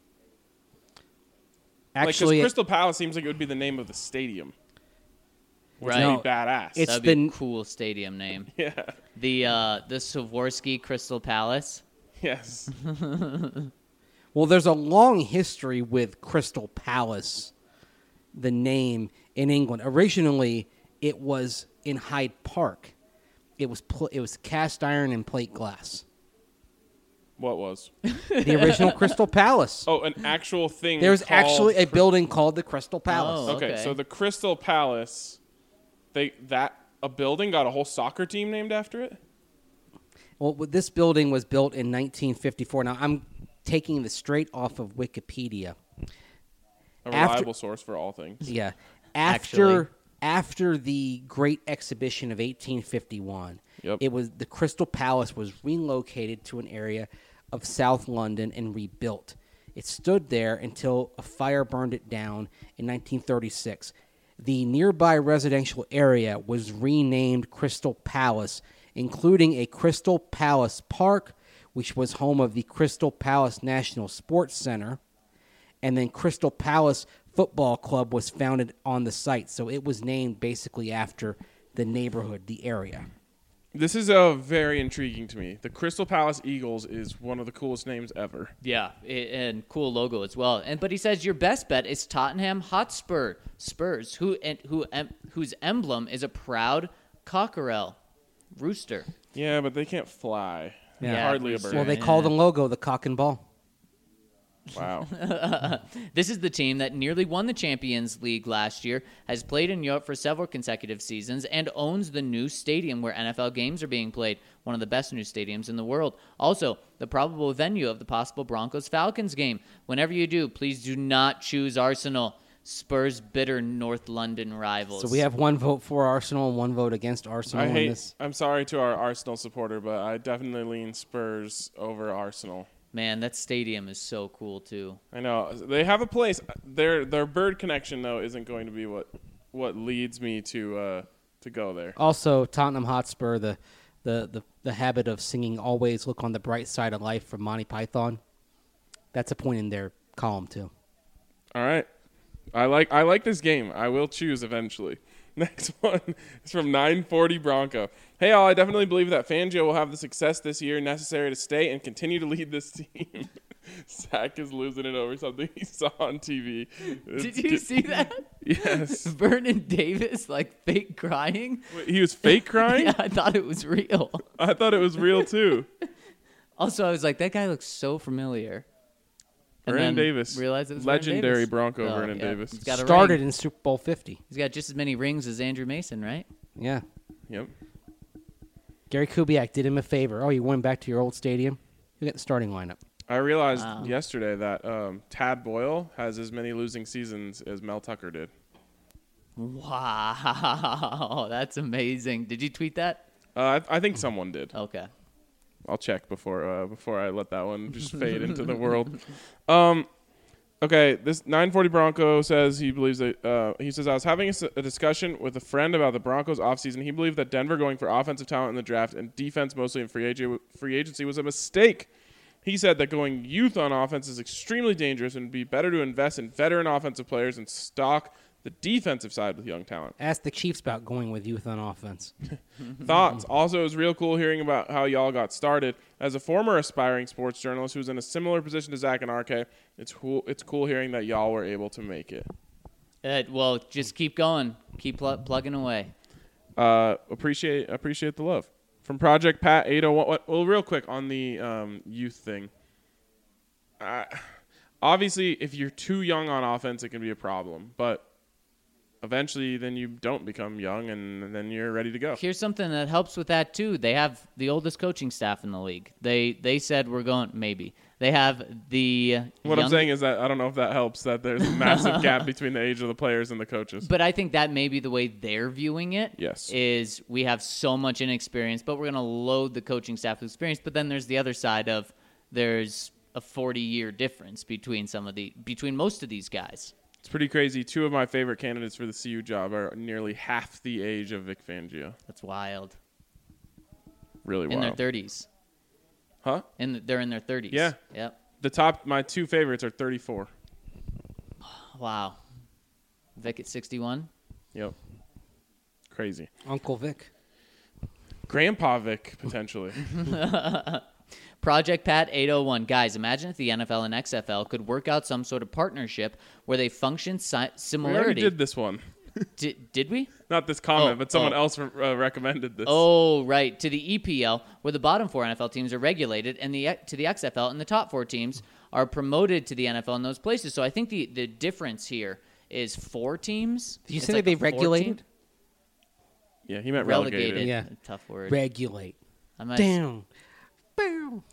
Actually, like, 'cause Crystal Palace seems like it would be the name of the stadium. Which Right. would No, be badass. it's That'd be the- a cool stadium name. yeah. The uh, the Swarovski Crystal Palace. Yes. well, there's a long history with Crystal Palace, the name in England. Originally, it was in Hyde Park. It was pl- it was cast iron and plate glass. What was? The original Crystal Palace. Oh, an actual thing. There's called actually a Cry- building called the Crystal Palace. Oh. Okay, Okay. so the Crystal Palace, they that a building got a whole soccer team named after it. Well, this building was built in nineteen fifty-four. Now, I'm taking this straight off of Wikipedia. A After- reliable source for all things. Yeah. Actually. After after the Great Exhibition of eighteen fifty-one, Yep. it was the Crystal Palace was relocated to an area of South London and rebuilt. It stood there until a fire burned it down in nineteen thirty-six. The nearby residential area was renamed Crystal Palace, including a Crystal Palace Park, which was home of the Crystal Palace National Sports Center. And then Crystal Palace Football Club was founded on the site. So it was named basically after the neighborhood, the area. This is uh, very intriguing to me. The Crystal Palace Eagles is one of the coolest names ever. Yeah, i- and cool logo as well. And but he says your best bet is Tottenham Hotspur Spurs, who and who em, whose emblem is a proud cockerel, rooster. Yeah, but they can't fly. They're Yeah, hardly a rooster. bird. Well, they Yeah. call the logo the cock and ball. Wow. This is the team that nearly won the Champions League last year, has played in Europe for several consecutive seasons, and owns the new stadium where N F L games are being played, one of the best new stadiums in the world. Also, the probable venue of the possible Broncos-Falcons game. Whenever you do, please do not choose Arsenal, Spurs' bitter North London rivals. So we have one vote for Arsenal and one vote against Arsenal I in hate. this. I'm sorry to our Arsenal supporter, but I definitely lean Spurs over Arsenal. Man, that stadium is so cool, too. I know they have a place. Their their bird connection though isn't going to be what what leads me to uh, to go there. Also, Tottenham Hotspur, the, the, the, the habit of singing Always Look on the Bright Side of Life from Monty Python. That's a point in their column, too. All right, I like I like this game. I will choose eventually. Next one is from nine forty Bronco. Hey, all, I definitely believe that Fangio will have the success this year necessary to stay and continue to lead this team. Zach is losing it over something he saw on T V. Did you see that? Yes. Vernon Davis, like, fake crying? Wait, he was fake crying? Yeah, I thought it was real. I thought it was real too. Also, I was like, that guy looks so familiar. And Vernon then Davis. Realized it was Vernon Legendary Davis. Bronco Oh, Vernon yeah. Davis. He's got a Started ring. in Super Bowl fifty. He's got just as many rings as Andrew Mason, right? Yeah. Yep. Gary Kubiak did him a favor. Oh, you went back to your old stadium? You got the starting lineup. I realized Wow. yesterday that um, Tad Boyle has as many losing seasons as Mel Tucker did. Wow, that's amazing. Did you tweet that? Uh, I, I think someone did. Okay. I'll check before uh, before I let that one just fade into the world. Um, okay, this nine forty Bronco says he believes that uh, he says I was having a, s- a discussion with a friend about the Broncos offseason. He believed that Denver going for offensive talent in the draft and defense mostly in free, ag- free agency was a mistake. He said that going youth on offense is extremely dangerous and would be better to invest in veteran offensive players and stock the defensive side with young talent. Ask the Chiefs about going with youth on offense. Thoughts? Also, it was real cool hearing about how y'all got started. As a former aspiring sports journalist who's in a similar position to Zach and R K, it's cool. It's cool hearing that y'all were able to make it. Uh, well, just keep going. Keep pl- plugging away. Uh, appreciate appreciate the love from Project Pat eight oh one. Well, real quick on the um, youth thing. Uh, obviously, if you're too young on offense, it can be a problem. But eventually, then you don't become young, and then you're ready to go. Here's something that helps with that too. They have the oldest coaching staff in the league. They they said we're going maybe. They have the What young- I'm saying is that I don't know if that helps, that there's a massive gap between the age of the players and the coaches. But I think that may be the way they're viewing it. Yes. Is we have so much inexperience, but we're going to load the coaching staff with experience. But then there's the other side of there's a forty-year difference between some of the between most of these guys. It's pretty crazy. Two of my favorite candidates for the C U job are nearly half the age of Vic Fangio. That's wild. Really In wild. their thirties. Huh? In the, they're in their thirties. Yeah. Yep. The top, my two favorites are thirty-four. Wow. Vic at sixty-one. Yep. Crazy. Uncle Vic. Grandpa Vic, potentially. Project Pat eight oh one. Guys, imagine if the N F L and X F L could work out some sort of partnership where they function si- We already similarity. did this one. Did, did we? Not this comment, Oh, but someone oh. else uh, recommended this. Oh, right. To the E P L, where the bottom four N F L teams are regulated, and the to the X F L, and the top four teams are promoted to the N F L in those places. So I think the, the difference here is four teams. Did you It's say like they a four-team- regulated? Yeah, he meant Relegated. relegated. Yeah. A tough word. Regulate. I might- Down. Boom.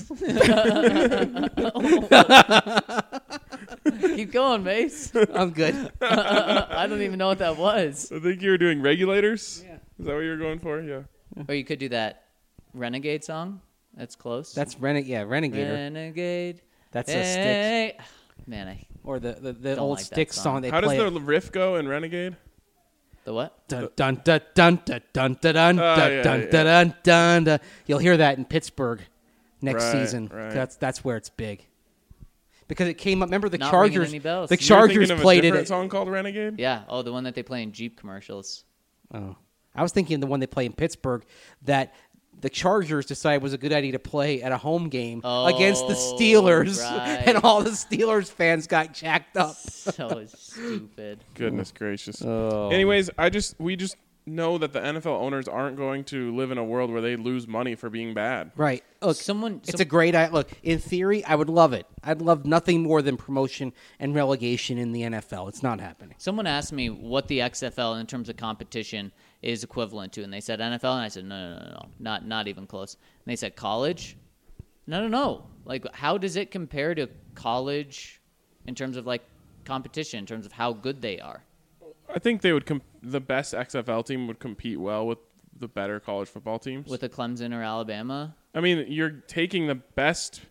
Keep going, Mace. I'm good. I don't even know what that was. I think you were doing regulators. Yeah. Is that what you were going for? Yeah. Or you could do that Renegade song. That's close. That's Reneg. Yeah, Renegader. Renegade. That's a Styx. Hey. Man, I Or the the, the Don't old like that Styx song. song. They How does play. the riff go in Renegade? the what? Dun dun dun dun dun dun dun dun Oh, dun yeah, dun yeah. dun dun dun dun. You'll hear that in Pittsburgh next Right, season. right. That's that's where it's big. Because it came up. Remember the Not ringing Chargers? any bells. The You were You were Chargers thinking of played a it. different At, song called Renegade? Yeah. Oh, the one that they play in Jeep commercials. oh, I was thinking the one they play in Pittsburgh that the Chargers decided was a good idea to play at a home game Oh, against the Steelers, right. and all the Steelers fans got jacked up. So stupid. Goodness gracious. Oh. Anyways, I just we just know that the N F L owners aren't going to live in a world where they lose money for being bad. Right. Look, Someone- It's some- a great idea. Look, in theory, I would love it. I'd love nothing more than promotion and relegation in the N F L. It's not happening. Someone asked me what the X F L in terms of competition is equivalent to, and they said N F L, and I said no, no, no, no, not not even close. And they said college. No, no, no. Like, how does it compare to college in terms of like competition, in terms of how good they are? I think they would comp- the best X F L team would compete well with the better college football teams. With a Clemson or Alabama? I mean, you're taking the best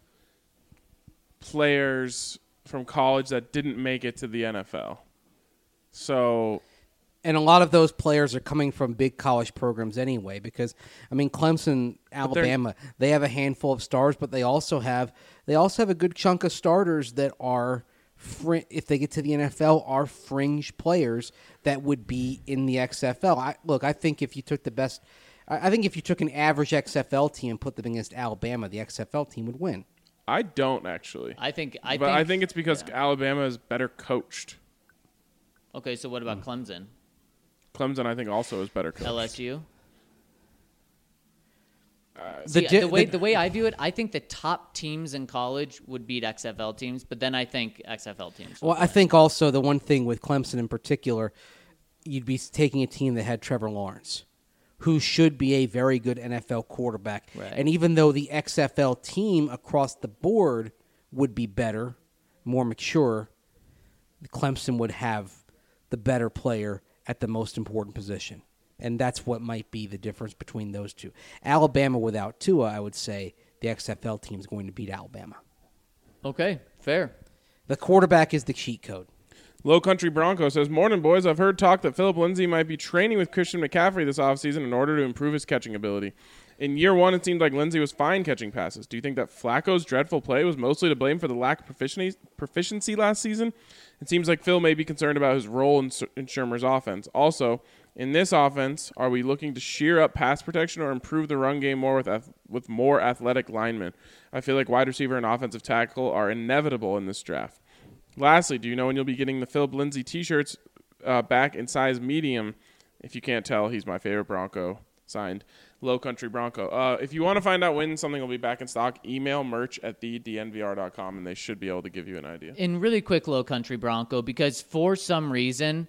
players from college that didn't make it to the N F L. So, And a lot of those players are coming from big college programs anyway, because I mean, Clemson, Alabama, they have a handful of stars, but they also have they also have a good chunk of starters that are, fr- if they get to the N F L, are fringe players that would be in the X F L. I, look, I think if you took the best, I, I think if you took an average X F L team and put them against Alabama, the X F L team would win. I don't actually. I think I but think I think it's because yeah. Alabama is better coached. Okay, so what Hmm. about Clemson? Clemson, I think, also is better coached. L S U? See, The di- the way the- the way I view it, I think the top teams in college would beat X F L teams, but then I think X F L teams. Well, I think also the one thing with Clemson in particular, you'd be taking a team that had Trevor Lawrence, who should be a very good N F L quarterback. Right. And even though the X F L team across the board would be better, more mature, Clemson would have the better player at the most important position. And that's what might be the difference between those two. Alabama without Tua, I would say the X F L team is going to beat Alabama. Okay, fair. The quarterback is the cheat code. Low Country Bronco says, Morning, boys. I've heard talk that Philip Lindsay might be training with Christian McCaffrey this offseason in order to improve his catching ability. In year one, it seemed like Lindsay was fine catching passes. Do you think that Flacco's dreadful play was mostly to blame for the lack of proficiency, proficiency last season? It seems like Phil may be concerned about his role in, in Shermer's offense. Also, in this offense, are we looking to sheer up pass protection or improve the run game more with ath- with more athletic linemen? I feel like wide receiver and offensive tackle are inevitable in this draft. Lastly, do you know when you'll be getting the Philip Lindsay T-shirts uh, back in size medium? If you can't tell, he's my favorite Bronco. Signed, Low Country Bronco. Uh, if you want to find out when something will be back in stock, email merch at the d n v r dot com, and they should be able to give you an idea. In really quick, Low Country Bronco, because for some reason,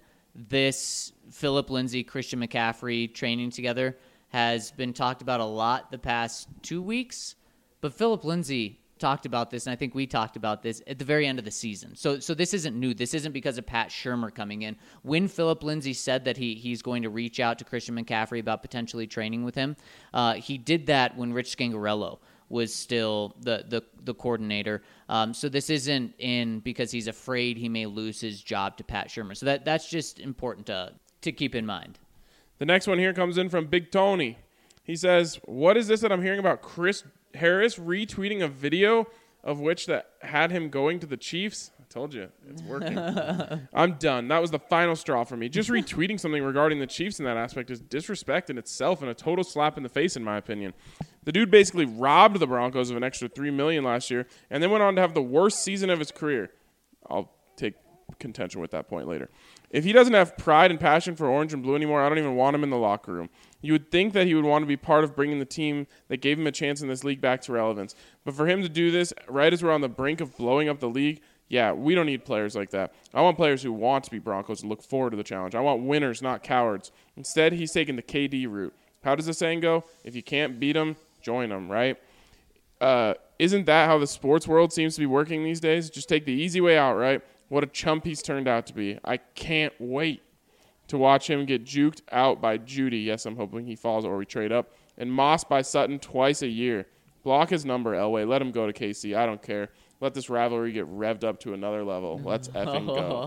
this Philip Lindsay, Christian McCaffrey training together has been talked about a lot the past two weeks. But Philip Lindsay talked about this, and I think we talked about this at the very end of the season. So so this isn't new. This isn't because of Pat Shurmur coming in. When Philip Lindsay said that he he's going to reach out to Christian McCaffrey about potentially training with him, uh, he did that when Rich Scangarello was still the the, the coordinator. Um, so this isn't in because he's afraid he may lose his job to Pat Shurmur. So that that's just important to to keep in mind. The next one here comes in from Big Tony. He says, what is this that I'm hearing about Chris Harris retweeting a video of which that had him going to the Chiefs? I told you, it's working. I'm done. That was the final straw for me. Just retweeting something regarding the Chiefs in that aspect is disrespect in itself and a total slap in the face, in my opinion. The dude basically robbed the Broncos of an extra three million dollars last year and then went on to have the worst season of his career. I'll take contention with that point later. If he doesn't have pride and passion for orange and blue anymore, I don't even want him in the locker room. You would think that he would want to be part of bringing the team that gave him a chance in this league back to relevance. But for him to do this right as we're on the brink of blowing up the league, yeah, we don't need players like that. I want players who want to be Broncos and look forward to the challenge. I want winners, not cowards. Instead, he's taking the K D route. How does the saying go? If you can't beat them, join them, right? Uh, isn't that how the sports world seems to be working these days? Just take the easy way out, right? What a chump he's turned out to be. I can't wait to watch him get juked out by Judy. Yes, I'm hoping he falls or we trade up. And Moss by Sutton twice a year. Block his number, Elway. Let him go to K C. I don't care. Let this rivalry get revved up to another level. Let's effing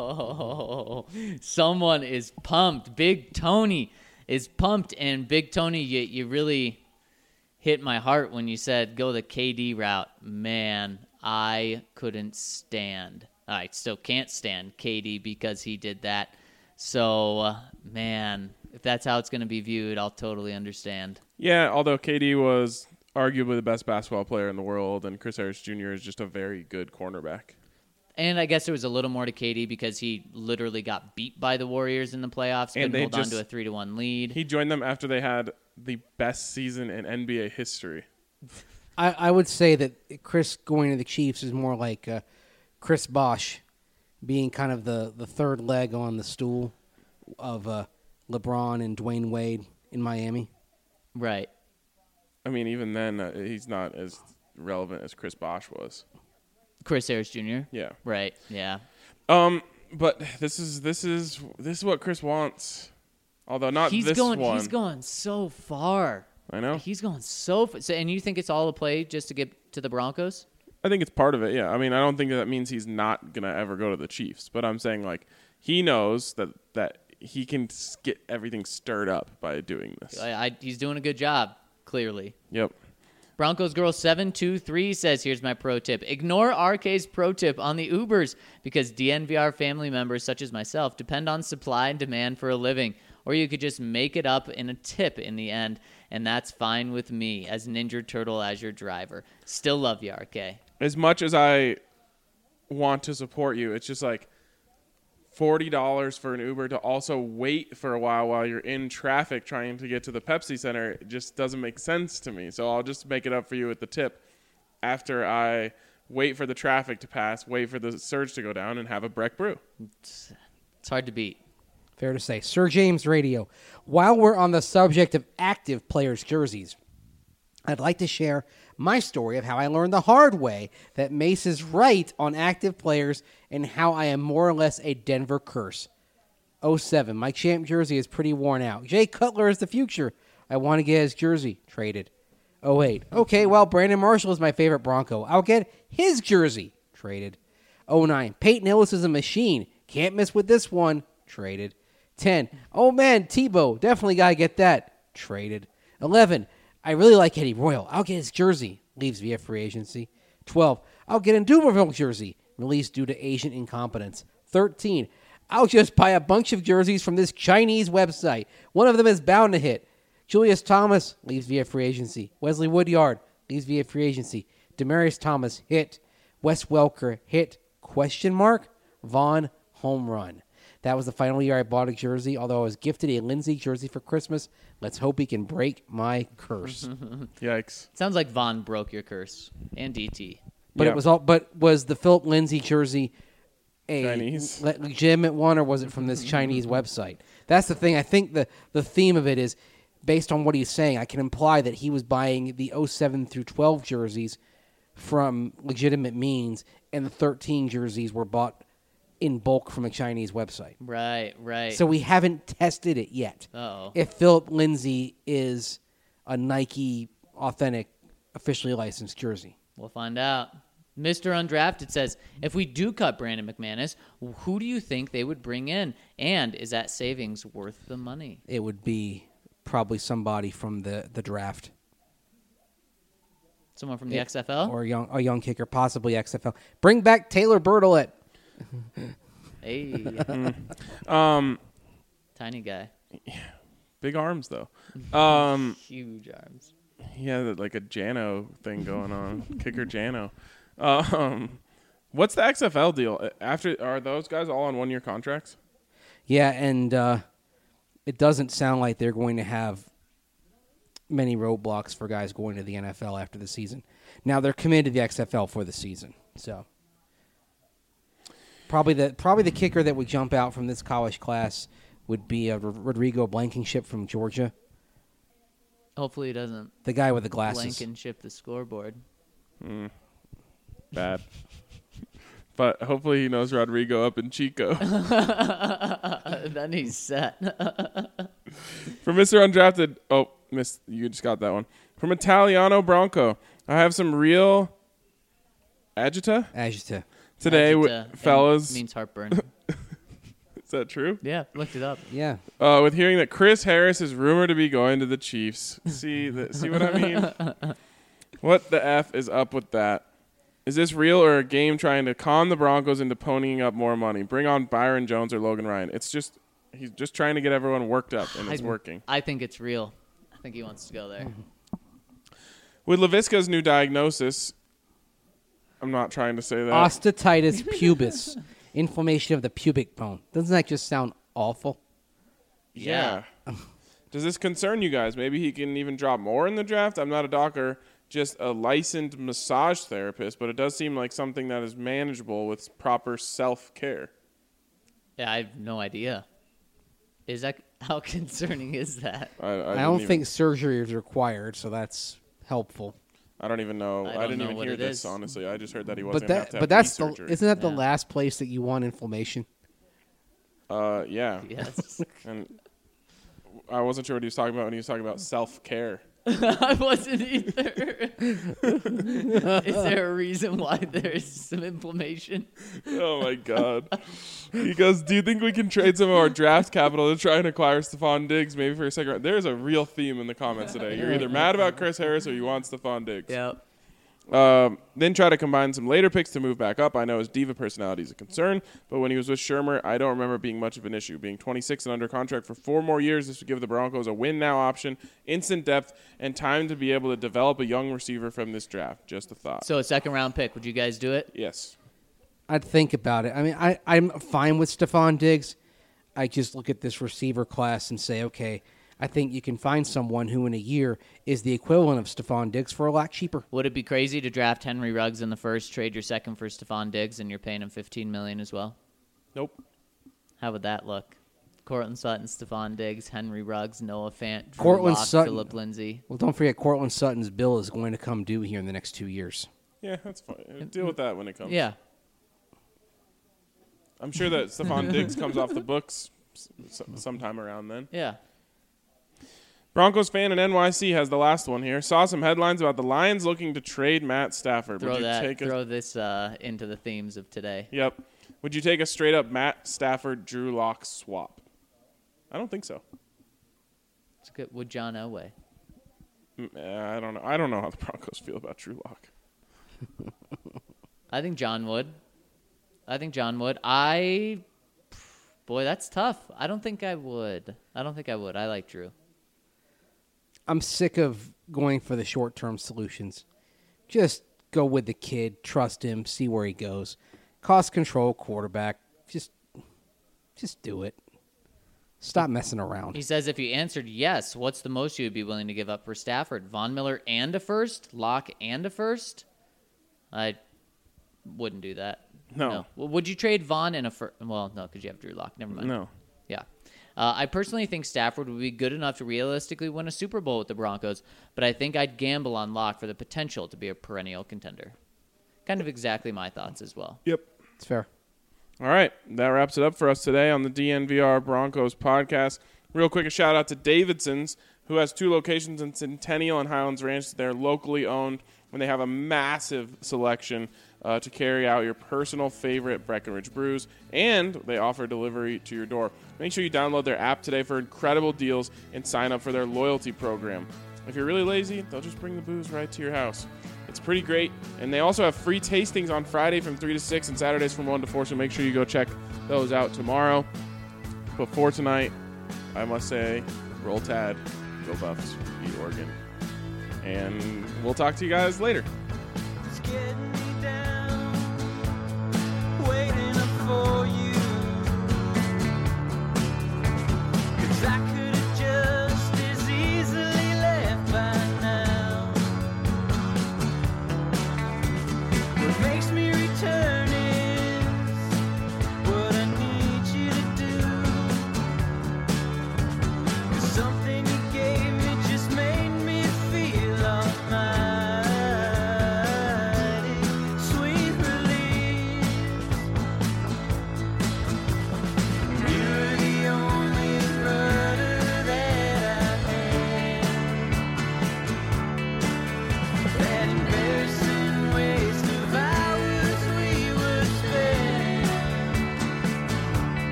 go. Someone is pumped. Big Tony is pumped. And Big Tony, you, you really hit my heart when you said go the K D route. Man, I couldn't stand I still can't stand K D because he did that. So, uh, man, if that's how it's going to be viewed, I'll totally understand. Yeah, although K D was arguably the best basketball player in the world, and Chris Harris Junior is just a very good cornerback. And I guess there was a little more to K D because he literally got beat by the Warriors in the playoffs, couldn't hold just, on to a three to one lead. He joined them after they had the best season in N B A history. I, I would say that Chris going to the Chiefs is more like uh, Chris Bosh being kind of the, the third leg on the stool of uh, LeBron and Dwayne Wade in Miami. Right. I mean, even then, uh, he's not as relevant as Chris Bosh was. Chris Harris Junior? Yeah. Right, yeah. Um, but this is this is this is what Chris wants. Although not he's this going, one. He's going so far. I know. He's going so far. So, and you think it's all a play just to get to the Broncos? I think it's part of it, yeah. I mean, I don't think that means he's not going to ever go to the Chiefs. But I'm saying, like, he knows that, that he can get everything stirred up by doing this. I, I, he's doing a good job, clearly. Yep. Broncos Girl seven two three says, here's my pro tip. Ignore R K's pro tip on the Ubers because D N V R family members such as myself depend on supply and demand for a living. Or you could just make it up in a tip in the end, and that's fine with me as Ninja Turtle as your driver. Still love you, R K. As much as I want to support you, it's just like forty dollars for an Uber to also wait for a while while you're in traffic trying to get to the Pepsi Center, it just doesn't make sense to me. So I'll just make it up for you with the tip. After I wait for the traffic to pass, wait for the surge to go down, and have a Breck Brew. It's, it's hard to beat. Fair to say. Sir James Radio. While we're on the subject of active players' jerseys, I'd like to share my story of how I learned the hard way that Mace is right on active players and how I am more or less a Denver curse. oh seven. My champ jersey is pretty worn out. Jay Cutler is the future. I want to get his jersey traded. oh eight. Okay, well, Brandon Marshall is my favorite Bronco. I'll get his jersey traded. oh nine. Peyton Hillis is a machine. Can't miss with this one. Traded. ten. Oh, man, Tebow. Definitely got to get that. Traded. eleven. I really like Eddie Royal. I'll get his jersey. Leaves via free agency. twelve. I'll get a Dumerville jersey. Released due to Asian incompetence. thirteen. I'll just buy a bunch of jerseys from this Chinese website. One of them is bound to hit. Julius Thomas leaves via free agency. Wesley Woodyard leaves via free agency. Demaryius Thomas hit. Wes Welker hit. Question mark. Vaughn home run. That was the final year I bought a jersey, although I was gifted a Lindsey jersey for Christmas. Let's hope he can break my curse. Yikes. Sounds like Vaughn broke your curse. And D T. But Yeah. it was all. But was the Philip Lindsay jersey a Chinese? le- legitimate one, or was it from this Chinese website? That's the thing. I think the the theme of it is based on what he's saying. I can imply that he was buying the oh seven through twelve jerseys from legitimate means, and the thirteen jerseys were bought in bulk from a Chinese website. Right, right. So we haven't tested it yet. Uh-oh. If Philip Lindsay is a Nike authentic, officially licensed jersey. We'll find out. Mister Undrafted says, if we do cut Brandon McManus, who do you think they would bring in? And is that savings worth the money? It would be probably somebody from the, the draft. Someone from the Yeah. X F L? Or a young, a young kicker, possibly X F L. Bring back Taylor Bertolett. Hey, Um, tiny guy. big arms, though. Um, Huge arms. he had like a Jano thing going on. Kicker Jano. Um, what's the X F L deal? After Are those guys all on one-year contracts? Yeah, and uh, it doesn't sound like they're going to have many roadblocks for guys going to the N F L after the season. Now, they're committed to the X F L for the season, so... Probably the probably the kicker that would jump out from this college class would be uh, Rodrigo Blankenship from Georgia, Hopefully he doesn't the guy with the glasses. Blankenship the scoreboard. Bad. But hopefully he knows Rodrigo up in Chico. Then he's set. For Mister Undrafted, oh, miss, you just got that one. From Italiano Bronco, I have some real agita Agita. today, Agita, with, and fellas. means heartburn. Is that true? Yeah, looked it up. Yeah. Uh, with hearing that Chris Harris is rumored to be going to the Chiefs. See, the, see what I mean? What the F is up with that? Is this real or a game trying to con the Broncos into ponying up more money? Bring on Byron Jones or Logan Ryan. It's just he's just trying to get everyone worked up, and it's I- working. I think it's real. I think he wants to go there. With LaVisca's new diagnosis, I'm not trying to say that. Osteitis pubis. Inflammation of the pubic bone. Doesn't that just sound awful? Yeah. Does this concern you guys? Maybe he can even drop more in the draft? I'm not a doctor, just a licensed massage therapist, but it does seem like something that is manageable with proper self-care. Yeah, I have no idea. Is that how concerning is that? I, I, I, didn't don't even- think surgery is required, so that's helpful. I don't even know. I I, don't didn't know even what hear it this, is. honestly. I just heard that he wasn't But going to have that to have but that's knee the surgery. isn't that the Yeah. last place that you want inflammation? Uh, yeah. Yes. And I wasn't sure what he was talking about when he was talking about self-care. I wasn't either. Is there a reason why there's some inflammation? Oh, my God. He goes, do you think we can trade some of our draft capital to try and acquire Stephon Diggs maybe for a second round? There's a real theme in the comments today. You're either mad about Chris Harris or you want Stephon Diggs. Yep. Um, then try to combine some later picks to move back up. I know his diva personality is a concern, but when he was with Shermer, I don't remember it being much of an issue. Being twenty-six and under contract for four more years, this would give the Broncos a win-now option, instant depth, and time to be able to develop a young receiver from this draft. Just a thought. So a second round pick. Would you guys do it? Yes. I'd think about it. I mean, I, I'm fine with Stephon Diggs. I just look at this receiver class and say, okay, I think you can find someone who in a year is the equivalent of Stephon Diggs for a lot cheaper. Would it be crazy to draft Henry Ruggs in the first, trade your second for Stephon Diggs, and you're paying him fifteen million dollars as well? Nope. How would that look? Cortland Sutton, Stephon Diggs, Henry Ruggs, Noah Fant, Drew Cortland Lock, Sutton. Phillip Lindsay. Well, don't forget, Cortland Sutton's bill is going to come due here in the next two years. Yeah, that's fine. Deal with that when it comes. Yeah. I'm sure that Stephon Diggs comes off the books s- sometime around then. Yeah. Broncos fan in N Y C has the last one here. Saw some headlines about the Lions looking to trade Matt Stafford. Throw Would you that. take a, Throw this uh, into the themes of today. Yep. Would you take a straight up Matt Stafford Drew Lock swap? I don't think so. It's good. Would John Elway? Mm, uh, I don't know. I don't know how the Broncos feel about Drew Lock. I think John would. I think John would. I, boy, that's tough. I don't think I would. I don't think I would. I like Drew. I'm sick of going for the short-term solutions. Just go with the kid, trust him, see where he goes. Cost control quarterback. Just just do it. Stop messing around. He says if you answered yes, what's the most you would be willing to give up for Stafford? Von Miller and a first? Locke and a first? I wouldn't do that. No. Well, would you trade Von and a first? Well, no, because you have Drew Lock. Never mind. No. Yeah. Uh, I personally think Stafford would be good enough to realistically win a Super Bowl with the Broncos, but I think I'd gamble on Locke for the potential to be a perennial contender. Kind of exactly my thoughts as well. Yep. It's fair. All right. That wraps it up for us today on the D N V R Broncos podcast. Real quick, a shout out to Davidson's, who has two locations in Centennial and Highlands Ranch. They're locally owned, and they have a massive selection uh, to carry out your personal favorite Breckenridge brews, and they offer delivery to your door. Make sure you download their app today for incredible deals and sign up for their loyalty program. If you're really lazy, they'll just bring the booze right to your house. It's pretty great, and they also have free tastings on Friday from three to six and Saturdays from one to four, so make sure you go check those out tomorrow. But for tonight, I must say, roll Tide, go Buffs, beat Oregon. And we'll talk to you guys later. It's getting